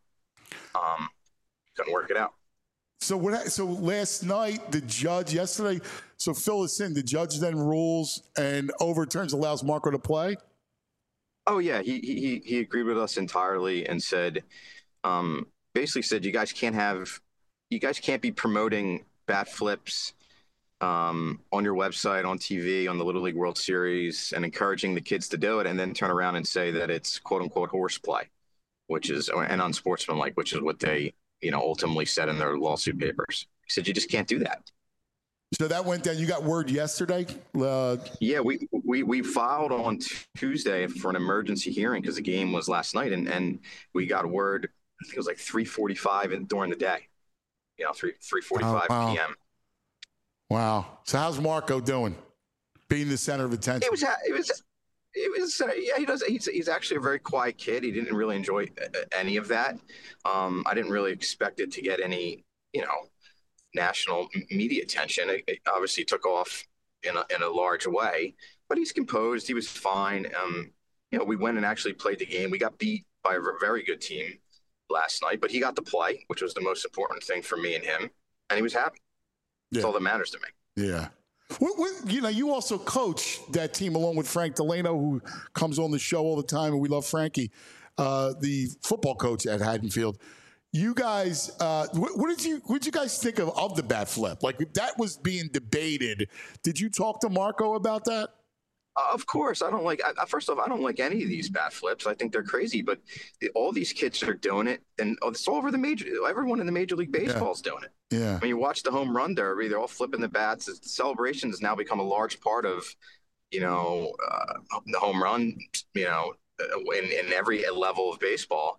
Couldn't work it out. So last night, the judge yesterday. So fill us in. The judge then rules and overturns, allows Marco to play. Oh yeah, he agreed with us entirely and said, basically said, you guys can't be promoting bat flips on your website, on TV, on the Little League World Series, and encouraging the kids to do it, and then turn around and say that it's quote unquote horseplay, and unsportsmanlike, which is what they ultimately said in their lawsuit papers. He said you just can't do that. So that went down. You got word yesterday? Yeah, we filed on Tuesday for an emergency hearing because the game was last night, and we got word. I think it was like 3:45 during the day. 3:45 p.m. Wow. So how's Marco doing? Being the center of attention. Yeah, he does. He's actually a very quiet kid. He didn't really enjoy any of that. I didn't really expect it to get any, national media attention. It obviously took off in a large way, but he's composed. He was fine. We went and actually played the game. We got beat by a very good team last night, but he got to play, which was the most important thing for me and him, and he was happy. That's all that matters to me. Yeah. You also coach that team along with Frank Delano, who comes on the show all the time, and we love Frankie, the football coach at Haddonfield. You guys, what did you guys think of the bat flip? Like, that was being debated. Did you talk to Marco about that? Of course, I don't like. First off, I don't like any of these bat flips. I think they're crazy. But all these kids are doing it, and it's all over the major. Everyone in the Major League Baseball is doing it. Yeah. When you watch the home run derby, they're all flipping the bats. The celebration has now become a large part of, the home run. In every level of baseball.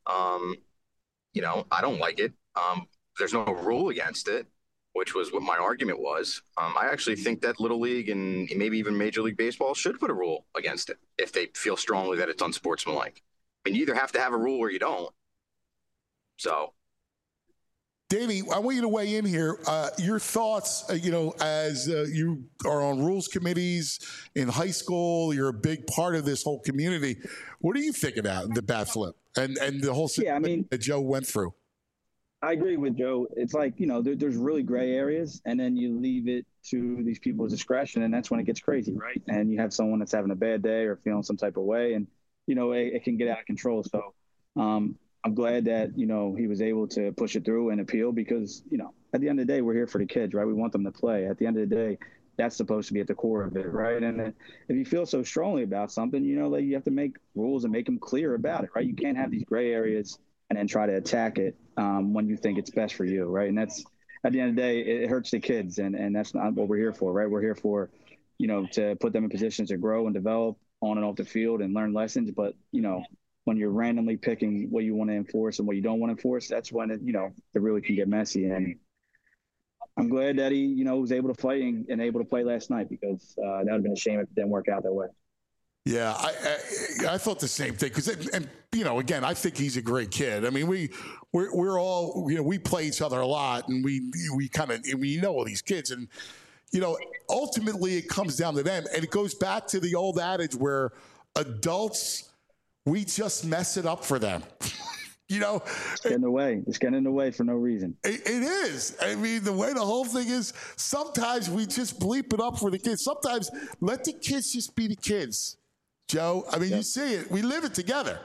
I don't like it. There's no rule against it, which was what my argument was. I actually think that Little League and maybe even Major League Baseball should put a rule against it if they feel strongly that it's unsportsmanlike. I mean, you either have to have a rule or you don't. So, Danny, I want you to weigh in here. Your thoughts, as you are on rules committees in high school, you're a big part of this whole community. What do you think about the bat flip and the whole situation that Joe went through? I agree with Joe. It's like, there's really gray areas, and then you leave it to these people's discretion, and that's when it gets crazy, right? And you have someone that's having a bad day or feeling some type of way, and, it can get out of control. So I'm glad that, he was able to push it through and appeal because, at the end of the day, we're here for the kids, right? We want them to play. At the end of the day, that's supposed to be at the core of it, right? And then if you feel so strongly about something, that you have to make rules and make them clear about it, right? You can't have these gray areas and then try to attack it when you think it's best for you, right? And that's, at the end of the day, it hurts the kids, and that's not what we're here for, right? We're here for, to put them in positions to grow and develop on and off the field and learn lessons. But, when you're randomly picking what you want to enforce and what you don't want to enforce, that's when it really can get messy. And I'm glad that he, was able to play and able to play last night because that would have been a shame if it didn't work out that way. Yeah, I thought the same thing because, again, I think he's a great kid. I mean, we're all, we play each other a lot, and we know all these kids, and ultimately it comes down to them, and it goes back to the old adage where adults, we just mess it up for them. It's getting in the way. It's getting in the way for no reason. It is. I mean, the way the whole thing is, sometimes we just bleep it up for the kids. Sometimes let the kids just be the kids. Joe, I mean, You see it. We live it together.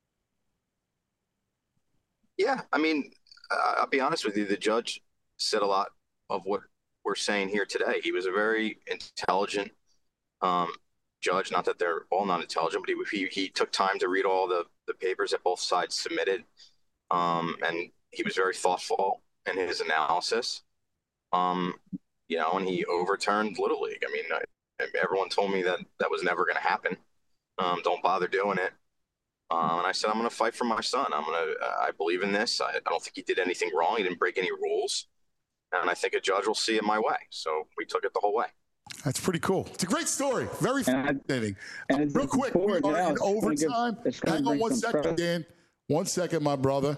Yeah, I mean, I'll be honest with you. The judge said a lot of what we're saying here today. He was a very intelligent judge. Not that they're all not intelligent, but he took time to read all the papers that both sides submitted, and he was very thoughtful in his analysis. And he overturned Little League. I mean, everyone told me that was never going to happen. Don't bother doing it. And I said, I'm going to fight for my son. I believe in this. I don't think he did anything wrong. He didn't break any rules. And I think a judge will see it my way. So we took it the whole way. That's pretty cool. It's a great story. Very fascinating. Real quick, we are in overtime. Hang on 1 second, Dan. 1 second, my brother.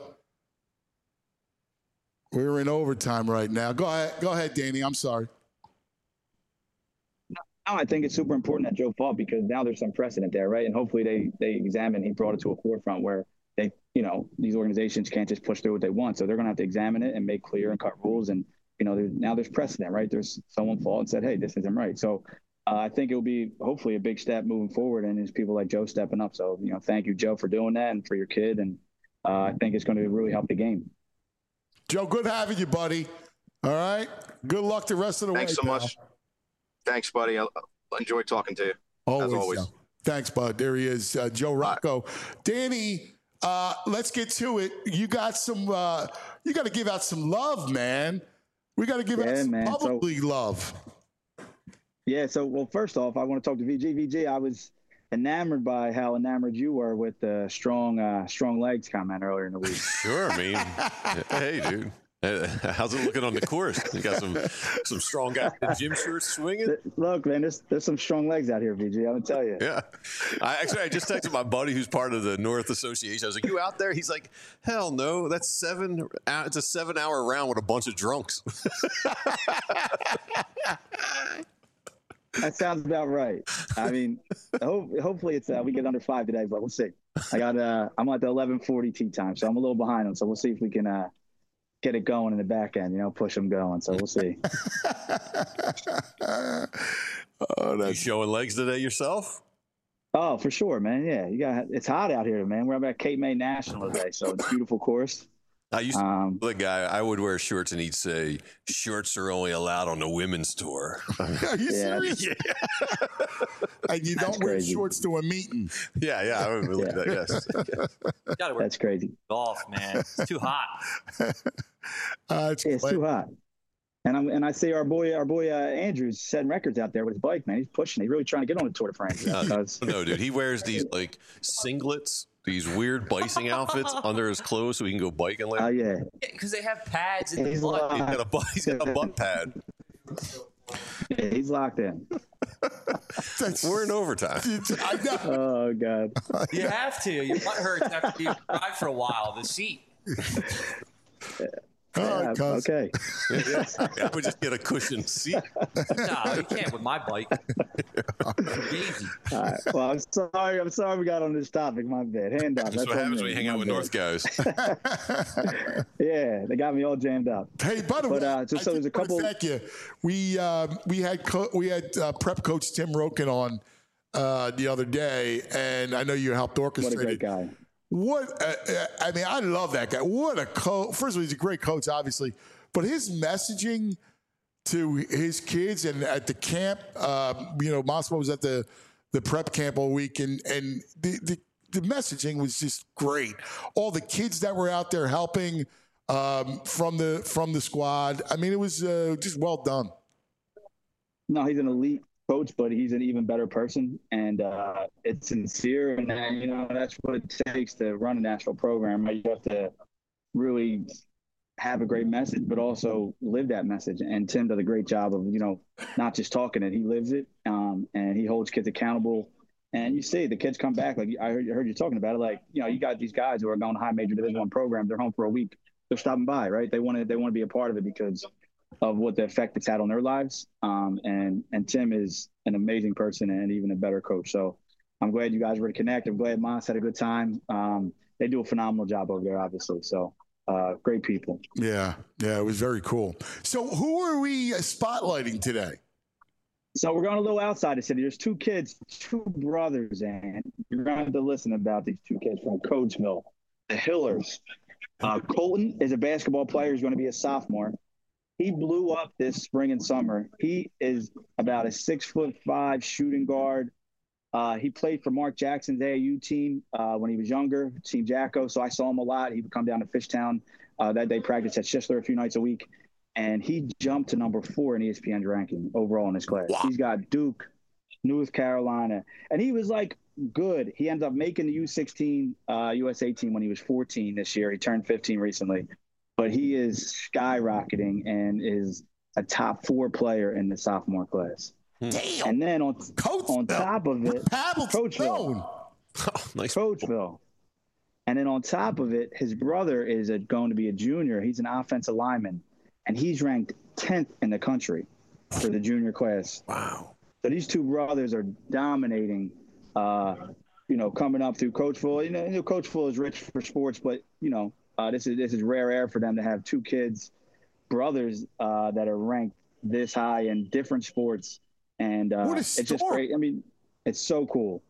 We're in overtime right now. Go ahead, Danny. I'm sorry. No, I think it's super important that Joe fought because now there's some precedent there, right? And hopefully they examine. He brought it to a forefront where they, these organizations can't just push through what they want. So they're going to have to examine it and make clear and cut rules. And now there's precedent, right? There's someone fought and said, hey, this isn't right. So I think it will be hopefully a big step moving forward. And there's people like Joe stepping up. So, thank you, Joe, for doing that and for your kid. And I think it's going to really help the game. Joe, good having you, buddy. All right. Good luck the rest of the way. Thanks so much. Thanks, buddy. I enjoy talking to you. As always. Thanks, bud. There he is, Joe Rocco. Danny, let's get to it. You got some. You got to give out some love, man. We got to give it some public league love. Yeah. So, well, first off, I want to talk to VG. VG, I was enamored by how enamored you were with the strong legs comment earlier in the week. Sure. I mean, hey, dude. How's it looking on the course? You got some strong guys in gym shorts swinging. Look, man, there's some strong legs out here, VG. I'm gonna tell you. Yeah, I just texted my buddy who's part of the North Association. I was like, "You out there?" He's like, "Hell no, that's 7. It's a 7-hour round with a bunch of drunks." That sounds about right. I mean, hopefully it's we get under 5 today, but we'll see. I'm at the 11:40 tee time, so I'm a little behind them. So we'll see if we can get it going in the back end, push them going. So we'll see. You showing legs today yourself? Oh, for sure, man. Yeah, it's hot out here, man. We're up at Cape May National today, so it's a beautiful course. I used to be the guy. I would wear shorts, and he'd say, "Shorts are only allowed on the women's tour." Are you serious? Yeah. And you don't wear shorts to a meeting. Yeah, I would believe that. Yes. Gotta wear That's crazy. golf, man. It's too hot. It's too hot. And I see our boy Andrew's setting records out there with his bike, man. He's pushing. He's really trying to get on the Tour de France. No, dude. He wears these singlets, these weird biking outfits under his clothes so he can go biking later. Oh, yeah. Because they have pads in the butt. He's got a butt pad. Yeah, he's locked in. We're in overtime. I know. Oh, God. You have to. Your butt hurts after you drive for a while. The seat. Okay. I would just get a cushioned seat. No, you can't with my bike. Easy. All right. Well, I'm sorry we got on this topic. My bad. Hand up. That's what happens when you hang out with North guys. Yeah, they got me all jammed up. Hey, by the way, so there's a couple. Thank you. We had prep coach Tim Roken on the other day, and I know you helped orchestrate. What a great guy. I mean, I love that guy. What a coach. First of all, he's a great coach, obviously, but his messaging to his kids and at the camp, Massimo was at the prep camp all week, and the messaging was just great. All the kids that were out there helping from the squad. I mean, it was just well done. No, he's an elite coach, but he's an even better person, and it's sincere, and that's what it takes to run a national program. You have to really have a great message, but also live that message. And Tim does a great job of not just talking it; he lives it, and he holds kids accountable. And you see the kids come back. Like I heard you talking about it. Like you got these guys who are going to high major Division I programs. They're home for a week. They're stopping by, right? They want to be a part of it because of what the effect it's had on their lives. And Tim is an amazing person and even a better coach. So I'm glad you guys were to connect. I'm glad Moss had a good time. They do a phenomenal job over there, obviously. So great people. Yeah, it was very cool. So who are we spotlighting today? So we're going a little outside the city. There's two brothers, and you're going to have to listen about these two kids from Coatesville, the Hillers. Colton is a basketball player. He's going to be a sophomore. He blew up this spring and summer. He is about a 6'5" shooting guard. He played for Mark Jackson's AAU team when he was younger, Team Jacko. So I saw him a lot. He would come down to Fishtown. That day practice at Schistler a few nights a week. And he jumped to number 4 in ESPN's ranking overall in his class. Wow. He's got Duke, North Carolina. And he was like good. He ended up making the U16 USA team when he was 14 this year. He turned 15 recently. But he is skyrocketing and is a top 4 player in the sophomore class. Damn. And then on top of it, Coatesville. Nice. Coatesville. And then on top of it, his brother is going to be a junior. He's an offensive lineman, and he's ranked 10th in the country for the junior class. Wow. So these two brothers are dominating, coming up through Coatesville. Coatesville is rich for sports, but, this is rare air for them to have two brothers that are ranked this high in different sports. And it's just great. I mean, it's so cool.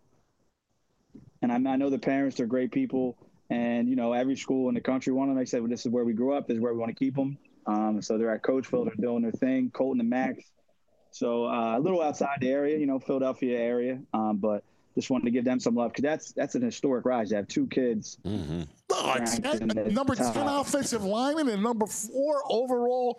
And I know the parents are great people. And, every school in the country, one of them, they said, well, this is where we grew up. This is where we want to keep them. So they're at Coatesville. They're doing their thing, Colton and Max. So a little outside the area, Philadelphia area. But just wanted to give them some love because that's an historic rise to have two kids. Mm-hmm. Number 10 offensive lineman and number 4 overall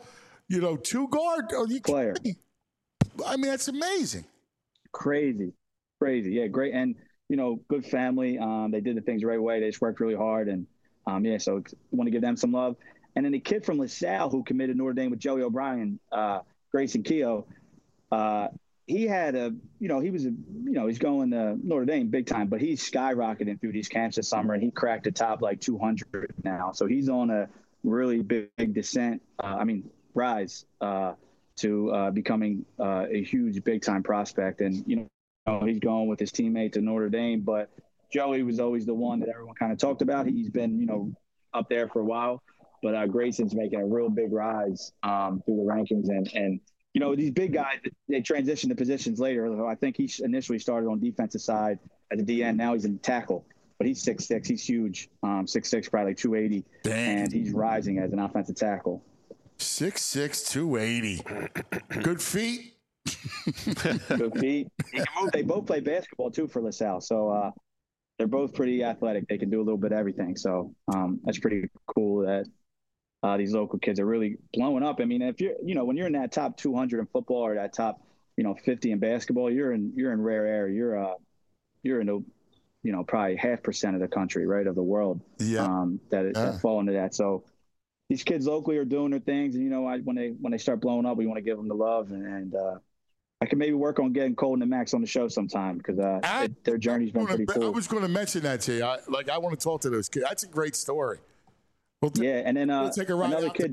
two guard player. I mean, that's amazing. Crazy. Yeah, great. And, good family. They did the things the right way. They just worked really hard. And, so I want to give them some love. And then the kid from LaSalle who committed Notre Dame with Joey O'Brien, Grayson Keogh, he had he's going to Notre Dame big time, but he's skyrocketing through these camps this summer, and he cracked the top 200 now. So he's on a really big descent, rise to becoming a huge big time prospect. And, he's going with his teammate to Notre Dame, but Joey was always the one that everyone kind of talked about. He's been, up there for a while, but Grayson's making a real big rise through the rankings. And these big guys, they transition to positions later. I think he initially started on defensive side at the DN. Now he's in tackle, but he's 6'6". He's huge, 6'6", probably 280. Dang. And he's rising as an offensive tackle. 6'6", 280. Good feet. Good feet. They both play basketball too for LaSalle, so they're both pretty athletic. They can do a little bit of everything. So that's pretty cool that these local kids are really blowing up. I mean, if you're, when you're in that top 200 in football or that top, 50 in basketball, you're in rare air. You're in the, probably 0.5% of the country, right, of the world. Yeah. That fall into that. So these kids locally are doing their things, and when they start blowing up, we want to give them the love, and I can maybe work on getting Colton and Max on the show sometime because their journey's been pretty cool. I was going to mention that to you. I want to talk to those kids. That's a great story. And then we'll take a ride another kid.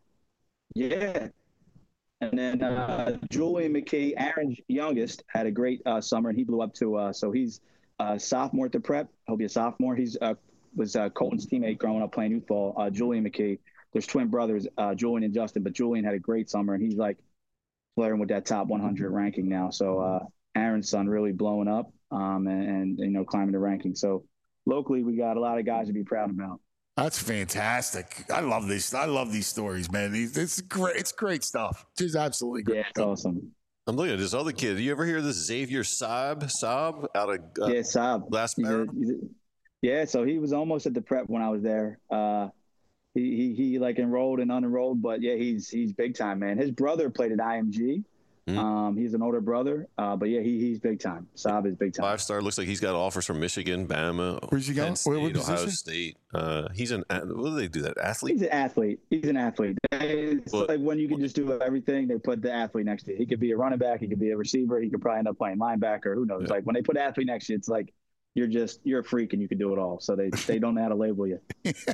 And then Julian McKee, Aaron's youngest, had a great summer, and he blew up to. So he's a sophomore at the prep. He'll be a sophomore. He's was Colton's teammate growing up playing youth ball. Julian McKee. There's twin brothers, Julian and Justin, but Julian had a great summer, and he's flirting with that top 100 ranking now. So Aaron's son really blowing up and climbing the ranking. So locally, we got a lot of guys to be proud about. That's fantastic. I love this. I love these stories, man. It's great. It's great stuff. Just absolutely great. Yeah, it's awesome. I'm looking at this other kid. Do you ever hear this Xavier Saab out of Saab. Last Yeah, so he was almost at the prep when I was there. He enrolled and unenrolled, but yeah, he's big time, man. His brother played at IMG. He's an older brother, but yeah, he's big time. Saab is big time. 5-star. Looks like he's got offers from Michigan, Bama, Where's he going? Penn State, what Ohio State. He's an what do they do that? Athlete? He's an athlete. It's like when you can just do everything, they put the athlete next to you. He could be a running back, he could be a receiver, he could probably end up playing linebacker. Who knows? Yeah. Like when they put athlete next to you, it's like you're a freak and you can do it all. So they don't know how to label you.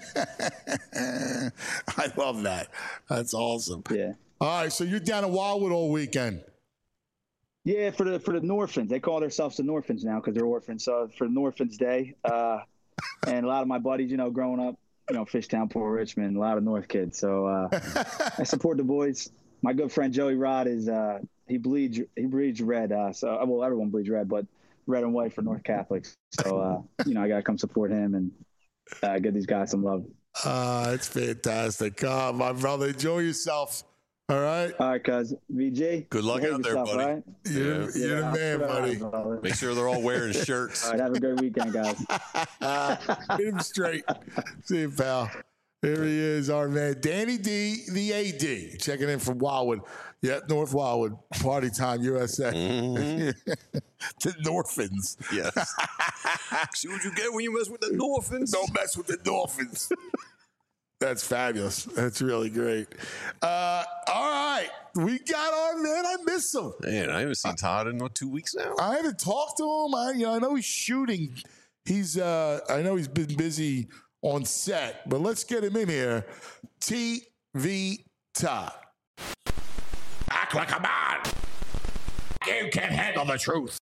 I love that. That's awesome. Yeah. All right, so you're down in Wildwood all weekend. Yeah, for the Norphans. They call themselves the Norphans now because they're orphans. So for Norphans Day, and a lot of my buddies, growing up, Fishtown, Port Richmond, a lot of North kids. So I support the boys. My good friend Joey Rod is he bleeds red. So everyone bleeds red, but red and white for North Catholics. So I gotta come support him and give these guys some love. It's fantastic. My brother, enjoy yourself. All right. All right, cuz. VJ. Good luck out there, buddy. Right? You're the man, buddy. Make sure they're all wearing shirts. All right, have a great weekend, guys. Get him straight. See you, pal. Here he is, our man, Danny D, the AD, checking in from Wildwood. Yeah, North Wildwood. Party time, USA. Mm-hmm. The Norphans. Yes. See what you get when you mess with the Norphans? Don't mess with the Norphans. That's fabulous. That's really great. All right. We got our man. I miss him. Man, I haven't seen Todd in 2 weeks now. I haven't talked to him. I know he's shooting. I know he's been busy on set, but let's get him in here. TV Todd. Act like a man. You can handle the truth.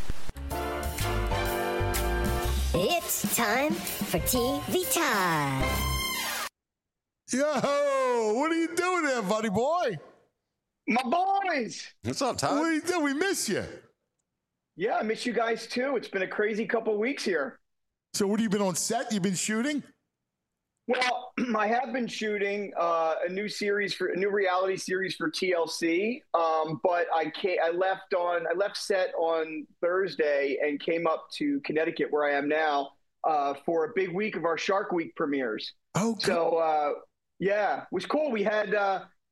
It's time for TV Time. Yo, what are you doing there, buddy boy? My boys. What's up, Todd? What are you doing? We miss you. Yeah, I miss you guys too. It's been a crazy couple of weeks here. So what have you been on set? You've been shooting? Well, I have been shooting a new reality series for TLC. But I left set on Thursday and came up to Connecticut where I am now for a big week of our Shark Week premieres. Oh, so yeah, it was cool. We had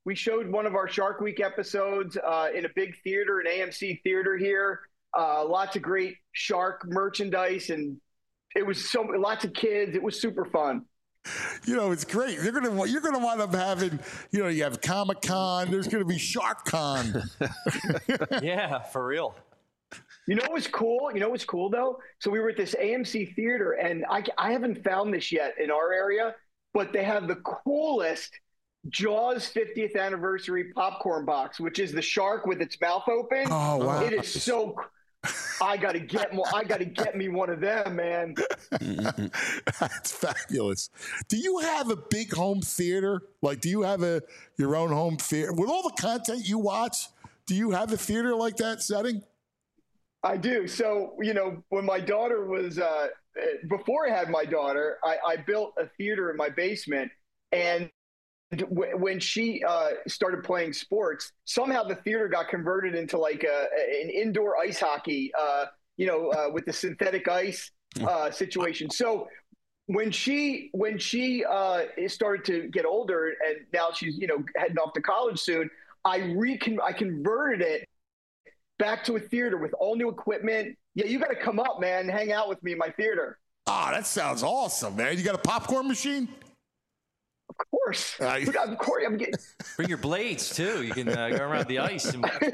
We showed one of our Shark Week episodes in a big theater, an AMC theater here. Lots of great shark merchandise, and it was lots of kids. It was super fun. You know, it's great. You're gonna wind up having, you know, you have Comic-Con. There's gonna be Shark-Con. Yeah, for real. You know what's cool? You know what's cool though? So we were at this AMC theater, and I haven't found this yet in our area, but they have the coolest Jaws 50th anniversary popcorn box, which is the shark with its mouth open. Oh wow! It is so. I gotta get me one of them, man. That's fabulous. Do you have a big home theater? Like, do you have your own home theater with all the content you watch? Do you have a theater like that setting? I do. So, you know, when my daughter was before I had my daughter, I built a theater in my basement, and when she started playing sports, somehow the theater got converted into like an indoor ice hockey, with the synthetic ice situation. So when she started to get older, and now she's, you know, heading off to college soon, I converted it back to a theater with all new equipment. Yeah, you got to come up, man, hang out with me in my theater. Oh, that sounds awesome, man. You got a popcorn machine? Of course. Of course. I'm getting... Bring your blades, too. You can go around the ice.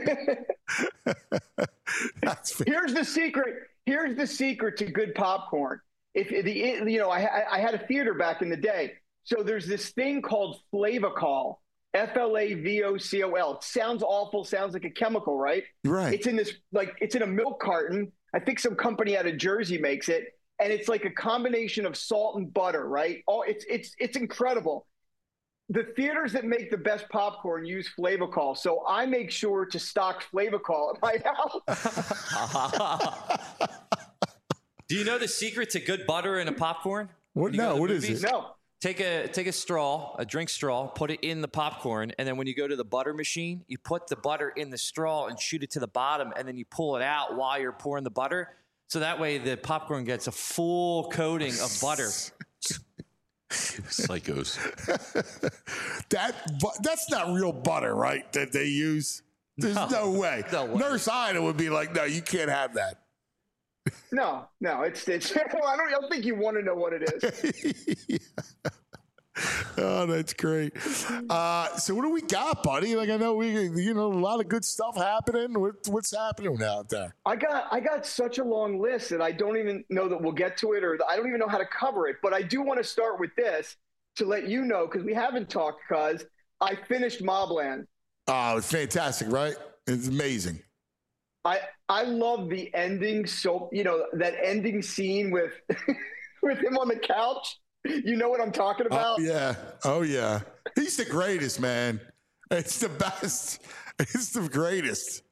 Here's the secret. Here's the secret to good popcorn. I had a theater back in the day. So there's this thing called Flavocol. Flavocol. It sounds awful. Sounds like a chemical, right? Right. It's in this, it's in a milk carton. I think some company out of Jersey makes it. And it's like a combination of salt and butter, right? Oh, it's incredible. The theaters that make the best popcorn use Flavocol, so I make sure to stock Flavocol at my house. Do you know the secret to good butter in a popcorn? What? No, what is it? No. Take a straw, a drink straw, put it in the popcorn, and then when you go to the butter machine, you put the butter in the straw and shoot it to the bottom, and then you pull it out while you're pouring the butter. So that way the popcorn gets a full coating of butter. Psychos. That's not real butter, right? That they use. There's no way. Nurse Ida would be like, "No, you can't have that." No, it's. I don't think you want to know what it is. Oh, that's great. So what do we got, buddy? Like, I know a lot of good stuff happening. What's happening out there? I got such a long list that I don't even know that we'll get to it, or I don't even know how to cover it. But I do want to start with this to let you know, because we haven't talked, because I finished Mobland. Oh, it's fantastic, right? It's amazing. I love the ending. So, you know, that ending scene with with him on the couch. You know what I'm talking about? Oh yeah. He's the greatest, man. It's the best. It's the greatest.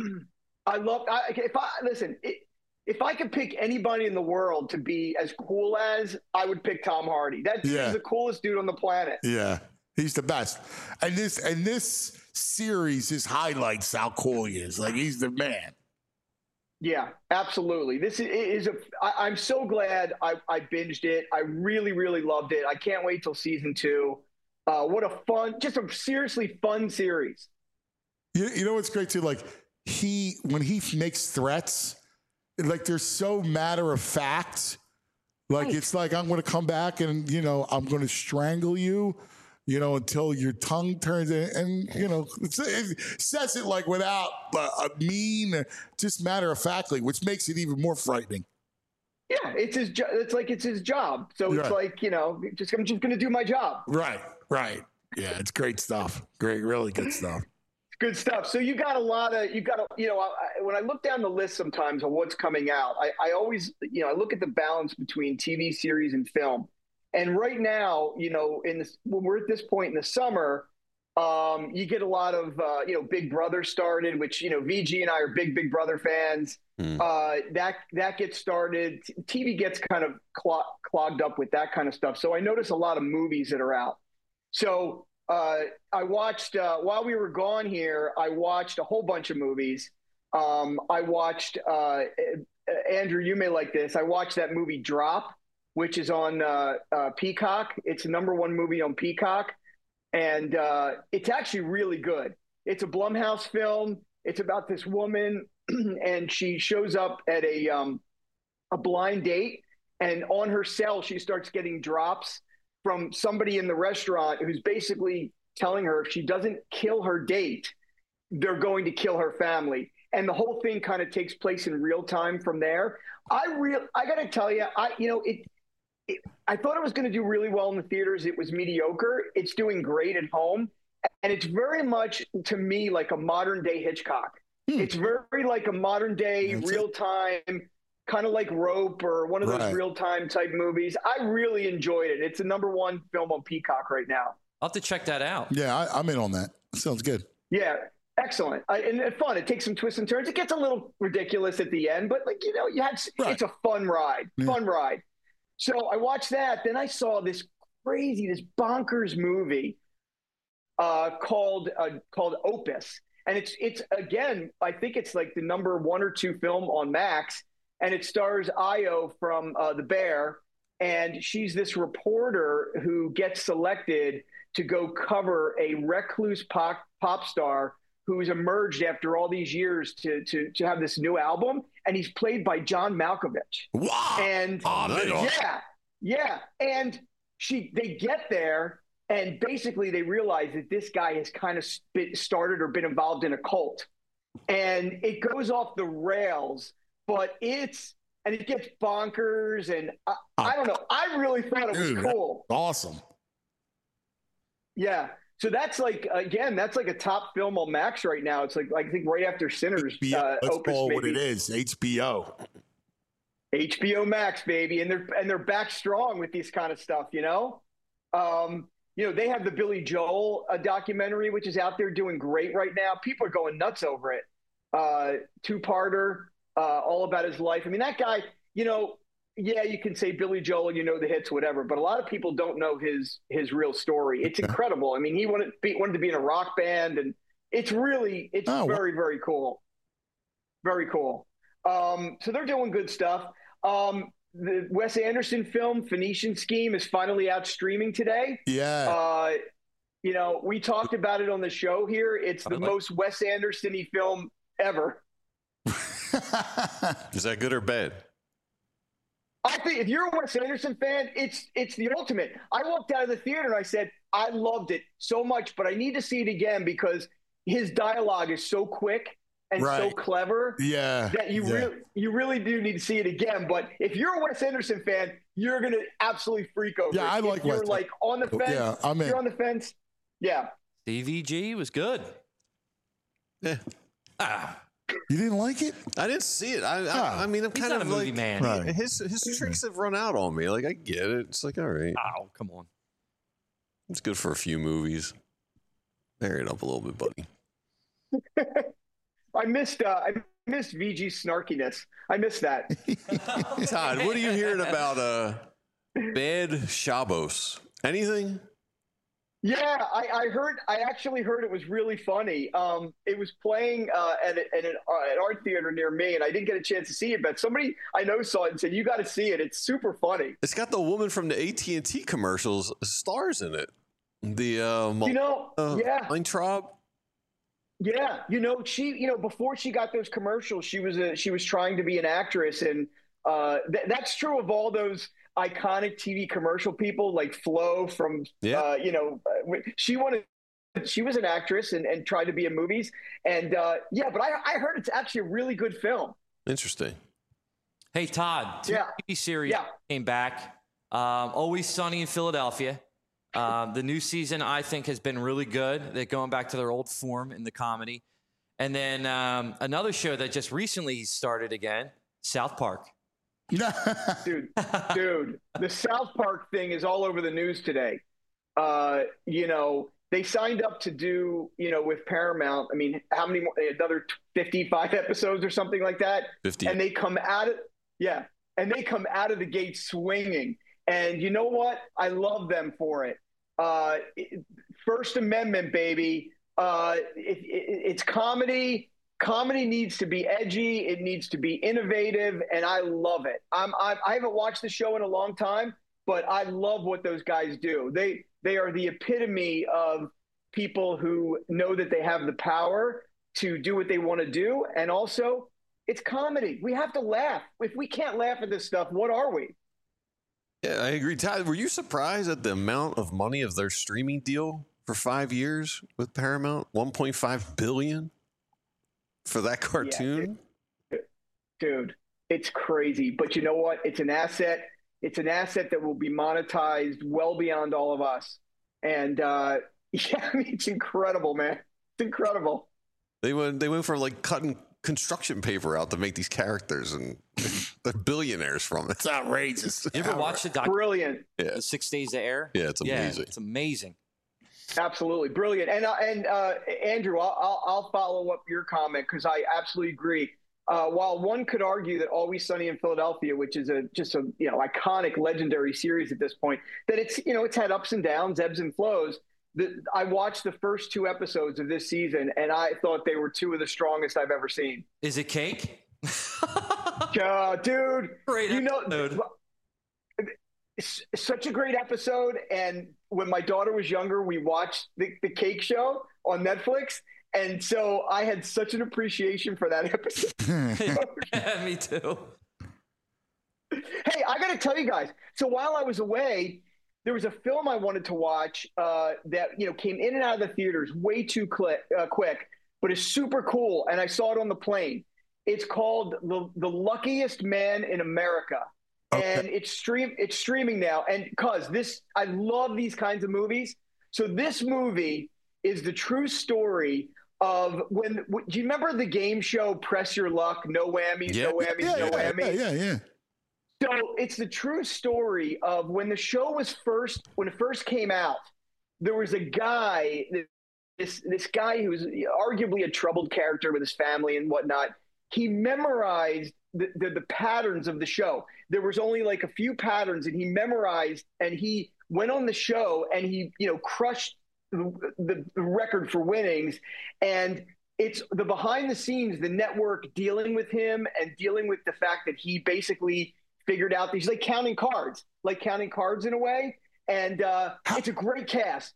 If I could pick anybody in the world to be as cool as, I would pick Tom Hardy. He's the coolest dude on the planet. Yeah, he's the best. And this series just highlights how cool he is. Like, he's the man. Yeah, absolutely. This is I'm so glad I binged it. I really, really loved it. I can't wait till season 2. What a seriously fun series. You know what's great too? Like, when he makes threats, like, they're so matter of fact. Like, it's like, I'm going to come back and, you know, I'm going to strangle you, you know, until your tongue turns in, and, you know, it says it like without a mean, just matter of factly, which makes it even more frightening. Yeah, it's his job. It's like it's his job. So it's like, you know, I'm just going to do my job. Right. Yeah, it's great stuff. Great, really good stuff. Good stuff. So you got when I look down the list sometimes of what's coming out, I always, you know, I look at the balance between TV series and film. And right now, you know, when we're at this point in the summer, you get a lot of, Big Brother started, which, you know, VG and I are big Brother fans. That gets started. TV gets kind of clogged up with that kind of stuff. So I notice a lot of movies that are out. So I watched, while we were gone here, I watched a whole bunch of movies. I watched, Andrew, you may like this. I watched that movie Drop, which is on Peacock. It's the #1 movie on Peacock. and it's actually really good. It's a Blumhouse film. It's about this woman, and she shows up at a blind date, and on her cell she starts getting drops from somebody in the restaurant who's basically telling her if she doesn't kill her date, they're going to kill her family. And the whole thing kind of takes place in real time from there. I got to tell you, I thought it was going to do really well in the theaters. It was mediocre. It's doing great at home. And it's very much, to me, like a modern day Hitchcock. It's very like a modern day, real time, kind of like Rope or one of those real time type movies. I really enjoyed it. It's the #1 film on Peacock right now. I'll have to check that out. Yeah, I'm in on that. Sounds good. Yeah, excellent. And it's fun. It takes some twists and turns. It gets a little ridiculous at the end, but it's a fun ride. Fun ride. So I watched that. Then I saw this bonkers movie called Opus. And it's again, I think it's like the #1 or 2 film on Max. And it stars Io from The Bear. And she's this reporter who gets selected to go cover a recluse pop star who's emerged after all these years to have this new album. And he's played by John Malkovich. Wow. And yeah. And they get there, and basically they realize that this guy has kind of started or been involved in a cult. And it goes off the rails, but it gets bonkers. And I don't know. I really thought it was cool. Awesome. Yeah. So that's like, again, that's like a top film on Max right now. It's like I think right after Sinners. Let's Opus, call what it is. HBO Max, baby. And they're back strong with this kind of stuff, you know? They have the Billy Joel documentary, which is out there doing great right now. People are going nuts over it. 2-parter, all about his life. I mean, that guy, you can say Billy Joel, the hits, whatever, but a lot of people don't know his real story. It's incredible. I mean, he wanted to be in a rock band, and it's very, very cool. Very cool. So they're doing good stuff. The Wes Anderson film Phoenician Scheme is finally out streaming today. Yeah. We talked about it on the show here. It's the most Wes Anderson-y film ever. Is that good or bad? I think if you're a Wes Anderson fan, it's the ultimate. I walked out of the theater and I said, I loved it so much, but I need to see it again because his dialogue is so quick and so clever that you really do need to see it again. But if you're a Wes Anderson fan, you're going to absolutely freak over it. I like if you're Wes. like on the fence. Yeah, I'm in. You're on the fence. Yeah. Stevie G was good. Yeah. You didn't like it? I didn't see it. I mean, I'm kind of a movie like, man. Right. His tricks have run out on me. Like, I get it. It's like, all right. Oh, come on. It's good for a few movies. Vary it up a little bit, buddy. I missed VG's snarkiness. I missed that. Todd, what are you hearing about Bad Shabos? Anything? Yeah, I actually heard it was really funny. It was playing at an art theater near me, and I didn't get a chance to see it, but somebody I know saw it and said, you got to see it. It's super funny. It's got the woman from the AT&T commercials stars in it. The Weintraub. Yeah, she before she got those commercials, she was trying to be an actress, and that's true of all those iconic TV commercial people like Flo from she was an actress and tried to be in movies, and but I heard it's actually a really good film. Interesting. Hey Todd, TV series came back. Always Sunny in Philadelphia. The new season, I think, has been really good. They're going back to their old form in the comedy. And then another show that just recently started again, South Park. Dude, the South Park thing is all over the news today. They signed up to do, with Paramount. I mean, how many more? Another 55 episodes or something like that. 50. And they come out of the gate swinging. And you know what? I love them for it. First Amendment, baby. It's comedy. Comedy needs to be edgy. It needs to be innovative, and I love it. I haven't watched the show in a long time, but I love what those guys do. They are the epitome of people who know that they have the power to do what they want to do. And also, it's comedy. We have to laugh. If we can't laugh at this stuff, what are we? Yeah, I agree. Todd, were you surprised at the amount of money of their streaming deal for 5 years with Paramount? $1.5 billion for that cartoon? Yeah, dude, it's crazy. But you know what? It's an asset. It's an asset that will be monetized well beyond all of us. And yeah, I mean, it's incredible, man. It's incredible. They went from like cutting construction paper out to make these characters, and they're billionaires from it. It's outrageous. You ever watch the Brilliant. Yeah. The 6 Days of Air? Yeah, it's amazing. Yeah, it's amazing. Absolutely brilliant. And Andrew, I'll follow up your comment because I absolutely agree. While one could argue that Always Sunny in Philadelphia, which is just a iconic, legendary series at this point, that it's had ups and downs, ebbs and flows. I watched the first 2 episodes of this season, and I thought they were 2 of the strongest I've ever seen. Is it cake? Dude, great episode. It's such a great episode. And when my daughter was younger, we watched the Cake Show on Netflix. And so I had such an appreciation for that episode. Yeah, me too. Hey, I got to tell you guys. So while I was away, there was a film I wanted to watch that came in and out of the theaters way too quick, but is super cool. And I saw it on the plane. It's called The Luckiest Man in America. Okay. And it's streaming now. And I love these kinds of movies. So this movie is the true story of do you remember the game show Press Your Luck? No whammies, no whammies, no whammies. Yeah. So it's the true story of when the show when it first came out, there was a guy, this guy who was arguably a troubled character with his family and whatnot. He memorized the patterns of the show. There was only like a few patterns, and he memorized, and he went on the show and he crushed the record for winnings. And it's the behind the scenes, the network dealing with him and dealing with the fact that he basically figured out he's like counting cards in a way. And it's a great cast.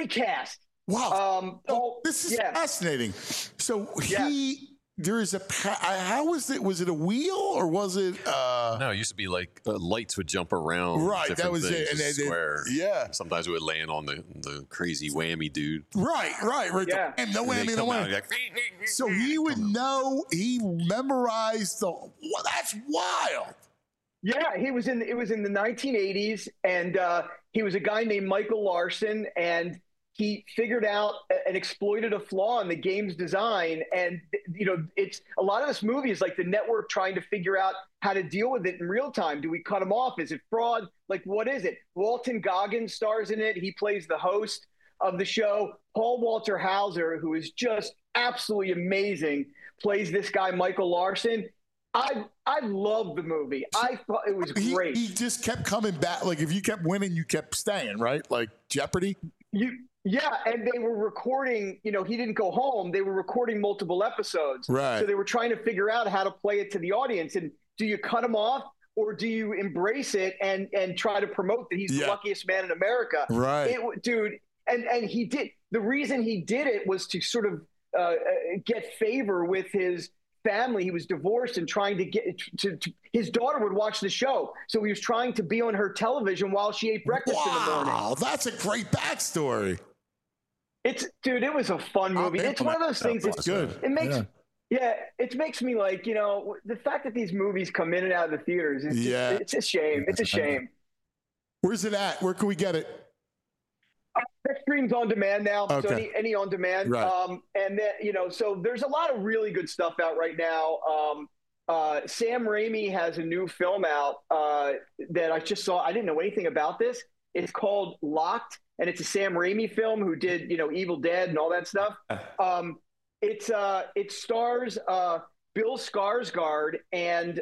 Wow. This is fascinating. So there is how was it? Was it a wheel or was it? No, it used to be like lights would jump around. Right, that was it. And square. Sometimes it would land on the crazy whammy dude. Right. Yeah. And no whammy, no whammy. Like, so he would know. He memorized that's wild. Yeah, it was in the 1980s, and he was a guy named Michael Larson, and he figured out and exploited a flaw in the game's design. And, it's a lot of this movie is like the network trying to figure out how to deal with it in real time. Do we cut him off? Is it fraud? Like, what is it? Walton Goggins stars in it. He plays the host of the show. Paul Walter Hauser, who is just absolutely amazing, plays this guy, Michael Larson. I love the movie. I thought it was great. He just kept coming back. Like, if you kept winning, you kept staying, right? Like Jeopardy? Yeah, and they were recording, he didn't go home. They were recording multiple episodes. Right. So they were trying to figure out how to play it to the audience. And do you cut him off or do you embrace it and try to promote that he's the luckiest man in America? Right. Dude, and he did. The reason he did it was to sort of get favor with his family. He was divorced and trying to get to his daughter would watch the show. So he was trying to be on her television while she ate breakfast in the morning. Wow, that's a great backstory. It was a fun movie. It's one of those things. It's good. It makes, it makes me like, the fact that these movies come in and out of the theaters. It's a shame. It's a shame. Where's it at? Where can we get it? That streams on demand now. Okay. So any on demand. Right. And then, so there's a lot of really good stuff out right now. Sam Raimi has a new film out that I just saw. I didn't know anything about this. It's called Locked, and it's a Sam Raimi film who did, Evil Dead and all that stuff. It stars Bill Skarsgård and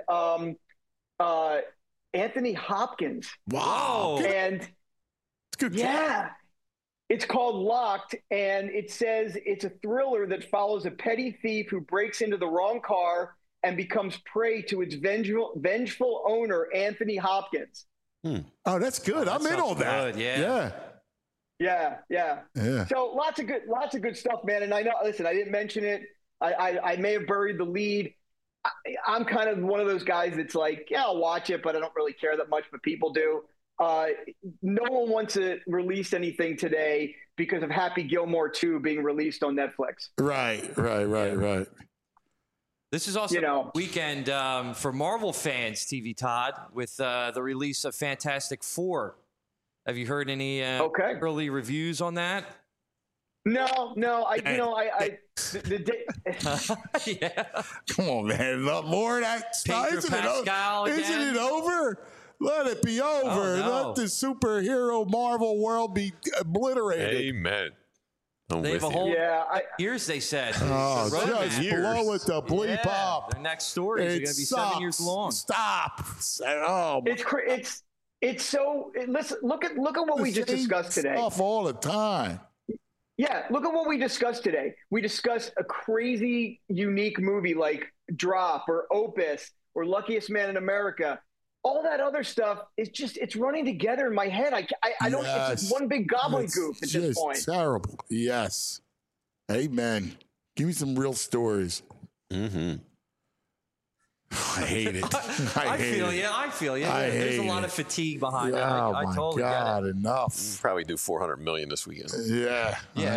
Anthony Hopkins. Wow. And it's good. Yeah. It's called Locked, and it says it's a thriller that follows a petty thief who breaks into the wrong car and becomes prey to its vengeful owner, Anthony Hopkins. Oh, that's good. I'm in on that. Yeah. Yeah. So lots of good stuff, man. And I know, listen, I didn't mention it. I may have buried the lead. I'm kind of one of those guys that's like, yeah, I'll watch it, but I don't really care that much, but people do. No one wants to release anything today because of Happy Gilmore 2 being released on Netflix. Right. This is also a weekend for Marvel fans, TV Todd, with the release of Fantastic Four. Have you heard any early reviews on that? No. Come on, man. More of that stuff. Isn't it over? Let it be over. Let the superhero Marvel world be obliterated. Amen. They have a whole years, they said. Oh, just blow it to bleep up. Their next stories are going to be 7 years long. Stop. Oh, it's so. Listen, look at what we just discussed today. Stuff all the time. Yeah, look at what we discussed today. We discussed a crazy, unique movie like Drop or Opus or Luckiest Man in America. All that other stuff is it's running together in my head. I don't. It's just one big gobbledygook at this point. Terrible. Yes. Amen. Give me some real stories. Mm-hmm. I hate it. I feel you. There's a lot of fatigue behind it. I totally get it. Enough. We'll probably do $400 million this weekend. Yeah.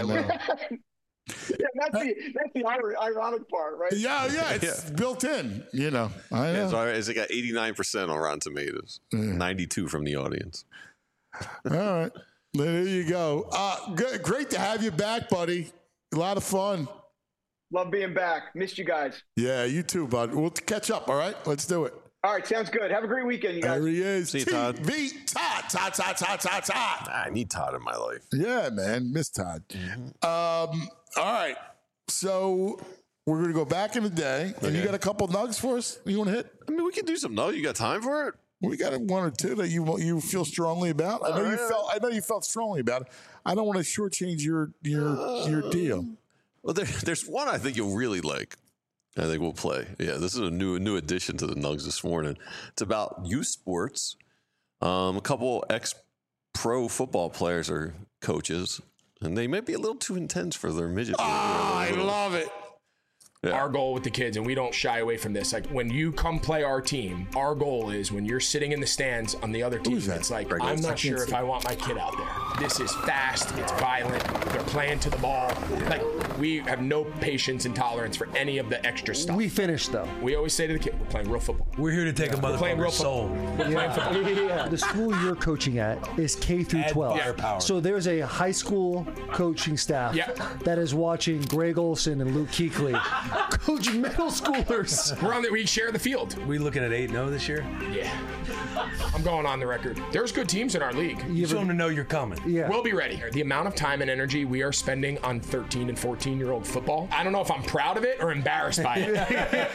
Yeah, that's the ironic part, right? Yeah, it's built in. I know. It's got 89% on Rotten Tomatoes, 92 from the audience. All right, there you go. Great to have you back, buddy. A lot of fun. Love being back. Missed you guys. Yeah, you too, bud. We'll catch up. All right, let's do it. All right, sounds good. Have a great weekend, you guys. There he is. See you, Todd. Todd. I need Todd in my life. Yeah, man. Miss Todd. All right. So we're going to go back in the day. And you got a couple nugs for us you want to hit? I mean, we can do some nugs. You got time for it? We got one or two that you feel strongly about. I know you felt strongly about it. I don't want to shortchange your deal. Well, there's one I think you'll really like. I think we'll play. Yeah, this is a new addition to the Nugs this morning. It's about youth sports. A couple ex-pro football players are coaches, and they might be a little too intense for their midget. I love it. Yeah. Our goal with the kids, and we don't shy away from this, like when you come play our team, our goal is when you're sitting in the stands on the other team, it's like, I'm not sure if I want my kid out there. This is fast, it's violent, they're playing to the ball. Like, we have no patience and tolerance for any of the extra stuff. We finish, though. We always say to the kid, we're playing real football. We're here to take a motherfucker's soul. We're playing football. Yeah. The school you're coaching at is K through 12. So there's a high school coaching staff that is watching Greg Olson and Luke Kuechly coach middle schoolers. We share the field. We looking at 8-0 this year? Yeah. I'm going on the record. There's good teams in our league. You want them to know you're coming. Yeah. We'll be ready. The amount of time and energy we are spending on 13 and 14-year-old football, I don't know if I'm proud of it or embarrassed by it.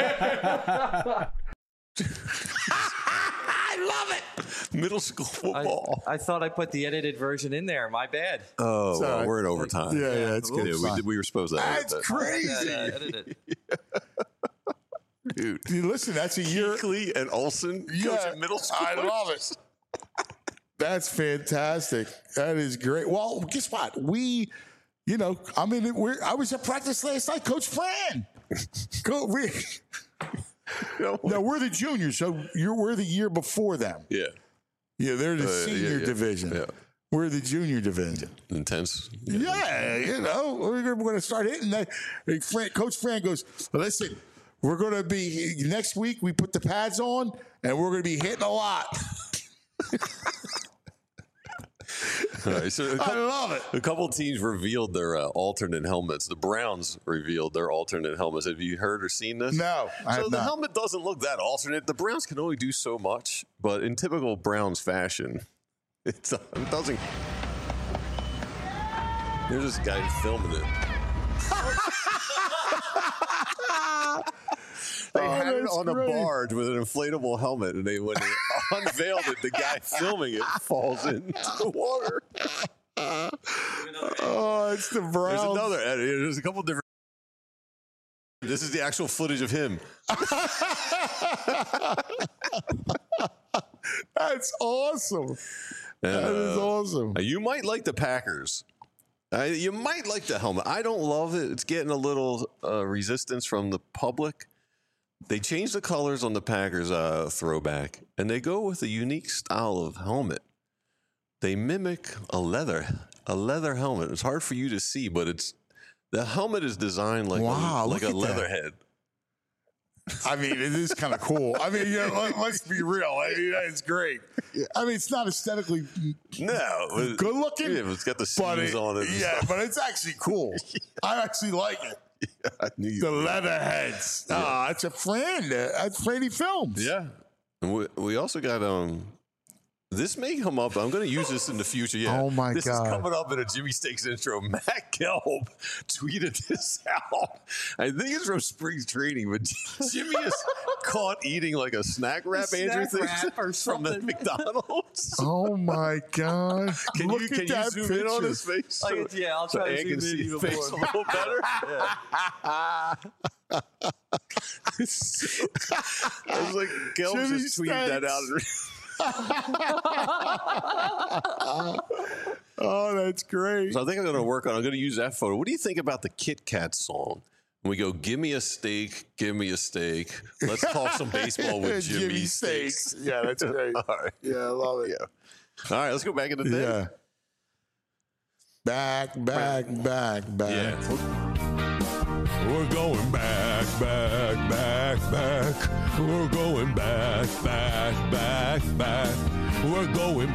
I love it. Middle school football. I thought I put the edited version in there. My bad. Oh, well, we're in overtime. Yeah, it's good. Yeah, we were supposed to. That's crazy. Dude, listen, that's a year. Kuechly and Olson coaching middle school. I love it. That's fantastic. That is great. Well, guess what? I was at practice last night. Coach Fran. No, we're the juniors, so we're the year before them. Yeah. Yeah, they're the senior division. Yeah. We're the junior division. Intense. Yeah, we're going to start hitting that. Coach Fran goes, listen, we're going to be, next week we put the pads on, and we're going to be hitting a lot. All right, so I love it. A couple teams revealed their alternate helmets. The Browns revealed their alternate helmets. Have you heard or seen this? No, I have the not. helmet doesn't look that alternate. The Browns can only do so much, but in typical Browns fashion, it doesn't. There's this guy filming it. They had it on a barge with an inflatable helmet, and when they unveiled it, the guy filming it falls into the water. Oh, it's the Browns. There's a couple different. This is the actual footage of him. That's awesome. That is awesome. You might like the Packers. You might like the helmet. I don't love it. It's getting a little resistance from the public. They changed the colors on the Packers throwback, and they go with a unique style of helmet. They mimic a leather helmet. It's hard for you to see, but the helmet is designed like a leather head. I mean, it is kind of cool. I mean, let's be real. I mean, it's great. I mean, it's not aesthetically good looking. Yeah, it's got the seams on it. Yeah, but it's actually cool. I actually like it. Yeah, I knew the leather heads. Yeah. It's a Fran. That's Franny Films. Yeah. And we also got this may come up. I'm going to use this in the future. Yeah. Oh my God. This is coming up in a Jimmy Steaks intro. Matt Gelb tweeted this out. I think it's from spring training, but Jimmy is caught eating like a snack wrap, Andrew thinks, from the McDonald's. Oh my God. Can you zoom in on his face? I'll try to can see his face a little better. I was like, Gelb just tweeted that out. Oh, that's great. So I think I'm going to work on. I'm going to use that photo. What do you think about the Kit Kat song? And we go, give me a steak, give me a steak. Let's talk some baseball with Jimmy Steaks. Yeah, that's great. All right. Yeah, I love it. Yeah. All right, let's go back in the day. Yeah. Back. Yeah. We're going back. We're going back. We're going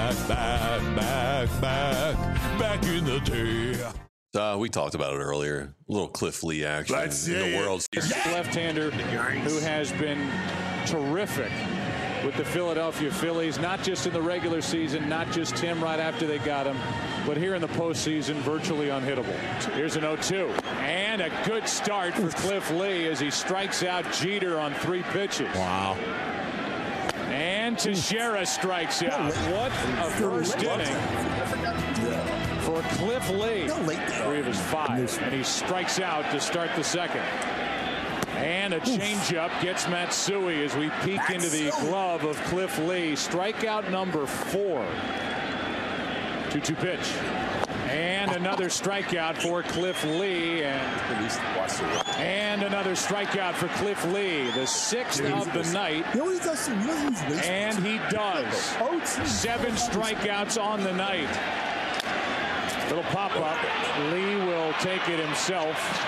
back in the day. We talked about it earlier. A little Cliff Lee action in the World Series. Left-hander who has been terrific with the Philadelphia Phillies, not just in the regular season, not just him right after they got him, but here in the postseason, virtually unhittable. Here's an 0-2. And a good start for Cliff Lee as he strikes out Jeter on 3 pitches. Wow. And Teixeira strikes out. What a first inning for Cliff Lee. 3 of his 5. And he strikes out to start the second. And a changeup gets Matsui as we peek into the glove of Cliff Lee. Strikeout number 4. 2-2 pitch. And another strikeout for Cliff Lee. And another strikeout for Cliff Lee. The 6th of the night. And he does. 7 strikeouts on the night. Little pop-up. Lee will take it himself.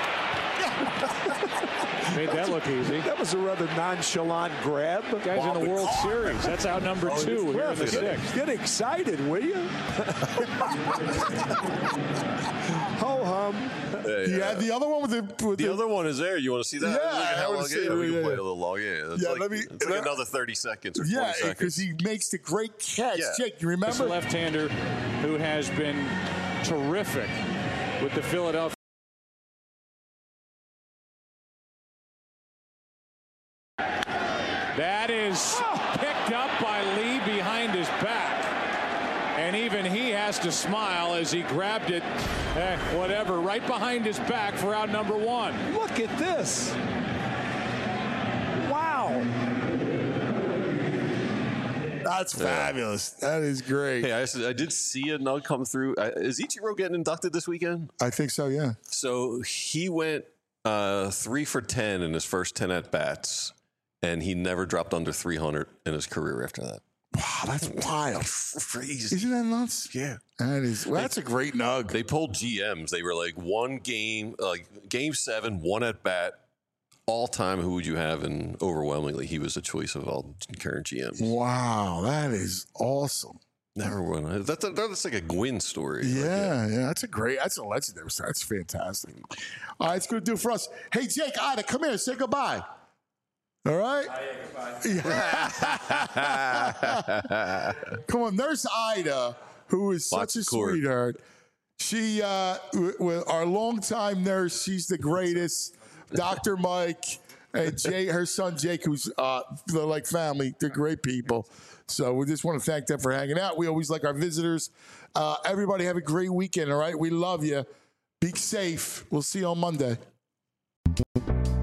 Made that look easy. That was a rather nonchalant grab. Guy's in the World Series. That's out number 2. We're in the 6th. Get excited, will you? Ho hum. Yeah, the other one with the other one is there. You want to see that? Yeah, I want to see it. We can play it a little long. Yeah, it's like another 30 seconds or 40 seconds. Yeah, because he makes the great catch. Yeah. Jake, you remember? This left-hander who has been terrific with the Philadelphia. That is picked up by Lee behind his back. And even he has to smile as he grabbed it, whatever, right behind his back for out number 1. Look at this. Wow. That's fabulous. That is great. Hey, I did see a nug come through. Is Ichiro getting inducted this weekend? I think so, yeah. So he went 3 for 10 in his first 10 at-bats. And he never dropped under 300 in his career after that. Wow, that's wild. Crazy. Isn't that nuts? Yeah. That is. Well, that's a great nug. They pulled GMs. They were like one game, like game 7, 1 at bat. All time, who would you have? And overwhelmingly, he was the choice of all current GMs. Wow, that is awesome. Never won. That's like a Gwynn story. Yeah, That's a legendary story. That's fantastic. All right, it's going to do it for us. Hey, Jake, Ida, come here. Say goodbye. All right? Come on, Nurse Ida, who is such a sweetheart. She, our longtime nurse, she's the greatest. Dr. Mike and her son Jake, who's they're like family. They're great people. So we just want to thank them for hanging out. We always like our visitors. Everybody have a great weekend, all right? We love you. Be safe. We'll see you on Monday.